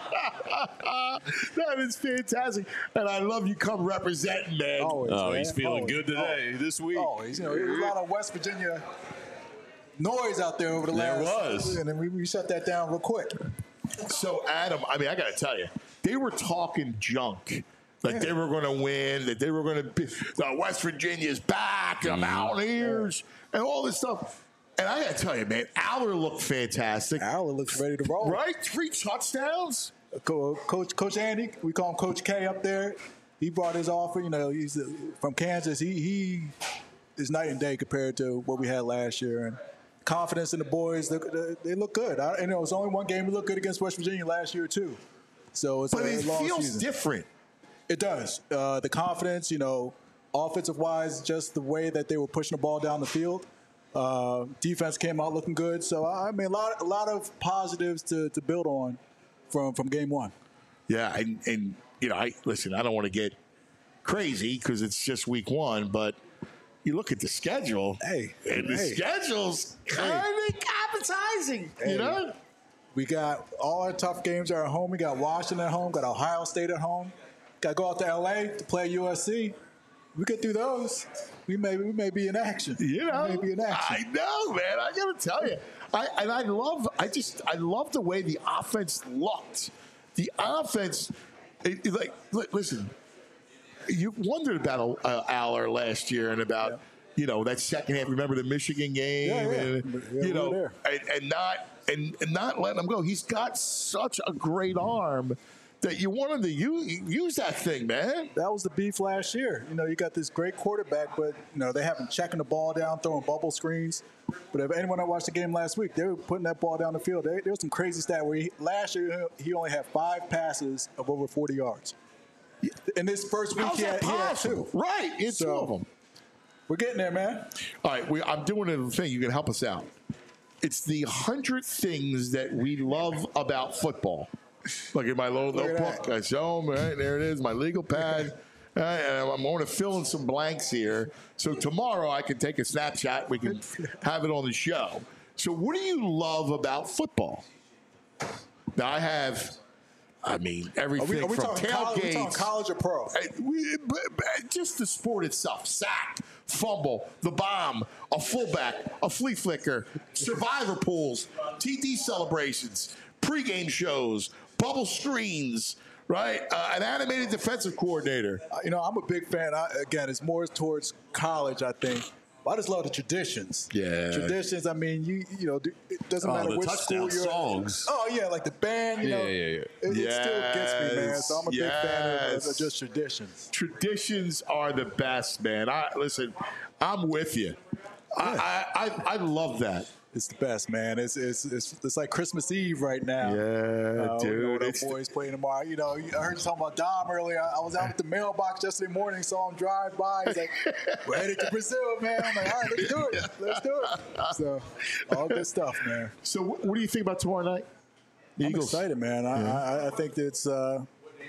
That is fantastic, and I love you. Come representing, man. Always, Oh, man. he's feeling Always. good today, this week. Always. You know, there was a lot of West Virginia noise out there over the There last. was. And then we, we shut that down real quick. So, Adam, I mean, I got to tell you, they were talking junk. Like they were going to win, that they were going to be, uh, West Virginia's back, the Mountaineers, and all this stuff. And I got to tell you, man, Aller looked fantastic. Aller looks ready to roll. Right? Three touchdowns? Co- Coach Coach Andy, we call him Coach K up there. He brought his offer. You know, he's uh, from Kansas. He he is night and day compared to what we had last year. And confidence in the boys, they, they, they look good. I, and it was only one game we looked good against West Virginia last year too. So it's But a it long feels season. different. It does. Uh, the confidence, you know, offensive wise, just the way that they were pushing the ball down the field. Uh, defense came out looking good. So I mean, a lot, a lot of positives to, to build on from from game one. Yeah, and, and you know, I listen. I don't want to get crazy because it's just week one, but you look at the schedule. Hey, and the hey. schedule's kind of appetizing. Hey. You know, we got all our tough games are at home. We got Washington at home. Got Ohio State at home. Got to go out to L A to play U S C. We get through those. We may we may be in action. You know, we may be in action. I know, man. I gotta tell you, I and I love. I just I love the way the offense looked. The offense, it, it, like li- listen, you wondered about uh, Aller last year and about. Yeah. You know, that second half. Remember the Michigan game, yeah, yeah. and Yeah, you know, we were and, and not and, and not letting him go. He's got such a great arm that you want him to use, use that thing, man. That was the beef last year. You know, you got this great quarterback, but you know they have him checking the ball down, throwing bubble screens. But if anyone that watched the game last week, they were putting that ball down the field. There, there was some crazy stat where he, last year he only had five passes of over forty yards. In this first week, How's he that had, he had possible? two. Right, it's So, two of them. We're getting there, man. All right, we, I'm doing a thing. You can help us out. It's the hundred things that we love about football. Look at my little Look at notebook. that. I show them. Right there it is. My legal pad. Uh, and I'm going to fill in some blanks here. So tomorrow I can take a snapshot. We can have it on the show. So what do you love about football? Now I have. I mean, everything Are we, are we from talking tailgates. college, we talking college or pro? Uh, we- but- but Just the sport itself. Sack, fumble, the bomb, a fullback, a flea flicker, survivor pools, T D celebrations, pregame shows, bubble screens, right? Uh, an animated defensive coordinator. Uh, You know, I'm a big fan. I, again, it's more towards college, I think. But I just love the traditions. Yeah. Traditions. I mean, you you know, it doesn't Oh, matter the which touchdown school you're songs. at. Oh yeah, like the band. You Yeah, know, yeah, yeah. It, it still gets me, man. So I'm a big fan of, of Yes. just traditions. Traditions are the best, man. I listen. I'm with you. I, I, I I love that. It's the best, man. It's it's it's, it's like Christmas Eve right now. Yeah, Uh, dude. You know, the It's- boys playing tomorrow. You know, I heard you talking about Dom earlier. I, I was out at the mailbox yesterday morning, saw him drive by. He's like, "We're headed to Brazil, man." I'm like, "All right, let's do it. Let's do it." So, all good stuff, man. So, what, what do you think about tomorrow night? The I'm Eagles. excited, man. I, Yeah. I, I think that it's uh,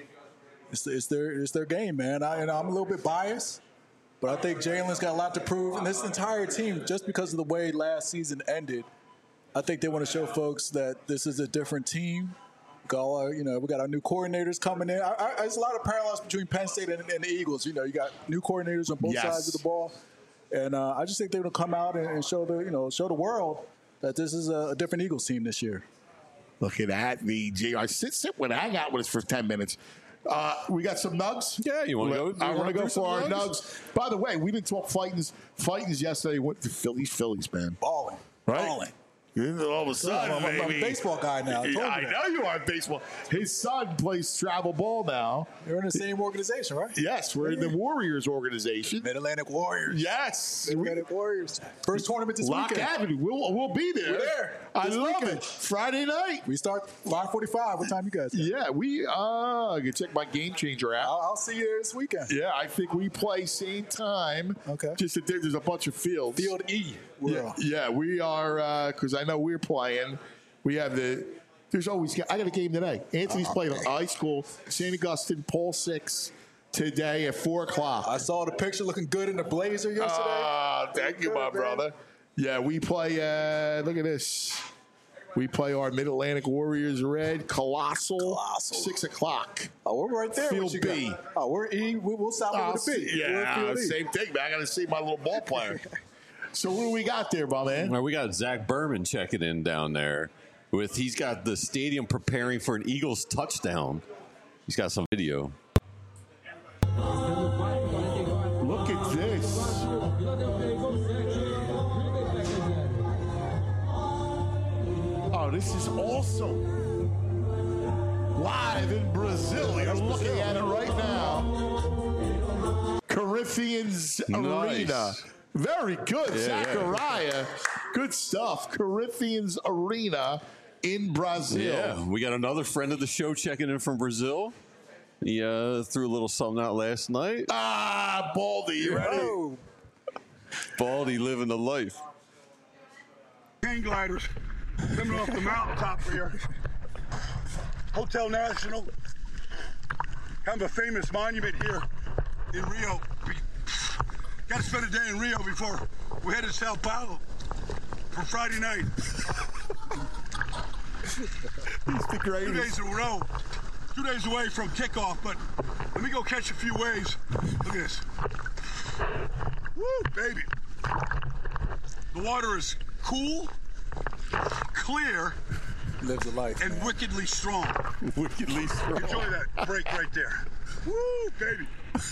it's, it's their it's their game, man. I, you know, I'm a little bit biased, but I think Jalen's got a lot to prove, and this entire team, just because of the way last season ended, I think they want to show folks that this is a different team. We got all our, you know, we got our new coordinators coming in. I, I, there's a lot of parallels between Penn State and, and the Eagles. You know, you got new coordinators on both Yes. sides of the ball, and uh, I just think they're going to come out and, and show the you know show the world that this is a, a different Eagles team this year. Look at that, the J R. Sit, sit with, hang out with us for ten minutes. Uh, we got some nugs. Yeah, you want to go? I you want to wanna go do some for our nugs? nugs. By the way, we didn't talk fightings. Fightings yesterday went to Phillies. Phillies, man. Balling, Right? balling. All of a sudden, I'm, I'm a baby. baseball guy now. I, told you I that. know you are baseball. His son plays travel ball now. You're in the same organization, right? Yes, we're in the Warriors organization. Mid Atlantic Warriors. Yes. Mid Atlantic Warriors. First tournament this Lock weekend. Avenue. We'll, we'll be there. We're there. I This love weekend. it. Friday night. We start five forty-five. What time you guys? Got? Yeah, we, uh, I can check my Game Changer app. I'll, I'll see you this weekend. Yeah, I think we play same time. Okay. Just that there- there's a bunch of fields. Field E. We're Yeah, on. yeah, we are because I know we're playing. We have the. There's always. I got a game today. Anthony's Oh, playing high school, Saint Augustine, Paul Six, today at four o'clock. I saw the picture looking good in the blazer yesterday. Ah, thank you, my Good, man. brother. Yeah, we play. Uh, look at this. We play our Mid Atlantic Warriors Red Colossal. Colossal. Six o'clock. Oh, we're right there. Field What you B. got? Oh, we're E. We, we'll stop I'll over the B. see- We're Yeah, Field E. same thing, man. I got to see my little ball player. So what do we got there, my man? Well, we got Zach Berman checking in down there. With he's got the stadium preparing for an Eagles touchdown. He's got some video. Look at this. Oh, this is awesome. Live in Brazil. You're looking at it right now. Corinthians Nice. Arena. Very good, Yeah, yeah. Zachariah. Good stuff. Corinthians Arena in Brazil. Yeah, we got another friend of the show checking in from Brazil. He uh, threw a little something out last night. Ah, Baldy, you ready? Oh, Baldy living the life. Hang gliders coming off the mountaintop here. Hotel National. kind of a famous monument here in Rio. We got to spend a day in Rio before we head to Sao Paulo for Friday night. He's the greatest. Two days in a row. Two days away from kickoff, but let me go catch a few waves. Look at this. Woo, baby. The water is cool, clear, lives a life, and man. wickedly strong. Wickedly strong. Enjoy that break right there. Woo, baby.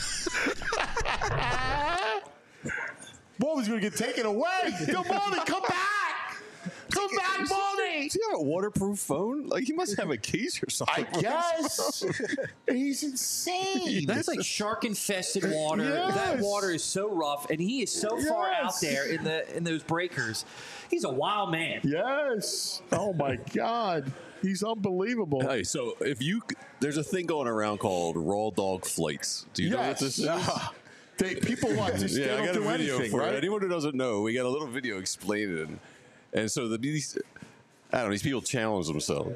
Ball was going to get taken away. Come on, come back. Come back, Baldy. Does he have a waterproof phone? Like, he must have a case or something. I guess. He's insane. That's like shark-infested water. Yes. That water is so rough, and he is so far out Yes. there in the in those breakers. He's a wild man. Yes. Oh, my God. He's unbelievable. Hey, so if you there's a thing going around called raw dog flights. Do you know what this is? Ah. They, people watch this. Yeah, they I don't got a do video anything, for right? it. Anyone who doesn't know, we got a little video explaining it. And so the, these, I don't know, these people challenge themselves.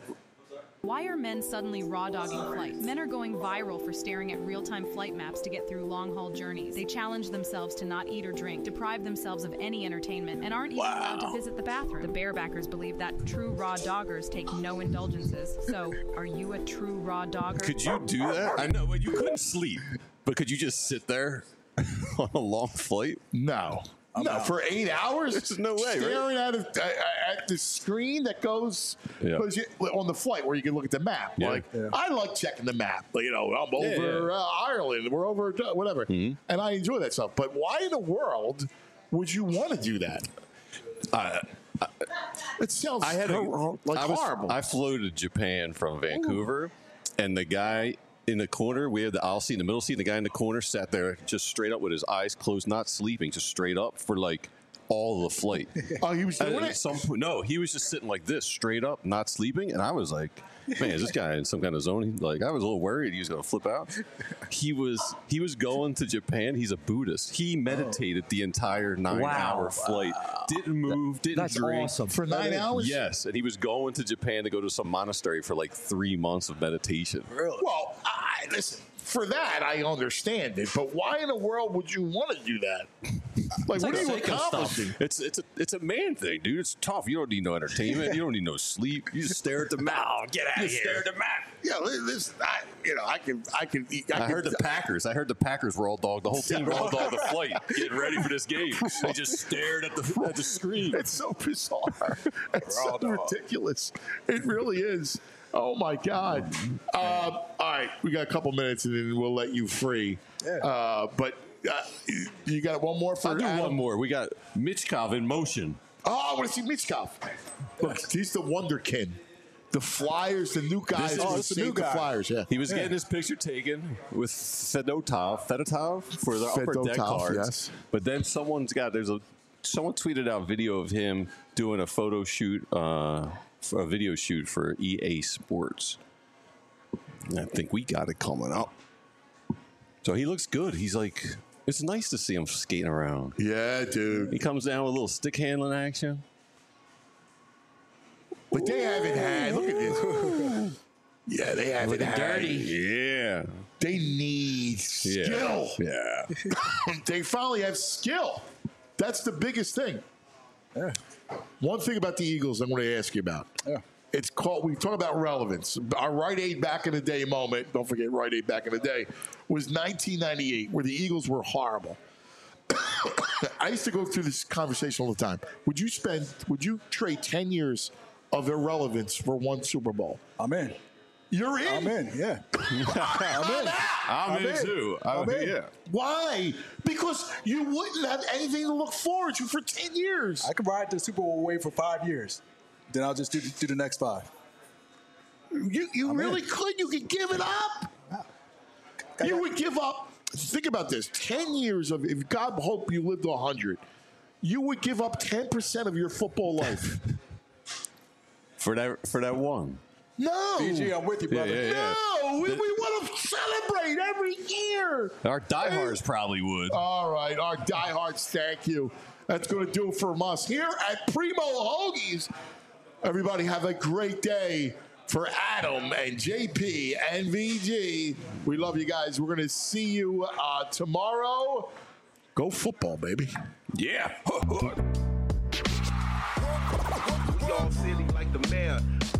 Why are men suddenly raw dogging flights? Men are going viral for staring at real-time flight maps to get through long-haul journeys. They challenge themselves to not eat or drink, deprive themselves of any entertainment, and aren't even Wow. allowed to visit the bathroom. The barebackers believe that true raw doggers take no indulgences. So, are you a true raw dogger? Could you do that? I know, but you couldn't sleep. But could you just sit there on a long flight? No. No, out. for eight hours? There's no way, right? Staring at, a, at the screen that goes, Yeah. goes on the flight where you can look at the map. Yeah. Like, Yeah. I like checking the map. You know, I'm over Yeah, yeah. Uh, Ireland. We're over uh, whatever. Mm-hmm. And I enjoy that stuff. But why in the world would you want to do that? I, I, It sounds I had a, so, like I was, horrible. I flew to Japan from Vancouver, and the guy in the corner, we had the aisle seat in the middle seat, and the guy in the corner sat there just straight up with his eyes closed, not sleeping, just straight up for like all the flight. Oh, he was doing And it? at some point, no, he was just sitting like this, straight up, not sleeping, and I was like, man, is this guy in some kind of zone? He, like, I was a little worried he was going to flip out. He was he was going to Japan. He's a Buddhist. He meditated the entire nine-hour Wow. flight. Didn't move, didn't That's drink. awesome. For nine hours? Yes, and he was going to Japan to go to some monastery for like three months of meditation. Really? Well, I, listen, for that, I understand it. But why in the world would you want to do that? Like, what are you Psycho stuff. accomplishing? It's it's a it's a man thing, dude. It's tough. You don't need no entertainment. You don't need no sleep. You just stare at the map. Oh, get out you of just here. stare at the map. Yeah, this, I, you know, I can, I can, I, I can, heard the Packers. I heard the Packers raw dog. The whole team raw dog the flight, getting ready for this game. They just stared at the at the screen. It's so bizarre. It's so ridiculous. It really is. Oh my God. Um, all right, we got a couple minutes and then we'll let you free. Uh, but uh, you got one more for I'll do Adam? one more. We got Michkov in motion. Oh, I want to see Michkov. Look, he's the wonderkin. The Flyers, the new guys. This is- who oh, it's the new saved the guy. Flyers. Yeah, He was getting his picture taken with Fedotov, Fedotov for the upper deck Fedotov, cards. yes. But then someone's got there's a someone tweeted out video of him doing a photo shoot, uh, for a video shoot for E A Sports. And I think we got it coming up. So he looks good. He's like, it's nice to see him skating around. Yeah, dude. He comes down with a little stick handling action. But they haven't had. Look at this. Yeah, they haven't Looking had. dirty. Yeah. They need skill. Yeah. They finally have skill. That's the biggest thing. Yeah. One thing about the Eagles I'm going to ask you about. Yeah. It's called, we talk about relevance. Our Rite Aid back in the day moment, don't forget Rite Aid back in the day, was nineteen ninety-eight, where the Eagles were horrible. I used to go through this conversation all the time. Would you spend, would you trade ten years of irrelevance for one Super Bowl? I'm in. You're in? I'm in, yeah. I'm in. I'm, in, too. I'm, I'm in. Yeah. Why? Because you wouldn't have anything to look forward to for ten years. I could ride the Super Bowl away for five years. Then I'll just do, do the next five. You, you I'm really in. could. You could give it up. You would give up. Think about this. ten years of, if God hope you lived to one hundred, you would give up ten percent of your football life. For that for that one. No. B G, I'm with you, Yeah, brother. yeah, yeah. No. We, The- we want to celebrate every year. Our diehards probably would. All right. Our diehards, thank you. That's going to do it from us here at Primo Hoagies. Everybody have a great day. For Adam and J P and V G, we love you guys. We're going to see you uh, tomorrow. Go football, baby. Yeah. We all silly like the mayor.